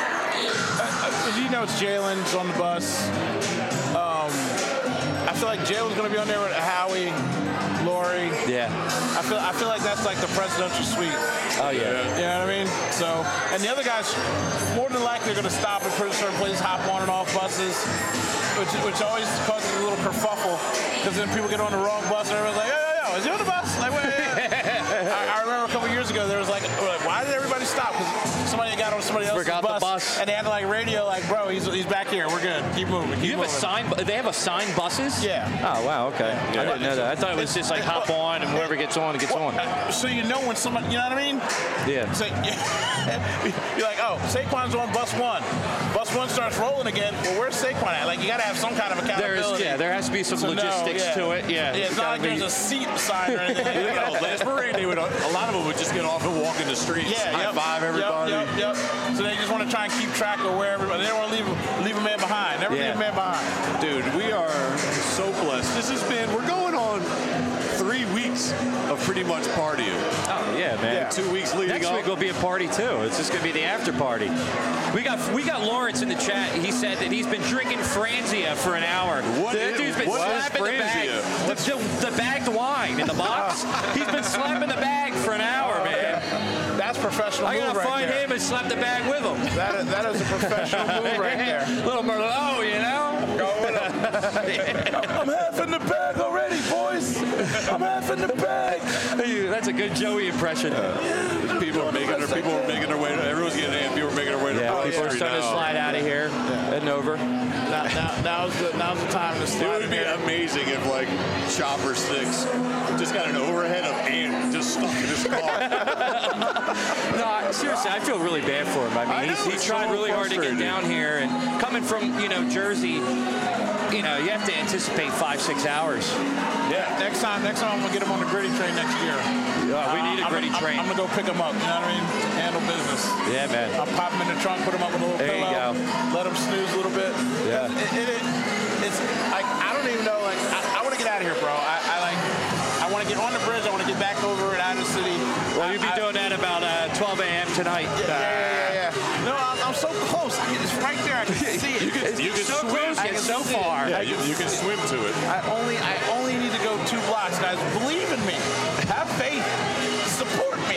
Uh, you know, it's Jalen's on the bus. Um, I feel like Jalen's going to be on there with Howie, Lori. Yeah. I feel I feel like that's like the presidential suite. Oh yeah. You know what I mean? So, and the other guys, more than likely, are going to stop at certain places, hop on and off buses, which which always causes a little kerfuffle because then people get on the wrong bus and everyone's like, yo, yo, yo, is he on the bus? Like, wait, wait, wait. I, I remember a couple years ago, there was like, we're like, why did everybody stop? Because somebody got on somebody else's Forgot the bus, bus. and they had like radio, like, bro, he's he's back here, we're good, keep moving, keep You have a moving. sign. they have assigned buses? Yeah. Oh, wow, okay. Yeah. I didn't know that. I thought it was just like hop on and whoever gets on, gets well, on. Uh, so you know when somebody, you know what I mean? Yeah. So, you're like, oh, Saquon's on bus one. Bus one starts rolling again. Well, where's Saquon at? Like, you got to have some kind of accountability. There is, yeah, there has to be some so logistics no, yeah. to it. Yeah. yeah it's not like be... there's a seat assigned or anything. You know, last parade, they would, a lot of them would just get off and walk in the streets, yeah, high yep, five everybody. Yep, yep, yep. So they just want to try and keep track of where everybody. They don't want to leave leave a man behind. Never yeah. leave a man behind. Dude, we are so blessed. This has been. We're going on three weeks of pretty much partying. Oh yeah, man. Yeah. Two weeks leading Next up. week will be a party too. It's just gonna be the after party. We got we got Lawrence in the chat. He said that he's been drinking Franzia for an hour. What that is, dude's been what slapping is the bag, the, the, the bagged wine in the box. He's been slapping the bag for an hour, oh, man. Yeah. That's professional. I gotta move find right there. him and slap the bag with him. That is, that is a professional move right there. Little Merlot, you know. Go with him. I'm half in the bag already, boys. I'm half in the bag. That's a good Joey impression. Uh, people are making their people are making their way. Everyone's getting in. People are making their way to yeah, the people are starting now. to slide out of here yeah. and over. Now, now, now's the now's the time to slide. It would be here. amazing if like Chopper Sticks just got an overhead of ant just stuck in his car. No, seriously, I feel really bad for him. I mean, I know, he's, he tried so really hard to get down here, and coming from you know Jersey, you know you have to anticipate five six hours. Yeah. Next time, next time I'm gonna get him on the gritty train next year. Yeah, we need a I'm gritty gonna, train. I'm, I'm gonna go pick him up. You know what I mean? Handle business. Yeah, man. I'll pop him in the trunk, put him up with a little There pillow, you go. let him snooze a little bit. Yeah. It, it, it, it's like I don't even know. Like I, I want to get out of here, bro. I, I like. I want to get on the bridge. I want to get back over and out of the city. Well, you'll be I, doing that about uh, twelve a.m. tonight. Yeah, yeah, yeah, yeah. No, I'm, I'm so close. I can, it's right there. I can see it. You can, you can so swim. close, yet so far. Yeah, you, you can swim to it. I only, I only need to go two blocks, guys. Believe in me. Have faith. Support me.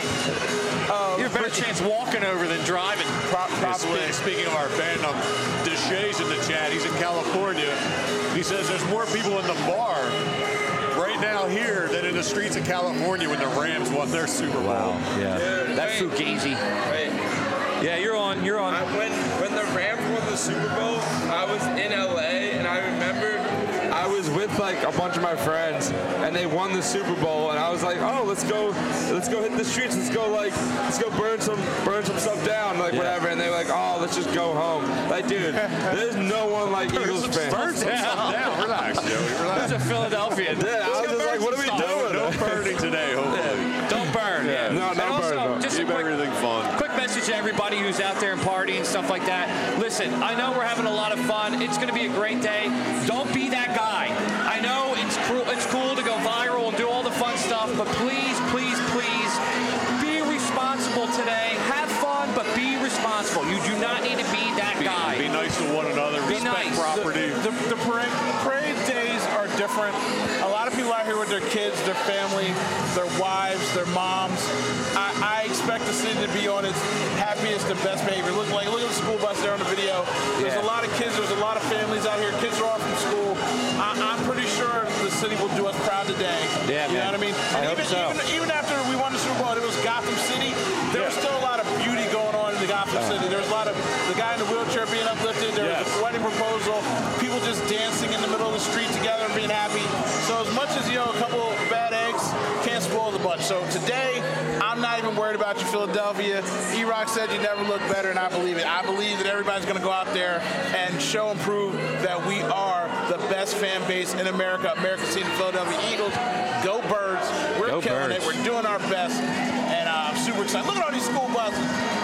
Um, You have a better chance walking over than driving. Pro- probably. Yeah, speaking of our fan, um, Deshay's in the chat. He's in California. He says there's more people in the bar right now here than in the streets of California when the Rams won their Super Bowl. Wow. Yeah. Dude, that wait, Fugazi. Wait. Yeah, you're on. You're on. I, when when the Rams won the Super Bowl, I was in L A and I remember I was with like a bunch of my friends and they won the Super Bowl and I was like, oh, let's go, let's go hit the streets, let's go like, let's go burn some, burn some stuff down, like yeah. whatever. And they were like, oh, let's just go home. Like, dude, there's no one like Eagles fans. Burn some stuff down. Relax, Joey. Relax. There's a Philadelphia. Yeah, I was just like, what are we doing? No burning today, hopefully. Don't burn. Yeah. No, and no also, burn. Just Keep a quick, everything fun. Quick message to everybody who's out there and partying and stuff like that. Listen, I know we're having a lot of fun. It's going to be a great day. Don't be that guy. I know it's cool, it's cool to go viral and do all the fun stuff, but please, please, please be responsible today. Have fun, but be responsible. You do not need to be that Be, guy. be nice to one another. Be Respect nice. property. The, the, the parade, parade days are different. A lot of people out here with their kids, their family, their wives, their moms. I, I expect the city to be on its happiest and best behavior. Look like look at the school bus there on the video. There's Yeah. a lot of kids. There's a lot of families out here. Kids are off from school. I, I'm pretty sure the city will do us proud today. Yeah, you man. know what I mean? I And hope even, so. even even after we won the Super Bowl, it was Gotham City. There was still a lot of beauty going on in the Gotham City. There was a lot of the guy in the wheelchair being uplifted. There was Yes. a wedding proposal. People just dancing in the middle of the street together and being happy. So as much as, you know, a couple bad eggs can't spoil the bunch. So today, I'm not even worried about you, Philadelphia. E-Rock said you never look better, and I believe it. I believe that everybody's going to go out there and show and prove that we are the best fan base in America. America's team, the Philadelphia Eagles. Go Birds. We're Go killing Birds. it. We're doing our best. And uh, I'm super excited. Look at all these school buses.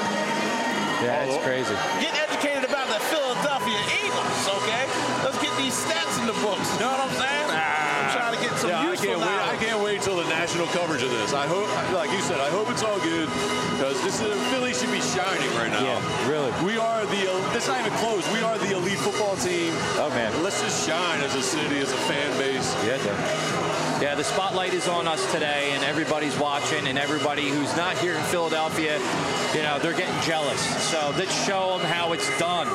Yeah, it's crazy. Get educated about the Philadelphia Eagles, okay? Let's get these stats in the books. You know what I'm saying? I'm trying to get some Yeah, I useful can't wait. I knowledge. can't wait till the national coverage of this. I hope, like you said, I hope it's all good because this is, Philly should be shining right now. Yeah, really. We are the. This not even close. We are the elite football team. Oh man. Let's just shine as a city, as a fan base. Yeah, yeah, the spotlight is on us today, and everybody's watching, and everybody who's not here in Philadelphia, you know, they're getting jealous. So let's show them how it's done.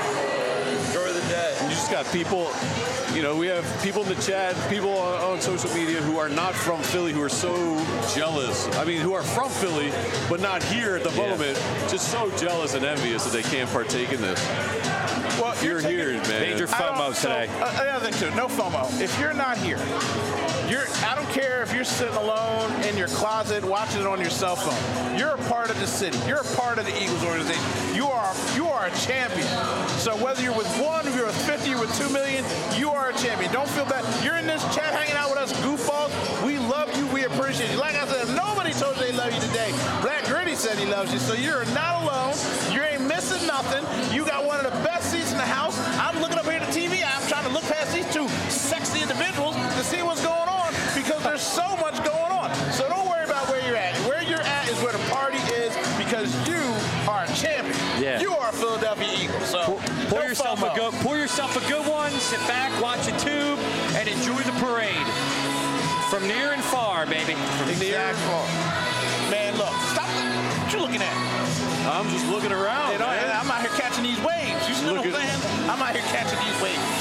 Enjoy the day. You just got people, you know, we have people in the chat, people on, on social media who are not from Philly who are so jealous. I mean, who are from Philly, but not here at the Yeah. moment, just so jealous and envious that they can't partake in this. Well, you're here, man. Major FOMO so, today. Uh, another thing, too, no FOMO. If you're not here, you're, I don't care if you're sitting alone in your closet watching it on your cell phone. You're a part of the city. You're a part of the Eagles organization. You are you are a champion. So whether you're with one, if you're with fifty, you're with two million, you are a champion. Don't feel bad. You're in this chat hanging out with us goofballs. We love you. We appreciate you. Like I said, if nobody told you they love you today, Black Gritty said he loves you. So you're not alone. You ain't missing nothing. You got one of the best seats in the house. I'm looking up here at the T V. I'm trying to look past these two sexy individuals to see what's going on because there's so much going on. So don't worry about where you're at. Where you're at is where the party is because you are a champion. Yeah. You are a Philadelphia Eagle. So Pour, pour no yourself a FOMO. good, pour yourself a good one. Sit back, watch a tube, and enjoy the parade from near and far, baby. From near and far. Man, look, stop. What you looking at? I'm just looking around. You know, man. I'm out here catching these waves. You see what I'm Look at- saying? I'm out here catching these waves.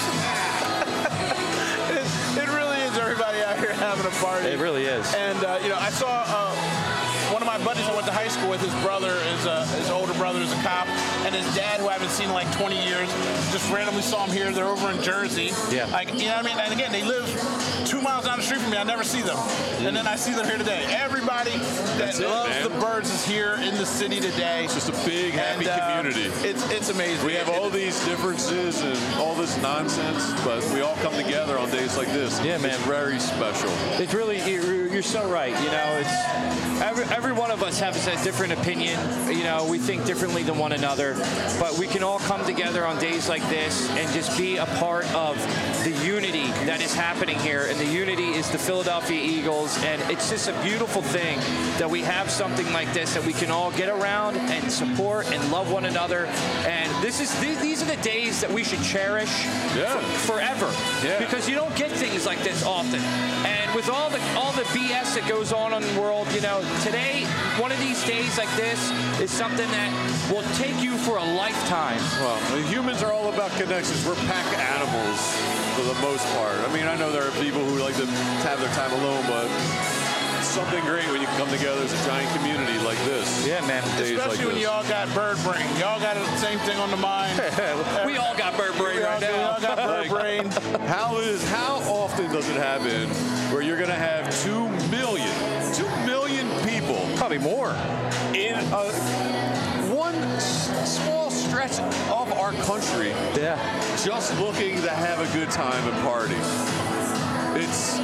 it, it really is everybody out here having a party. It really is. And, uh, you know, I saw uh, one of my buddies I went to high school with, his brother, is a, his older brother is a cop, and his dad, who I haven't seen in like twenty years, just randomly saw him here. They're over in Jersey. Yeah. Like, you know what I mean? And again, they live two miles down the street from me. I never see them. And then I see them here today. Everybody that That's it, loves man. the Birds is here in the city today. It's just a big, happy And, uh, community. It's it's amazing. We have all these differences and all this nonsense, but we all come together on days like this. Yeah, man. It's very special. It's really, you're, you're so right. You know, it's every, every one of us has a different opinion. You know, we think differently than one another, but we can all come together on days like this and just be a part of the unity that is happening here. And the unity is the Philadelphia Eagles. And it's just a beautiful thing that we have something like this that we can all get around and support and love one another. And this is th- these are the days that we should cherish Yeah. for, forever. Yeah. Because you don't get things like this often. And with all the all the B S that goes on in the world, you know, today, one of these days like this is something that will take you for a lifetime. Well, humans are all about connections. We're pack animals for the most part. I mean, I know there are people who like to have their time alone, but it's something great when you can come together as a giant community like this. Yeah, man. Days Especially like when this. y'all got bird brain. Y'all got the same thing on the mind. We all got bird brain We all, right we now. all got bird brain. How is how often does it happen where you're going to have two million, two million people Probably more. in a one s- small stretch of our country Yeah. just looking to have a good time and party? It's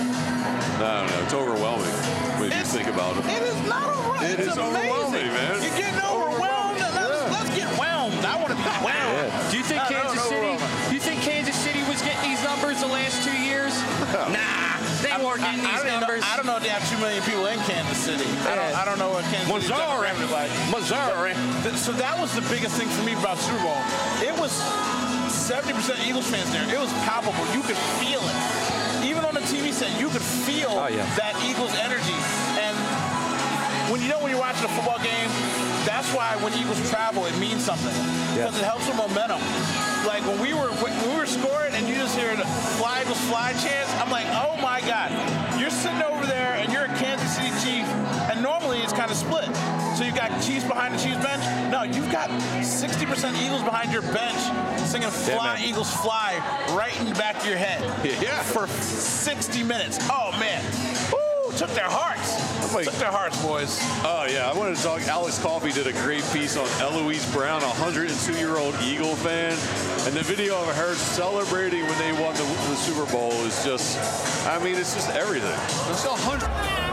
I don't know. It's overwhelming when you It's- think about it. It is not overwhelming. It It's is amazing. overwhelming, man. You're getting overwhelmed. Let's, Yeah. let's get whelmed. I want to be whelmed. Do you think No, no, Kansas no, City? no. Do you think Kansas City was getting these numbers the last two years? Nah, they weren't getting I, I these don't even numbers. Know, I don't know if they have two million people in Kansas City. I don't. I don't know what Kansas City's Missouri. demographic like. Missouri. Th- So that was the biggest thing for me about Super Bowl. It was seventy percent Eagles fans there. It was palpable. You could feel it. Even on the T V set, you could feel Oh, yeah. that Eagles energy. And when you know when you're watching a football game, that's why when Eagles travel, it means something because it helps with momentum. Like when we were when we were scoring and you just hear the "Fly Eagles Fly" chants, I'm like, oh my God! You're sitting over there and you're a Kansas City Chief, and normally it's kind of split. So you've got Chiefs behind the Chiefs bench. No, you've got sixty percent Eagles behind your bench singing "Fly man. Eagles Fly" right in the back of your head. Yeah. For sixty minutes. Oh man. Woo! Took their hearts. like- Took their hearts, boys. Oh, yeah. I wanted to talk. Alex Coffey did a great piece on Eloise Brown, a one hundred two-year-old Eagle fan. And the video of her celebrating when they won the, the Super Bowl is just, I mean, it's just everything. It's a hundred.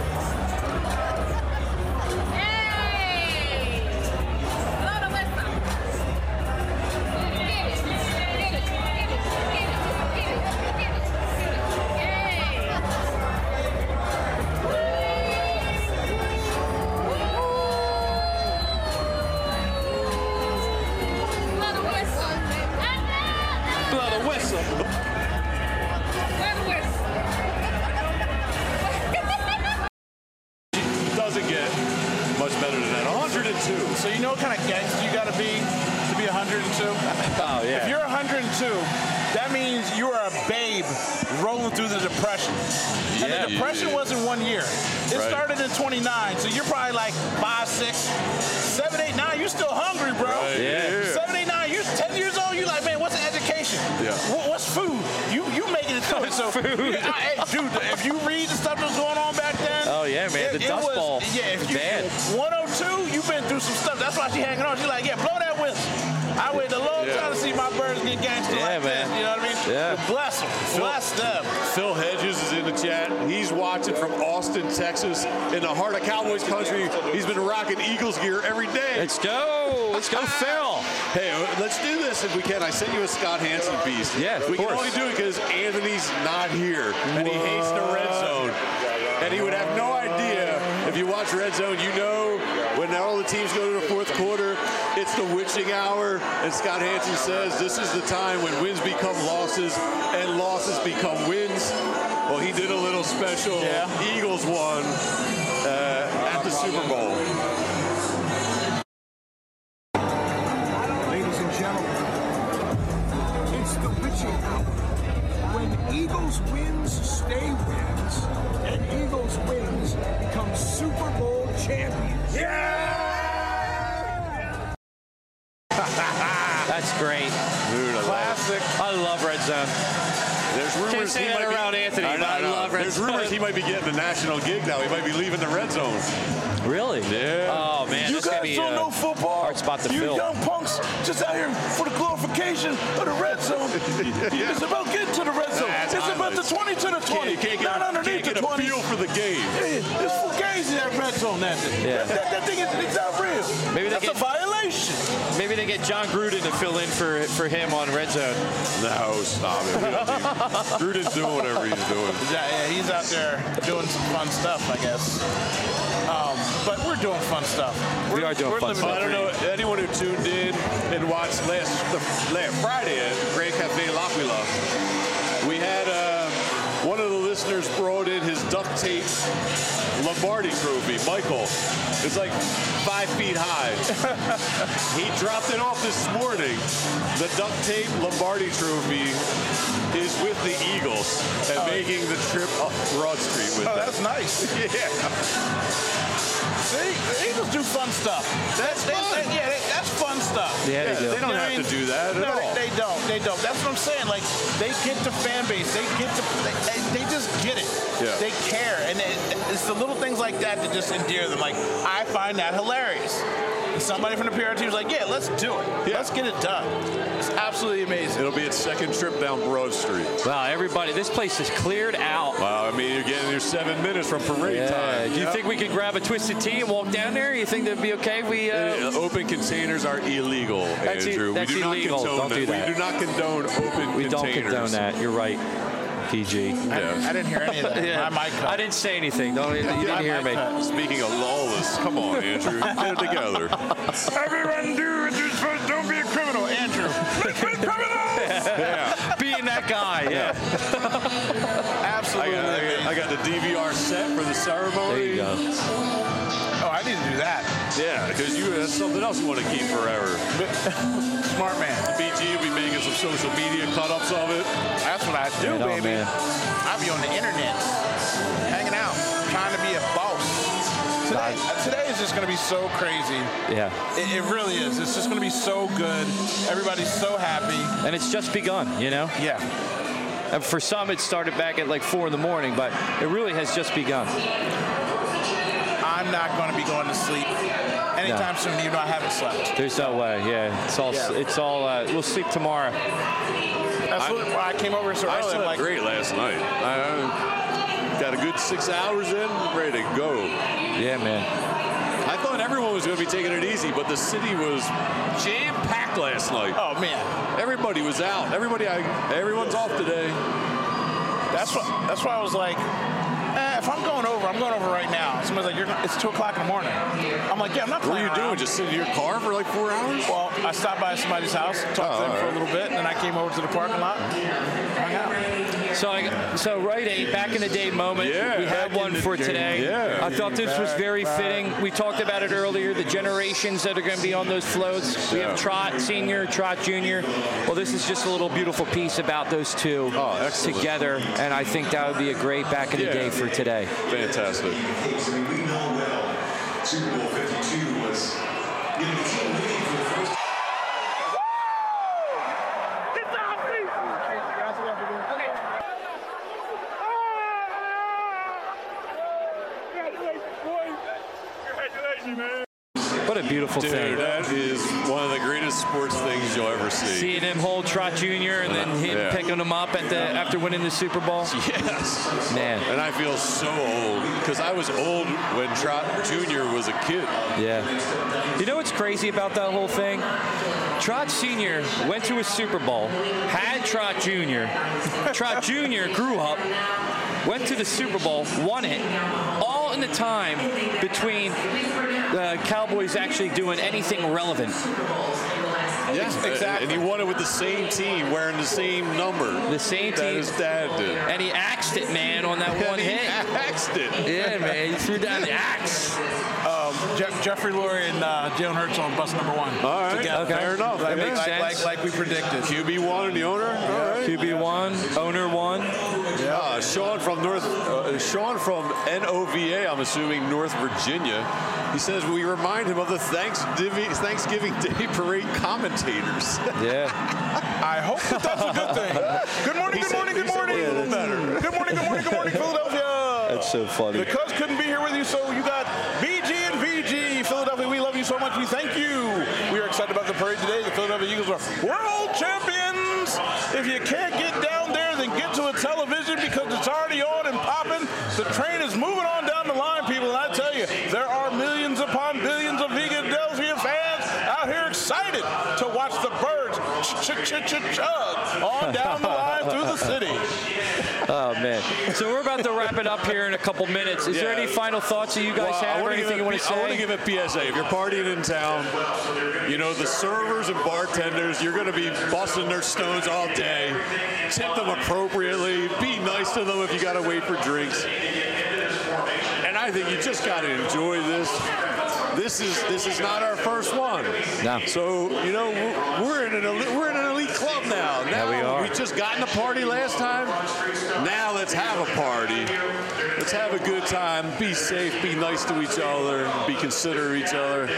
Blow the whistle. Doesn't get much better than that. one hundred two. So you know what kind of gangster you got to be to be one hundred two? Oh, yeah. If you're one hundred two, that means you are a babe rolling through the Depression. And Yeah. the Depression wasn't one year. It Right. started in twenty-nine, so you're probably like five, six, seven, eight, nine. You're still hungry, bro. Right. Yeah. Seven, eight, nine. You're ten years old. You're like, man, So, Food. Yeah, I, hey, dude, if you read the stuff that's going on back then. Oh, yeah, man. It, the it Dust was, Bowl. Yeah, if you, Bad. one oh two, you've been through some stuff. That's why she hanging on. She's like, yeah, blow that whistle. I waited a long Yeah. time to see my birds get gangster Yeah, like man. this. You know what I mean? Yeah. But bless them. Bless them. Phil Hedges is in the chat. He's watching from Austin, Texas, in the heart of Cowboys country. He's been rocking Eagles gear every day. Let's go. Let's go, Phil. Hey, uh, let's do this if we can. I sent you a Scott Hansen piece. Yeah, of we course. can only do it because Anthony's not here, and he hates the red zone. And he would have no idea. If you watch Red Zone, you know when all the teams go to the fourth quarter, it's the witching hour, and Scott Hansen says this is the time when wins become losses and losses become wins. Well, he did a little special. Yeah. Eagles won uh, at the Super Bowl. Ladies and gentlemen, it's the witching hour. When Eagles wins, stay wins, and Eagles wins become Super Bowl champions. That's great. Dude, I Classic. I love Red Zone. There's rumors Can't say he that might around be, Anthony, I know, but I I know. love Red There's Zone. rumors he might be getting a national gig now. He might be leaving the red zone. Really? Yeah. Oh, man. You this could guys be don't a know football. hard spot to you fill. young punks just out here for the glorification of the red zone. Yeah. It's about getting to the red zone. That's it's about the highlights. twenty to the twenty. You can't get, not a, underneath can't get the a twenty. feel for the game. Yeah, it's fugazi, that red zone, that thing. Yeah. That, that, that thing is it's not real. Maybe they That's get- a violation. Maybe they get John Gruden to fill in for for him on Red Zone. No, stop it. We don't need- Gruden's doing whatever he's doing. Yeah, yeah, he's out there doing some fun stuff, I guess. Um, but we're doing fun stuff. We We're- are doing we're fun living stuff. I don't know anyone who tuned in and watched last, the, last Friday at Grand Cafe L'Aquila. We had uh, one of the listeners brought in his duct tape Lombardi trophy. Michael, it's like five feet high. He dropped it off this morning. The duct tape Lombardi trophy is with the Eagles and making the trip up Broad Street with Oh, them. that's nice. Yeah. See, the Eagles do fun stuff. That's they, fun. they- yeah, they, that's fun stuff. Yeah, they do. They don't You know what have I to mean? do that at no, all. They, they don't. They don't. That's what I'm saying. Like they get the fan base. They get the. They, they, they just get it. Yeah. They care, and it, it's the little things like that that just endear them. Like I find that hilarious. And somebody from the P R team was like, "Yeah, let's do it. Yeah. Let's get it done." It's absolutely amazing. It'll be its second trip down Broad Street. Wow, everybody, this place is cleared out. Wow, I mean, you're getting your seven minutes from parade Yeah. time. Do you Yep. think we could grab a Twisted Tea and walk down there? You think that'd be okay if we... Uh, Uh, open containers are illegal, That's i- Andrew. that's we do illegal. not condone Don't do that. We do not condone open we don't containers. condone that. You're right, P G. Yeah. I didn't hear any of that. Yeah. My mic cut. I didn't say anything. Don't, you didn't My hear mic me. cut. Speaking of lawless, come on, Andrew, get it together. Everyone do what you're supposed to. Don't be a criminal, Andrew. Let's be criminals. Yeah. Being that guy, yeah. I Absolutely. got, I, got, I got the D V R set for the ceremony. There you go. Oh, I need to do that. Yeah, because you that's something else you want to keep forever. Smart man. B G will be making some social media cut-ups of it. That's what I do, Right on, baby. man. I be on the internet, hanging out, trying to be a boss. Today, today is just going to be so crazy. Yeah. It, it really is. It's just going to be so good. Everybody's so happy. And it's just begun, you know? Yeah. And for some, it started back at like four in the morning, but it really has just begun. I'm not going to be going to sleep anytime No. soon, even though I haven't slept. There's no way, yeah. It's all, Yeah. it's all, uh, we'll sleep tomorrow. That's I- what, why I came over so I early. I'm slept like, great last night. I, I got a good six hours in, ready to go. Yeah, man. I thought everyone was going to be taking it easy, but the city was jam-packed last night. oh, man. Everybody was out. Everybody, I, everyone's off today. That's what. That's why I was like, eh, if I'm going over, I'm going over right now. Somebody's like, You're, it's two o'clock in the morning. I'm like, yeah, I'm not What playing are you doing? around. Just sitting in your car for like four hours? Well, I stopped by somebody's house, talked Oh, to them all for a right. little bit, and then I came over to the parking lot, hung out. So, I, so right, a back in the day moment. Yeah, we had back in one the for day, today. yeah. I thought this was very fitting. We talked about it earlier. The generations that are going to be on those floats. We Yeah. have Trot Senior, Trot Junior Well, this is just a little beautiful piece about those two Oh, excellent. together, and I think that would be a great back in the Yeah. day for today. Fantastic. Obviously, we know well Super Bowl fifty-two was, you know, the team leading for the first time. Congratulations, man. What a beautiful Dude, thing. that is one of the greatest sports things you'll ever see. Seeing him hold Trot Junior and then him Yeah. picking him up at the after winning the Super Bowl. Yes. Man. And I feel so old because I was old when Trot Junior was a kid. Yeah. You know what's crazy about that whole thing? Trot Senior went to a Super Bowl, had Trot Junior Trot Junior grew up, went to the Super Bowl, won it, all in the time between the Cowboys actually doing anything relevant. Yeah, exactly. And he won it with the same team, wearing the same number. The same that team. his dad did. And he axed it, man, on that one And he hit. axed it. Yeah, man, he threw down the axe. Um, Je- Jeffrey Lurie and uh, Jalen Hurts on bus number one. All right, together. Okay. fair enough. Like, That makes like, sense. like, like we predicted. Q B one and the owner. All right. Q B one, owner one. Yeah, uh, Sean from North, uh, Sean from N O V A, I'm assuming North Virginia. He says we remind him of the Thanksgiving Thanksgiving Day parade commentators. Yeah. I hope that that's a good thing. Good morning, He good said- morning, he good said morning. a little better. Good morning, good morning, good morning, Philadelphia. That's so funny. The Cubs couldn't be here with you, so you got B G and V G. Philadelphia, we love you so much. We thank you. We are excited about the parade today. The Philadelphia Eagles are world champions. If you can't get down there, then get to a television because it's already on and popping. The train is moving on down the line, people. And I tell you, there are millions upon billions of Philadelphia fans out here excited to watch the birds ch-ch-ch-ch-chug on down the line through the city. Oh, man. So we're about to wrap it up here in a couple minutes. Is there Yeah. any final thoughts that you guys Well, I have or wanna give anything a you want P- to I want to say? give a P S A. If you're partying in town, you know, the servers and bartenders, you're going to be busting their stones all day. Tip them appropriately. Be nice to them if you got to wait for drinks. And I think you just got to enjoy this. This is this is not our first one. No. So, you know, we're, we're in an elite, we're in an elite club now. Now we are. we just got in a party last time. Now let's have a party. Let's have a good time. Be safe. Be nice to each other. Be considerate of each other.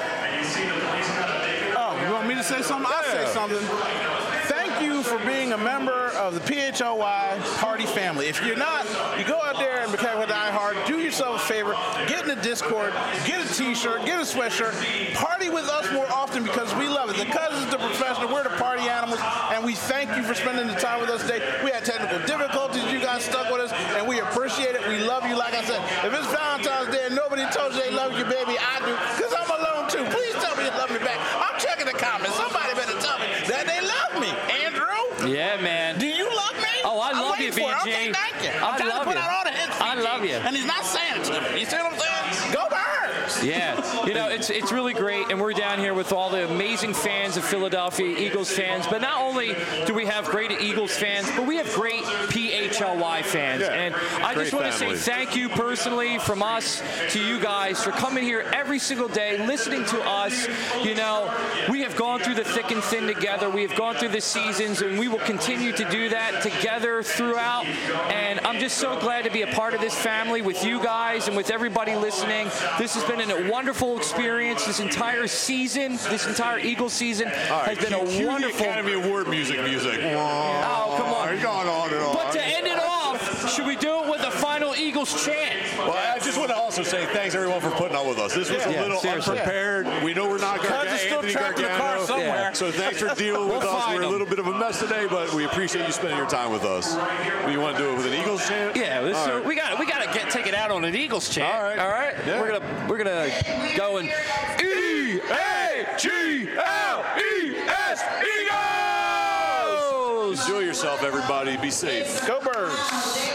Oh, you want me to say something? I'll Yeah. say something. Thank you for being a member of the P H L Y party family. If you're not, you go out there and become a diehard. Do yourself a favor. Get in the Discord. Get a T-shirt. Get a sweatshirt. Party with us more often because we love it. The Cousins, the professional, we're the party animals, and we thank you for spending the time with us today. We had technical difficulties. You guys stuck with us, and we appreciate it. We love you. Like I said, if it's Valentine's Day and nobody told you they love you, baby, I do, because I'm alone too. Please tell me you love me back. I'm checking the comments. Somebody better tell me that they love me. Andrew? Yeah, man. Do you love me? Oh, I I'm love you, waiting for it. B G. Okay, thank you. I I'm trying love to put you. out all the hits. I B G, love you. And he's not saying it to me. You see what I'm saying? Go Birds! Yeah, you know, it's it's really great, and we're down here with all the amazing fans of Philadelphia, Eagles fans, but not only do we have great Eagles fans, but we have great P H L Y fans, Yeah, and I great just want to say family. thank you personally from us to you guys for coming here every single day, listening to us. You know, we have gone through the thick and thin together, we have gone through the seasons, and we will continue to do that together throughout, and I'm just so glad to be a part of this family with you guys and with everybody listening. This has been a wonderful experience. This entire season, this entire Eagles season All right, has been cue- a cue the wonderful. Academy Award music music. Oh, come on. You're going on and on. But to end it off, should we do it with a final Eagles chant? Well, I just want to also say thanks everyone for putting up with us. This was a Yeah, little seriously. unprepared. We know we're not Cuz Gargano, is still Anthony trapped in the car Gargano. somewhere. Yeah. So thanks for dealing with We'll us. find We're a them. little bit of a mess today, but we appreciate you spending your time with us. You want to do it with an Eagles chant? Yeah, let's All do- right. we got we got to get take it out on an Eagles chant. All right. all right. Yeah. We're gonna we're gonna go and E A G L E S Eagles. Enjoy yourself, everybody. Be safe. Go Birds!